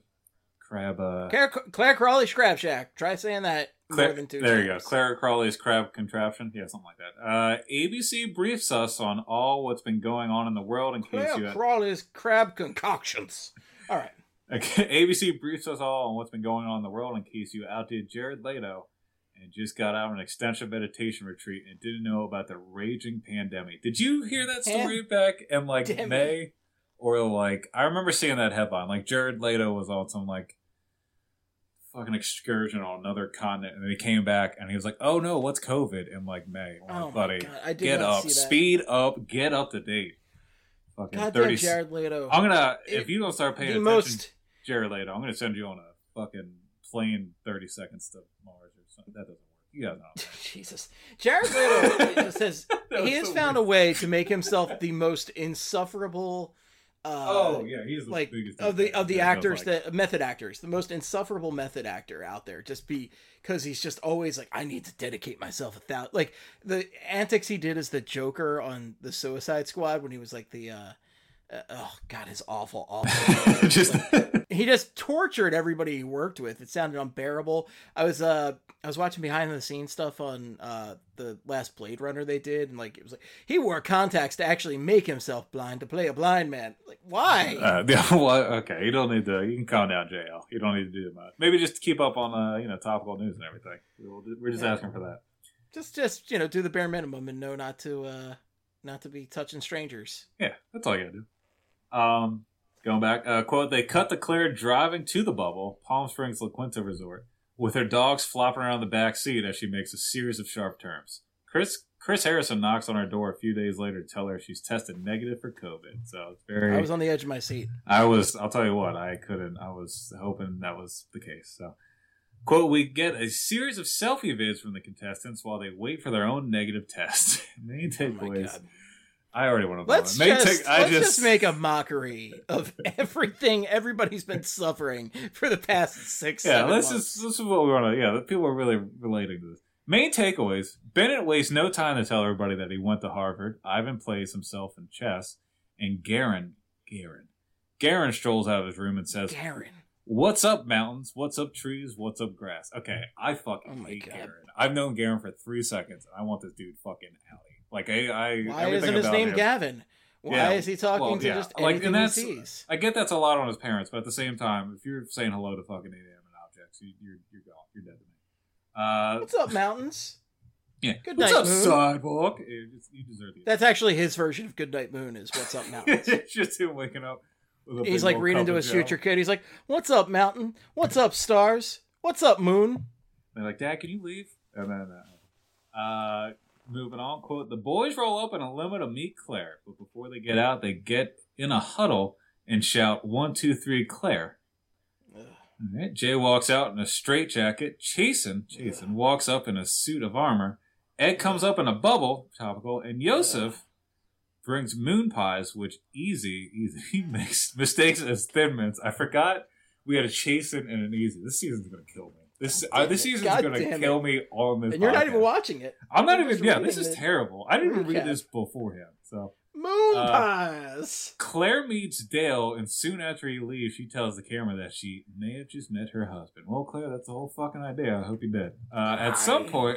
Claire Crawley's Crab Shack. Try saying that more than 2 times. There you go. Claire Crawley's Crab Contraption. Yeah, something like that. ABC briefs us on all what's been going on in the world in case Claire Crawley's Crab Concoctions. All right. Okay. ABC briefs us all on what's been going on in the world in case you outdid Jared Leto and just got out of an extensive meditation retreat and didn't know about the raging pandemic. Did you hear that story back in like May? Or like, I remember seeing that headline. Like Jared Leto was on some like fucking excursion on another continent, and then he came back and he was like, "Oh no, what's COVID?" in like May. Oh buddy, my God. I did get not up, see that. speed up, get up to date. Fucking Goddamn 30. Jared Leto. I'm gonna if you don't start paying attention, to Jared Leto, I'm gonna send you on a fucking plane 30 seconds to Mars or something. That doesn't work. You guys know. Jesus, Jared Leto says he has found a way to make himself the most insufferable. He's the like biggest of the actors, the method actors, the most insufferable method actor out there. Just because he's just always like, I need to dedicate myself 1,000. Like the antics he did as the Joker on the Suicide Squad when he was like the oh God, his awful. He just tortured everybody he worked with. It sounded unbearable. I was watching behind the scenes stuff on the last Blade Runner they did, and like it was like he wore contacts to actually make himself blind to play a blind man. Like why? Okay, you don't need to. You can calm down, JL. You don't need to do that. Maybe just keep up on topical news and everything. We're just asking for that. Just do the bare minimum and know not to be touching strangers. Yeah, that's all you gotta do. Going back, quote, they cut to Claire driving to the bubble, Palm Springs La Quinta Resort, with her dogs flopping around the back seat as she makes a series of sharp turns. Chris Harrison knocks on her door a few days later to tell her she's tested negative for COVID. So it's very... I was on the edge of my seat. I'll tell you what, I was hoping that was the case. So, quote, we get a series of selfie vids from the contestants while they wait for their own negative test. Main takeaways. I already want to. Let's just make a mockery of everything everybody's been suffering for the past 6-7 months. This is what we want to. Yeah, people are really relating to this. Main takeaways: Bennett wastes no time to tell everybody that he went to Harvard. Ivan plays himself in chess, and Garen strolls out of his room and says, "What's up, mountains? What's up, trees? What's up, grass?" Okay, I fucking hate Garen. I've known Garen for 3 seconds, and I want this dude fucking outie. Like why isn't his name Gavin? Why is he talking to just anything he sees? I get that's a lot on his parents, but at the same time, if you're saying hello to fucking inanimate objects, you're gone. You're dead to me. What's up, mountains? Yeah. Good What's night, up, moon? sidewalk? You deserve it. That's actually his version of Good Night Moon. Is what's up, mountains? It's just him waking up. He's like reading to his future kid. He's like, "What's up, mountain? What's up, stars? What's up, moon?" They're like, "Dad, can you leave?" And then, moving on, quote, "The boys roll up in a limo to meet Claire, but before they get out, they get in a huddle and shout, 1, 2, 3, Claire." All right, Jay walks out in a straitjacket. Chasen walks up in a suit of armor. Ed comes up in a bubble, topical, and Yosef brings moon pies, which Easy makes mistakes as Thin Mints. I forgot we had a Chasen and an Easy. This season's going to kill me. This season's going to kill me on this And you're podcast. not even watching it. I'm not even, this is terrible. I didn't even read this beforehand, so. Moon pies! Claire meets Dale, and soon after he leaves, she tells the camera that she may have just met her husband. Well, Claire, that's the whole fucking idea. I hope you did. At some point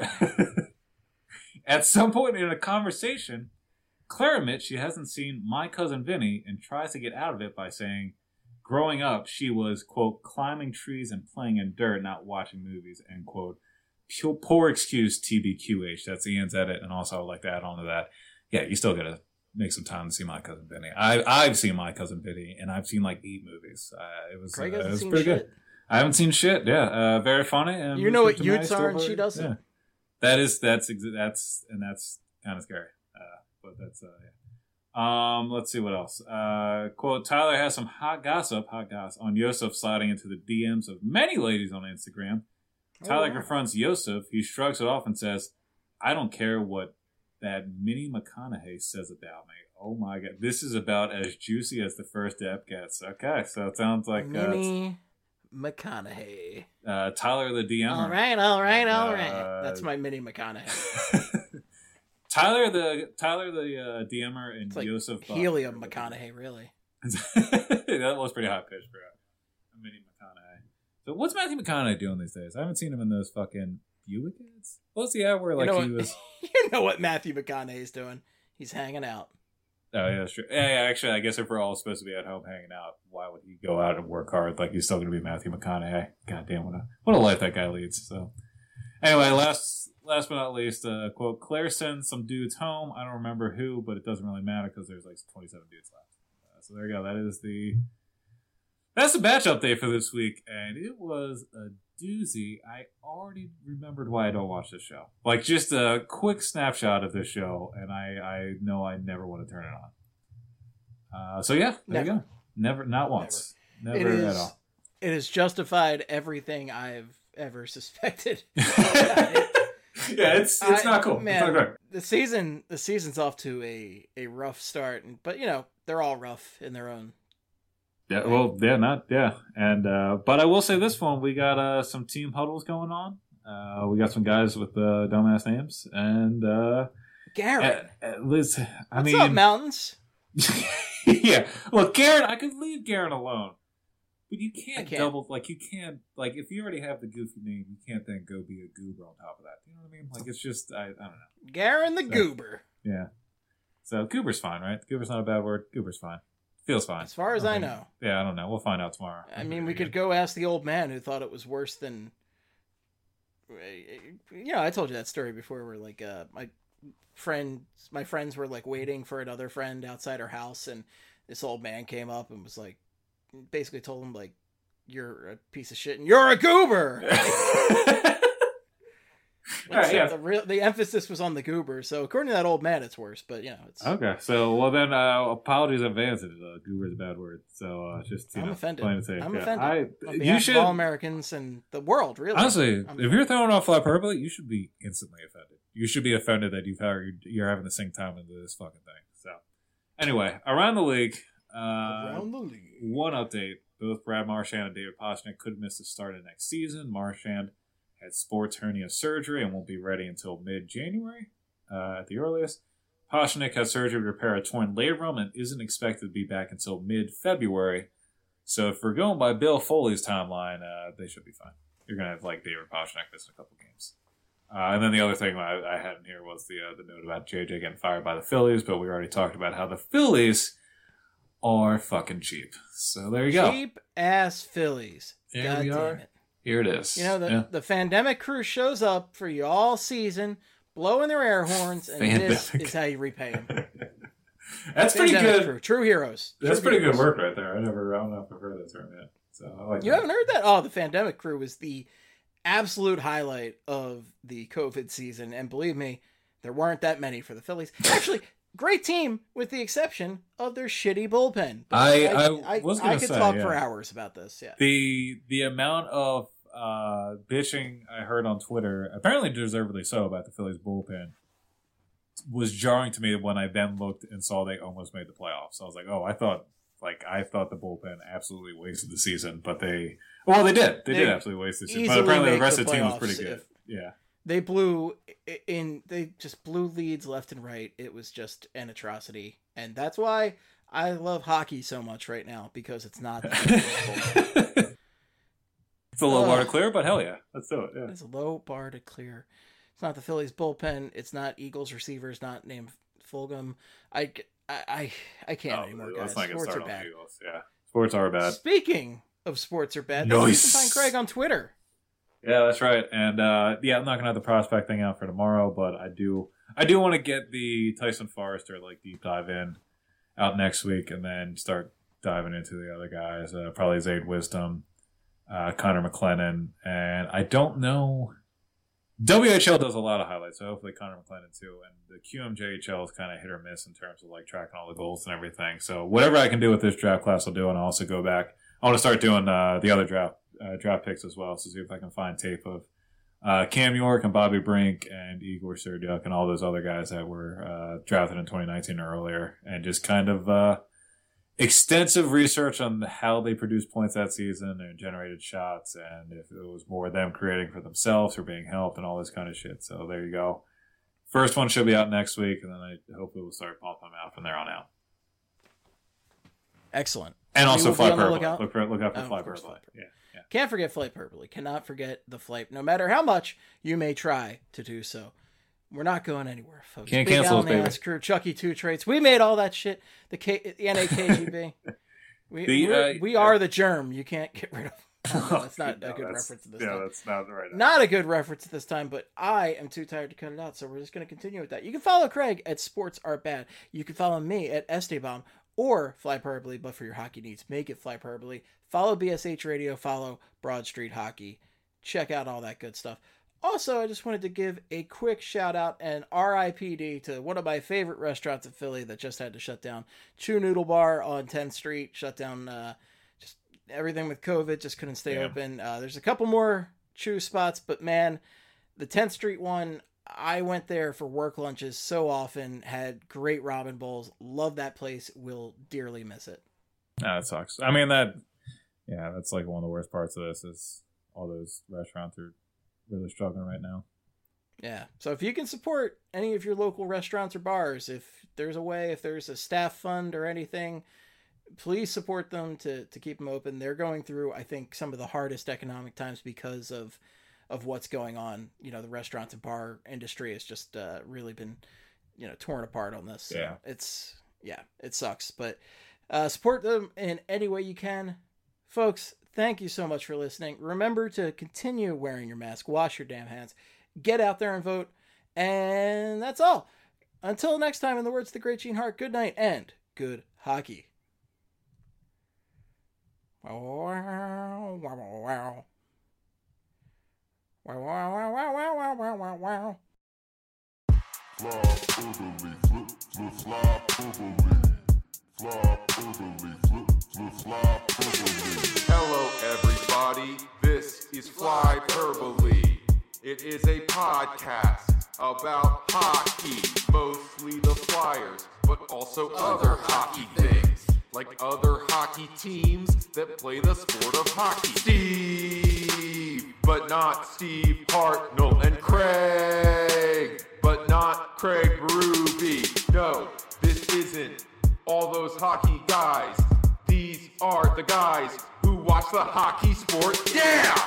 in a conversation, Claire admits she hasn't seen My Cousin Vinny and tries to get out of it by saying, growing up, she was, quote, climbing trees and playing in dirt, not watching movies, end quote. Poor excuse, TBQH. That's Ian's edit, and also I would like to add on to that. Yeah, you still gotta make some time to see My Cousin Vinny. I've seen My Cousin Vinny, and I've seen like 8 movies. It was pretty good. I haven't seen shit. Yeah, very funny. And you know what Utes are, and she doesn't. Yeah. That's kind of scary. But that's let's see what else. Quote, Tyler has some hot gossip on Yosef sliding into the DMs of many ladies on Instagram. Tyler confronts Yosef. He shrugs it off and says, "I don't care what that Minnie McConaughey says about me." Oh my god, this is about as juicy as the first ep gets. Okay, so it sounds like Minnie McConaughey. Tyler the DMer. All right. That's my Minnie McConaughey. Tyler the DMer and it's like Yosef Helium McConaughey, really. That was pretty high pitch for a Minnie McConaughey. So what's Matthew McConaughey doing these days? I haven't seen him in those fucking Buick ads. What's the ad where like he was? You know what Matthew McConaughey's doing? He's hanging out. Oh yeah, that's true. Yeah, actually, I guess if we're all supposed to be at home hanging out, why would he go out and work hard? Like he's still going to be Matthew McConaughey. God damn, what a life that guy leads. So anyway, last but not least, quote, Claire sends some dudes home. I don't remember who, but it doesn't really matter because there's like 27 dudes left. So there you go. That's the batch update for this week, and it was a doozy. I already remembered why I don't watch this show. Like just a quick snapshot of this show, and I know I never want to turn it on. So yeah, there you go. Never, not once. Never at all. It has justified everything I've ever suspected. Yeah, it's not cool. Man, it's not great. The season's off to a rough start, but you know they're all rough in their own. Yeah, well, and but I will say this one: we got some team huddles going on. We got some guys with dumbass names, and Garrett. Liz, What's up, mountains? Yeah, look, Garrett. I could leave Garrett alone. But you can't double, like, you can't, like, if you already have the goofy name, you can't then go be a goober on top of that. You know what I mean? Like, it's just, I don't know. Garen the Goober. Yeah. So, goober's fine, right? Goober's not a bad word. Goober's fine. Feels fine. As far as I know. Yeah, I don't know. We'll find out tomorrow. I mean, we could go ask the old man who thought it was worse than, you know, I told you that story before where, like, my friends were, like, waiting for another friend outside her house, and this old man came up and was, like, basically told him, like, you're a piece of shit and you're a goober. The emphasis was on the goober, so according to that old man it's worse, but you know it's okay. So well then apologies in advance. Goober is a bad word, so just I'm offended. I'm offended. You should, all Americans and the world, really. Honestly, if you're throwing off hyperbole, you should be instantly offended. You should be offended that you're having to sink time into this fucking thing. So Anyway, around the league. Around the league. One update. Both Brad Marchand and David Pastrnak could miss the start of next season. Marchand had sports hernia surgery and won't be ready until mid-January at the earliest. Pastrnak had surgery to repair a torn labrum and isn't expected to be back until mid-February. So if we're going by Bill Foley's timeline, they should be fine. You're going to have David Pastrnak missing a couple games. And then the other thing I had in here was the note about JJ getting fired by the Phillies, but we already talked about how the Phillies are fucking cheap. So there you go. Cheap ass Phillies. Here God we damn are. it. Here it is. The Fandemic crew shows up for you all season, blowing their air horns, and this is how you repay them. That's pretty good. Crew. True heroes. That's pretty good work right there. I don't know if I've heard that term yet. So I like you haven't heard that? Oh, the Fandemic crew was the absolute highlight of the COVID season, and believe me, there weren't that many for the Phillies. Actually, great team with the exception of their shitty bullpen. I was going I to could say, talk for hours about this. Yeah. The amount of bitching I heard on Twitter, apparently deservedly so, about the Phillies bullpen was jarring to me when I then looked and saw they almost made the playoffs. I was like, oh, I thought the bullpen absolutely wasted the season, but they did. They did absolutely waste the season. But apparently the rest of the team was pretty good. Yeah. They just blew leads left and right. It was just an atrocity. And that's why I love hockey so much right now, because it's not It's a low bar to clear, but hell yeah. Let's do it. Yeah. It's a low bar to clear. It's not the Phillies bullpen. It's not Eagles receivers not named Fulgham. I can't anymore, guys. Let's not get Sports are started bad. on the Eagles. Yeah. Sports are bad. Speaking of sports are bad, nice. You can find Craig on Twitter. Yeah, that's right. And I'm not gonna have the prospect thing out for tomorrow, but I do want to get the Tyson Forrester deep dive in out next week, and then start diving into the other guys. Probably Zayd Wisdom, Connor McClennan, and I don't know. WHL does a lot of highlights, so hopefully Connor McClennan too. And the QMJHL is kind of hit or miss in terms of tracking all the goals and everything. So whatever I can do with this draft class, I'll do, and I'll also go back. I want to start doing the other draft picks as well, so see if I can find tape of Cam York and Bobby Brink and Igor Serdyuk and all those other guys that were drafted in 2019 or earlier, and just kind of extensive research on how they produced points that season and generated shots, and if it was more them creating for themselves or being helped and all this kind of shit. So there you go. First one should be out next week, and then I hopefully we'll start pumping them out from there on out. Excellent. And also Fly Purple. Look out for Fly Purple. Yeah. Can't forget Flight Purple. Cannot forget the flight, no matter how much you may try to do so. We're not going anywhere, folks. Can't cancel us, baby. Crew, Chucky 2 traits. We made all that shit. The NAKGB. We are the germ. You can't get rid of. No, that's not a good reference at this time. Yeah, that's not right. Not a good reference at this time, but I am too tired to cut it out, so we're just going to continue with that. You can follow Craig at Sports Are Bad. You can follow me at Esteban or Fly Purple, but for your hockey needs, make it Fly Purple. Follow BSH Radio. Follow Broad Street Hockey. Check out all that good stuff. Also, I just wanted to give a quick shout out and RIPD to one of my favorite restaurants in Philly that just had to shut down. Chew Noodle Bar on 10th Street shut down. Just everything with COVID just couldn't stay open. There's a couple more Chew spots, but man, the 10th Street one, I went there for work lunches so often. Had great ramen bowls. Love that place. Will dearly miss it. That sucks. I mean that's one of the worst parts of this is all those restaurants are really struggling right now. Yeah. So if you can support any of your local restaurants or bars, if there's a staff fund or anything, please support them to keep them open. They're going through, I think, some of the hardest economic times because of what's going on. The restaurants and bar industry has just really been, torn apart on this. So it sucks, but support them in any way you can. Folks, thank you so much for listening. Remember to continue wearing your mask, wash your damn hands, get out there and vote, and that's all. Until next time, in the words of the great Gene Hart, good night and good hockey. Wow, wow, wow. Wow, wow, wow, wow, wow, wow, wow, wow. Fly purpley, flip, fly purpley. Fly purpley, flip, fly purpley. Hello, everybody. This is Fly Purpley. It is a podcast about hockey, mostly the Flyers, but also other hockey things, like other hockey teams that play the sport of hockey. Steve, but not Steve Hartnell, and Craig, but not Craig Berube. No, this isn't all those hockey guys. These are the guys who watch the hockey sport. Yeah!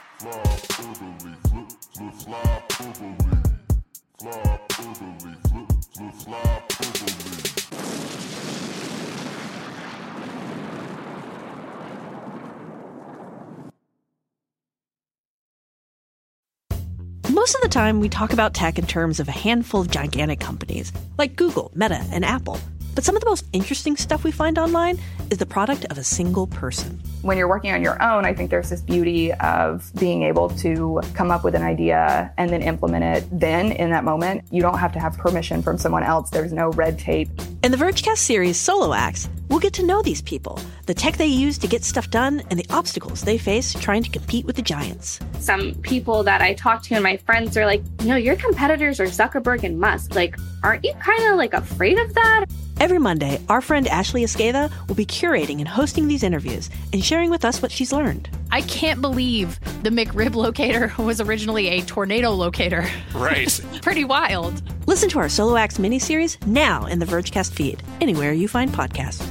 Most of the time, we talk about tech in terms of a handful of gigantic companies, like Google, Meta, and Apple. But some of the most interesting stuff we find online is the product of a single person. When you're working on your own, I think there's this beauty of being able to come up with an idea and then implement it then in that moment. You don't have to have permission from someone else. There's no red tape. In the Vergecast series Solo Acts, we'll get to know these people, the tech they use to get stuff done, and the obstacles they face trying to compete with the giants. Some people that I talk to and my friends are like, your competitors are Zuckerberg and Musk. Like, aren't you kind of like afraid of that? Every Monday, our friend Ashley Esqueda will be curating and hosting these interviews and sharing with us what she's learned. I can't believe the McRib locator was originally a tornado locator. Right. Pretty wild. Listen to our Solo Acts miniseries now in the Vergecast feed, anywhere you find podcasts.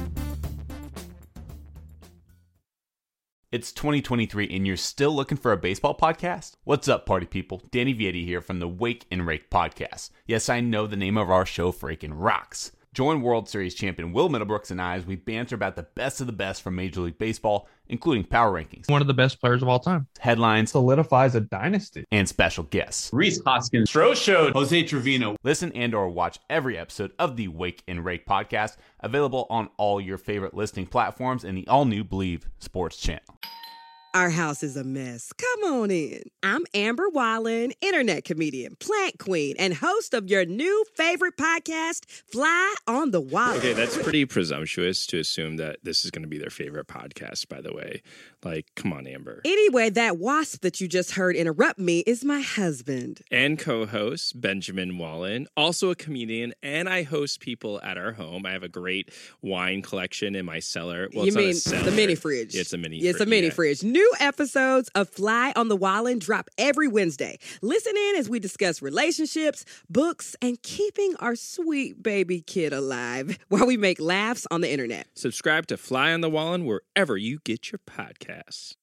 It's 2023 and you're still looking for a baseball podcast? What's up, party people? Danny Vietti here from the Wake and Rake podcast. Yes, I know the name of our show freaking rocks. Join World Series champion Will Middlebrooks and I as we banter about the best of the best from Major League Baseball, including power rankings, one of the best players of all time, headlines, solidifies a dynasty, and special guests. Rhys Hoskins, Stroh Show, Jose Trevino. Listen and or watch every episode of the Wake and Rake podcast, available on all your favorite listening platforms and the all-new Believe Sports channel. Our house is a mess. Come on in. I'm Amber Wallen, internet comedian, plant queen, and host of your new favorite podcast, Fly on the Wallen. Okay, that's pretty presumptuous to assume that this is going to be their favorite podcast, by the way. Like, come on, Amber. Anyway, that wasp that you just heard interrupt me is my husband. And co-host, Benjamin Wallen, also a comedian, and I host people at our home. I have a great wine collection in my cellar. Well, you mean the mini fridge? Yeah, it's a mini fridge. It's a mini fridge. New episodes of Fly on the Wallen drop every Wednesday. Listen in as we discuss relationships, books, and keeping our sweet baby kid alive while we make laughs on the internet. Subscribe to Fly on the Wallen wherever you get your podcasts.